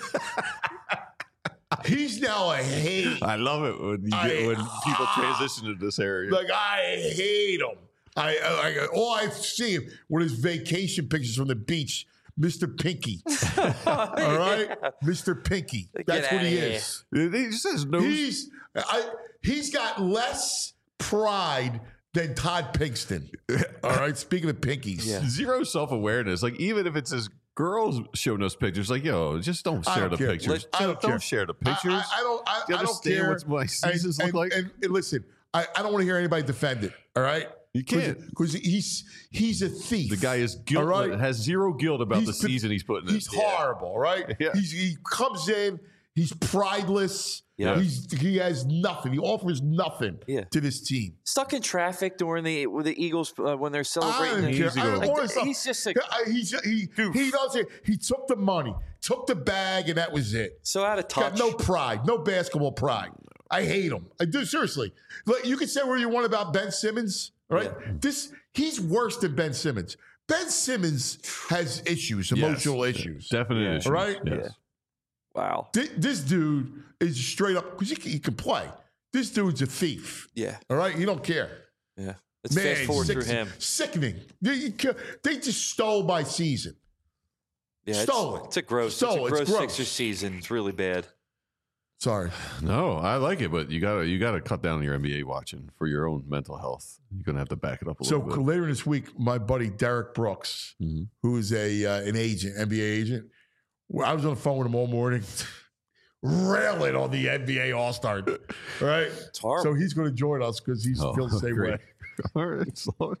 He's now a hate. I love it when you I- get, when people transition to this area. Like I hate him. I, I, I all I see him with his vacation pictures from the beach, Mister Pinky. All right, Mister Pinky. That's what outta he here. is. He just says no. He's I, he's got less pride than Todd Pinkston. All right. Speaking of pinkies, Yeah. Zero self awareness. Like even if it's his girls showing us pictures, like yo, just don't I share don't the care. pictures. I don't care. share the I- pictures. I, I don't. I, Do you I don't understand care what my seasons and, look like? and, and listen, I, I don't want to hear anybody defend it. All right. You can't. because he's he's a thief. The guy is guilt, All right? has zero guilt about He's the been- season he's putting in. He's horrible, right? Yeah. He's, he comes in, he's prideless. Yeah. He's he has nothing. He offers nothing Yeah. to this team. Stuck in traffic during the with the Eagles uh, when they're I celebrating. don't the- care. Easy I don't going. want to- He's just a- I- he's, he he does it. He took the money, took the bag, and that was it. so out of touch. Got no pride, no basketball pride. I hate him. I do seriously. Like you can say what you want about Ben Simmons, all right? This he's worse than Ben Simmons. Ben Simmons has issues, emotional issues. Definite issues. Right? Yes. Wow. Thi- This dude is straight up because he, can- he can play. This dude's a thief. Yeah. All right, he don't care. Yeah. Let's Man, fast forward sick- through him. Sickening. They, you ca- they just stole my season. Yeah, Stole it's, it. it's a gross. Stole it. It's a It's gross, gross. Sixers season. It's really bad. Sorry. No, I like it, but you gotta you gotta cut down on your N B A watching for your own mental health. You're gonna have to back it up a So little bit. later this week, my buddy Derek Brooks, Mhm. who is a uh, an agent, N B A agent, well, I was on the phone with him all morning, railing on the N B A All Star. Right? It's horrible. So he's going to join us because he's Oh, feels the same great. way. All right, so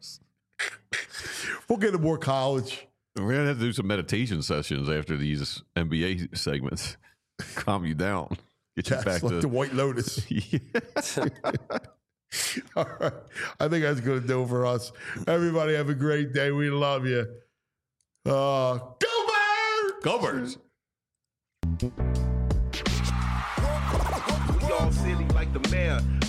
We'll get him more college. we're gonna have to do some meditation sessions after these N B A segments. Calm you down. Get you That's back like to the White Lotus. Yeah. All right. I think that's going to do it for us. Everybody have a great day. We love you. Uh, go Birds! Go Birds. We all silly like the mayor.